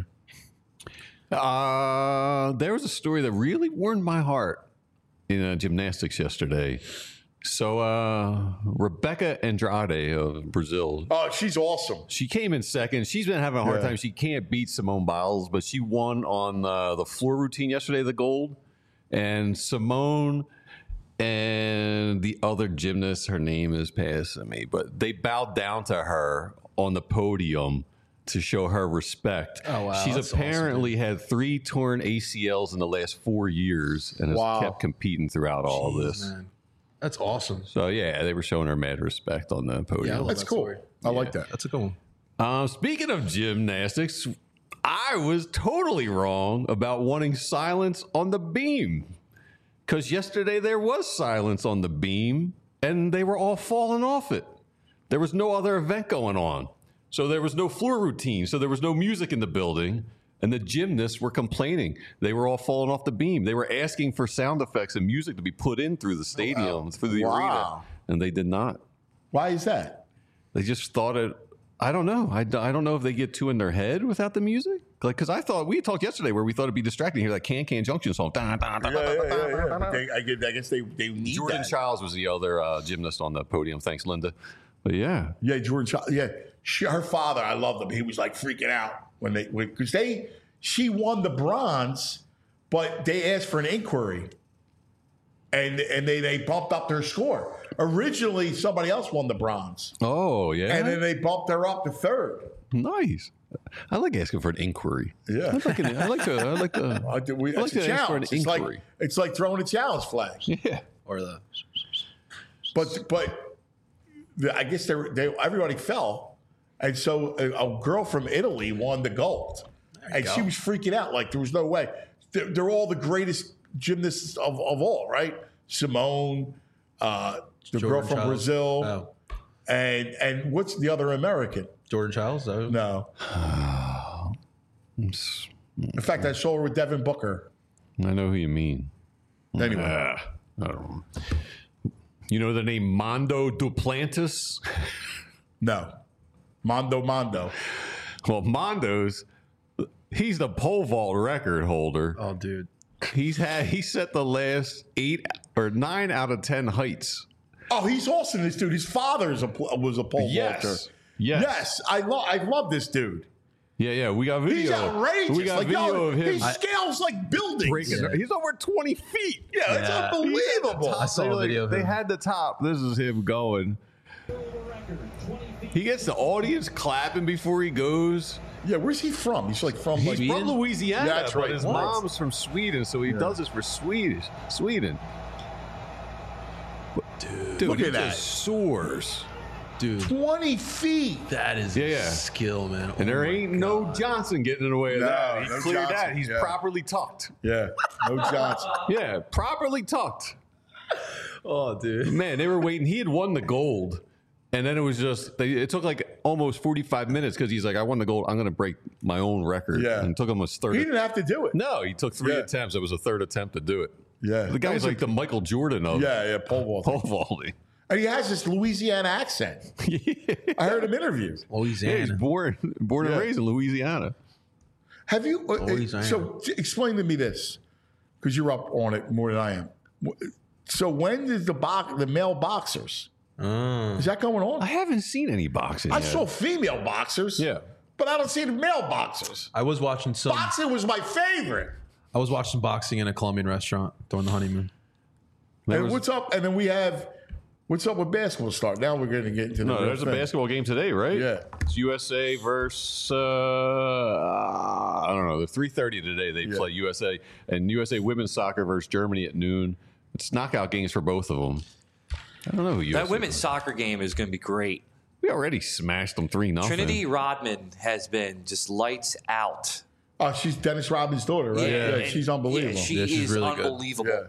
There was a story that really warmed my heart in gymnastics yesterday. So Rebecca Andrade of Brazil. Oh, she's awesome. She came in second. She's been having a hard time. She can't beat Simone Biles, but she won on the floor routine yesterday, the gold. And Simone and the other gymnast, her name is passing me, but they bowed down to her on the podium to show her respect. Oh, wow. She's That's apparently had 3 torn ACLs in the last 4 years and has kept competing throughout all of this. Man. That's awesome. So, yeah, they were showing her mad respect on the podium. Yeah, That's cool. I like that. That's a good one. Speaking of gymnastics, I was totally wrong about wanting silence on the beam. Because yesterday there was silence on the beam, and they were all falling off it. There was no other event going on. So there was no floor routine. So there was no music in the building. And the gymnasts were complaining. They were all falling off the beam. They were asking for sound effects and music to be put in through the stadium, through the arena. And they did not. Why is that? They just thought it. I don't know. I don't know if they get too in their head without the music. Like, because we talked yesterday where we thought it'd be distracting to hear that Can Junction song. I guess they need Jordan that. Childs was the other gymnast on the podium. Thanks, Linda. But yeah. Yeah, Jordan Childs. Yeah. Her father, I loved him. He was like freaking out because she won the bronze, but they asked for an inquiry. And they bumped up their score. Originally, somebody else won the bronze. Oh, yeah. And then they bumped her up to third. Nice. I like asking for an inquiry. Yeah. I like to It's a ask for an challenge. inquiry. It's like throwing a challenge flag. Yeah. Or the But I guess everybody fell. And so a girl from Italy won the gold. And she was freaking out. Like, there was no way. They're all the greatest gymnasts of all, right? Simone, the Jordan girl from Childs. Brazil, Oh. and what's the other American? Jordan Childs? No. In fact, I saw her with Devin Booker. I know who you mean. Anyway. I don't know. You know the name Mondo Duplantis? No. Mondo. Well, Mondo's, he's the pole vault record holder. Oh, dude. He set the last 8 or 9 out of 10 heights. Oh, he's awesome, this dude. His father was a pole vaulter. Yes. I love this dude. Yeah. We got video. He's outrageous. We got video of him. He scales like buildings. He's over 20 feet. Yeah, it's unbelievable. I saw a video of him. They had the top. This is him going. He gets the audience clapping before he goes. Yeah, where's he from? He's like from He's from Louisiana, Yeah, that's right. but his mom's from Sweden, so he does this for Sweden. Dude, look he at that. just soars. Dude, 20 feet. that is skill, man. And there ain't no Johnson getting in the way of that. He no cleared Johnson, that. He's properly tucked. Yeah, no Johnson. Yeah, properly tucked. Oh, dude. Man, they were waiting. He had won the gold. And then it was just, it took like almost 45 minutes because he's like, I won the gold. I'm going to break my own record. Yeah. And it took him a third. He didn't have to do it. No, he took 3 attempts. It was a third attempt to do it. Yeah. The guy's like the Michael Jordan of pole vaulting. pole vaulting. And he has this Louisiana accent. I heard him interviewed. Louisiana. Yeah, he's born and raised in Louisiana. Have you? So explain to me this. because you're up on it more than I am. So when is the male boxers? Is that going on? I haven't seen any boxing I yet. saw female boxers. Yeah. But I don't see the male boxers. I was watching some. Boxing was my favorite. I was watching boxing in a Colombian restaurant during the honeymoon. And what's up? And then we have what's up with basketball start. Now we're going to get into the No, real there's a thing. basketball game today, right? Yeah. It's USA versus I don't know. They're 3:30 today. They play USA and USA women's soccer versus Germany at noon. It's knockout games for both of them. I don't know who USA That women's is. soccer game is going to be great. We already smashed them 3-0. Trinity Rodman has been just lights out. Oh, she's Dennis Rodman's daughter, right? Yeah, and- she's unbelievable. Yeah, she Yeah, she's is really good. unbelievable. Yeah.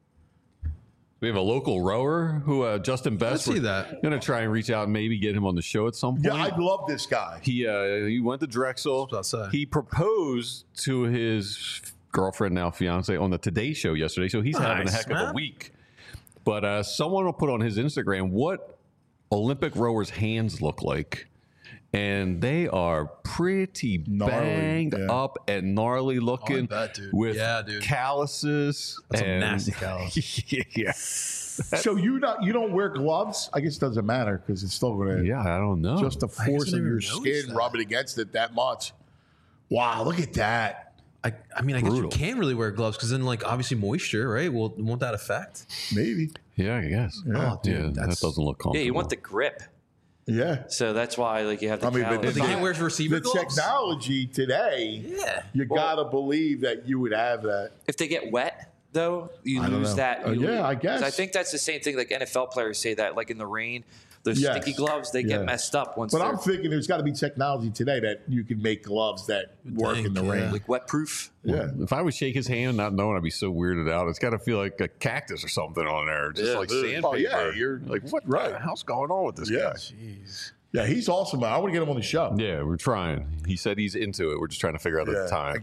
We have a local rower who Justin Best. see We're that. Going to try and reach out and maybe get him on the show at some point. Yeah, I love this guy. He went to Drexel. That's what I was about to say. He proposed to his girlfriend, now fiance, on the Today Show yesterday. So he's having a Nice, heck of a man. week. But someone will put on his Instagram what Olympic rowers' hands look like. And they are pretty Gnarly, banged yeah. up and gnarly looking bet, dude. with Yeah, dude. calluses. That's a and, nasty callus. yeah. So you don't wear gloves? I guess it doesn't matter because it's still going to Yeah, I don't know. just the I force didn't of your even notice skin that. rubbing against it that much. Wow, look at that. I mean, I guess Brutal. you can't really wear gloves because then, like, obviously moisture, right? Well, won't that affect? Maybe. Yeah, I guess. Yeah. Oh, dude, Yeah, that that's- doesn't look comfortable. Yeah, you want the grip. Yeah. So that's why like you have the I mean, but callus. They can't wear receiver the gloves? technology today, Yeah. you got to believe that you would have that. If they get wet, though, you I don't lose know. that. You Yeah, lose- I guess. I think that's the same thing. Like NFL players say that, like in the rain, those Yes. sticky gloves they Yeah. get messed up once But they're I'm thinking there's got to be technology today that you can make gloves that work in the think, rain. yeah. like wet proof. Yeah. If I would shake his hand not knowing, I'd be so weirded out. It's got to feel like a cactus or something on there, just Yeah, like dude. sandpaper. Oh, yeah, you're like, what right. the hell's going on with this Yeah. guy? Yeah, he's awesome. I want to get him on the show. Yeah, we're trying. He said he's into it. We're just trying to figure out the time.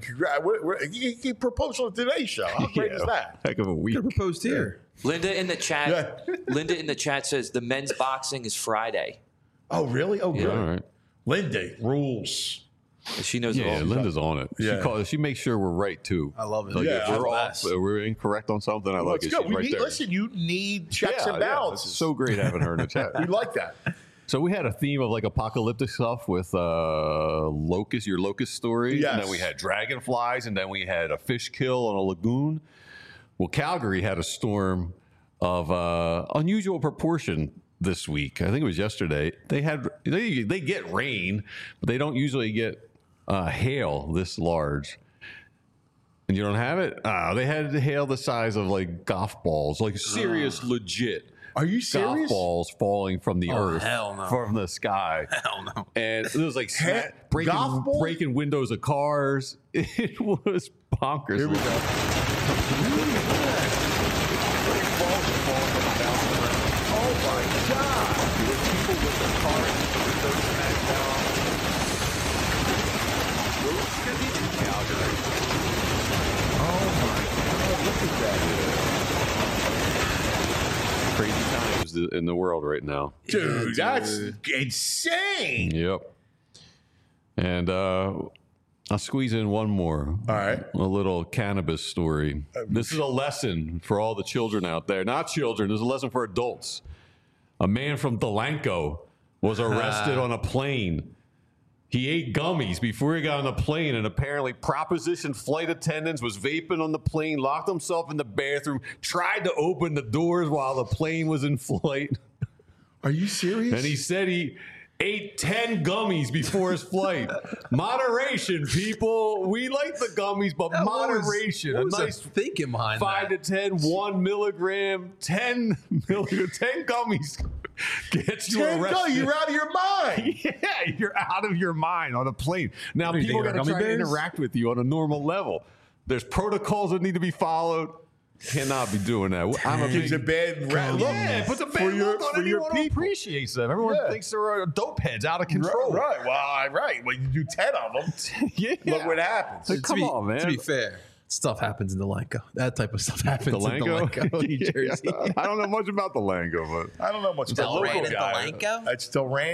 He proposed on today's show. How great is that? Heck of a week. Could have proposed here. Linda in the chat. Yeah. Linda in the chat says the men's boxing is Friday. Oh, really? Oh, good. All right. Linda rules. She knows it Yeah, all. Linda's on it. Yeah. She makes sure we're right too. I love it. Like Yeah, if we're that's off, the best. we're incorrect on something. I like Let's it. go. She's right there. Listen, you need checks Yeah, and yeah. balances. It's so great having her in the chat. We like that. So we had a theme of like apocalyptic stuff with locust, your locust story. Yes. And then we had dragonflies, and then we had a fish kill on a lagoon. Well, Calgary had a storm of unusual proportion this week. I think it was yesterday. They get rain, but they don't usually get hail this large. And you don't have it? They had hail the size of like golf balls, like serious, legit. Are you Golf serious? balls falling from the earth, hell no. from the sky. Hell no. And it was like golf ball? breaking windows of cars. It was bonkers. Here we go. Oh my God. Crazy times in the world right now. Dude, that's insane. Yep. And I'll squeeze in one more. All right. A little cannabis story. This is a lesson for all the children out there. Not children, this is a lesson for adults. A man from Delanco was arrested on a plane. He ate gummies before he got on the plane, and apparently proposition flight attendants was vaping on the plane, locked himself in the bathroom, tried to open the doors while the plane was in flight. Are you serious? And he said he ate 10 gummies before his flight. Moderation, people. We like the gummies, but moderation. What was a the nice thinking behind 5 that? to 10, 1 milligram, 10 milligram, 10 gummies gets you 10 arrested. go, you're out of your mind. Yeah, you're out of your mind on a plane. Now, What do you people think, got to they're try gummy to bears? interact with you on a normal level. There's protocols that need to be followed. Cannot be doing that. I'm a Gives a bad look. yeah, it puts a bad for your, look on for your anyone who people. appreciates them. Everyone Yeah. thinks they're dope heads out of control. Right. Well, you do 10 of them. Yeah. Look what happens. Like, come to be, on, man. To be fair, stuff happens in Delanco. That type of stuff happens in Delanco, New Jersey. I don't know much about the Lango, but I don't know much about Delran local and guy. Delanco? That's Delran.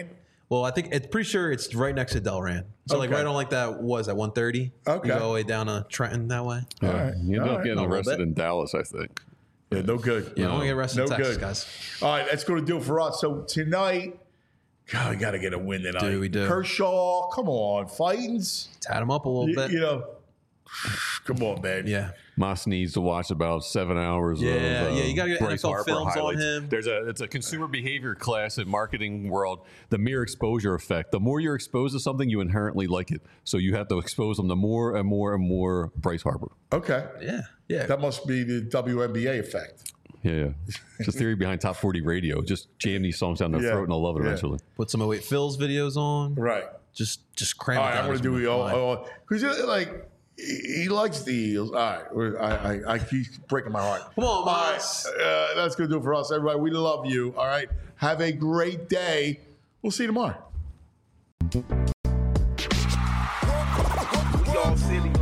Well, I think it's pretty sure it's right next to Delran. So like Okay. right on like that was at 130. Okay. You go all the way down to Trenton that way. All right. You ended All up right. getting A little arrested bit. in Dallas, I think. Yeah, no good. Yeah, I want to get arrested in No Texas, good. guys. All right, that's going to do it for us. So tonight, God, we got to get a win tonight. We do. Kershaw, come on, Fightins. Tat him up a little bit. You know, come on, man. Yeah. Moss needs to watch about 7 hours. Yeah, of, yeah, you gotta get Bryce NFL Harper films on highlights. him. It's a consumer behavior class in marketing world. The mere exposure effect. The more you're exposed to something, you inherently like it. So you have to expose them to more and more and more Bryce Harper. Okay. Yeah. Yeah. That must be the WNBA effect. Yeah. Just theory behind top 40 radio. Just jam these songs down their Yeah. throat and they'll love it Yeah. eventually. Put some 08 Phil's videos on. Right. Just cram All it right, down. I'm going to his do mind. because like he likes the Eagles. All right, I keep breaking my heart. Come on, All right, Moss. that's going to do it for us, everybody. We love you. All right, have a great day. We'll see you tomorrow. We all silly.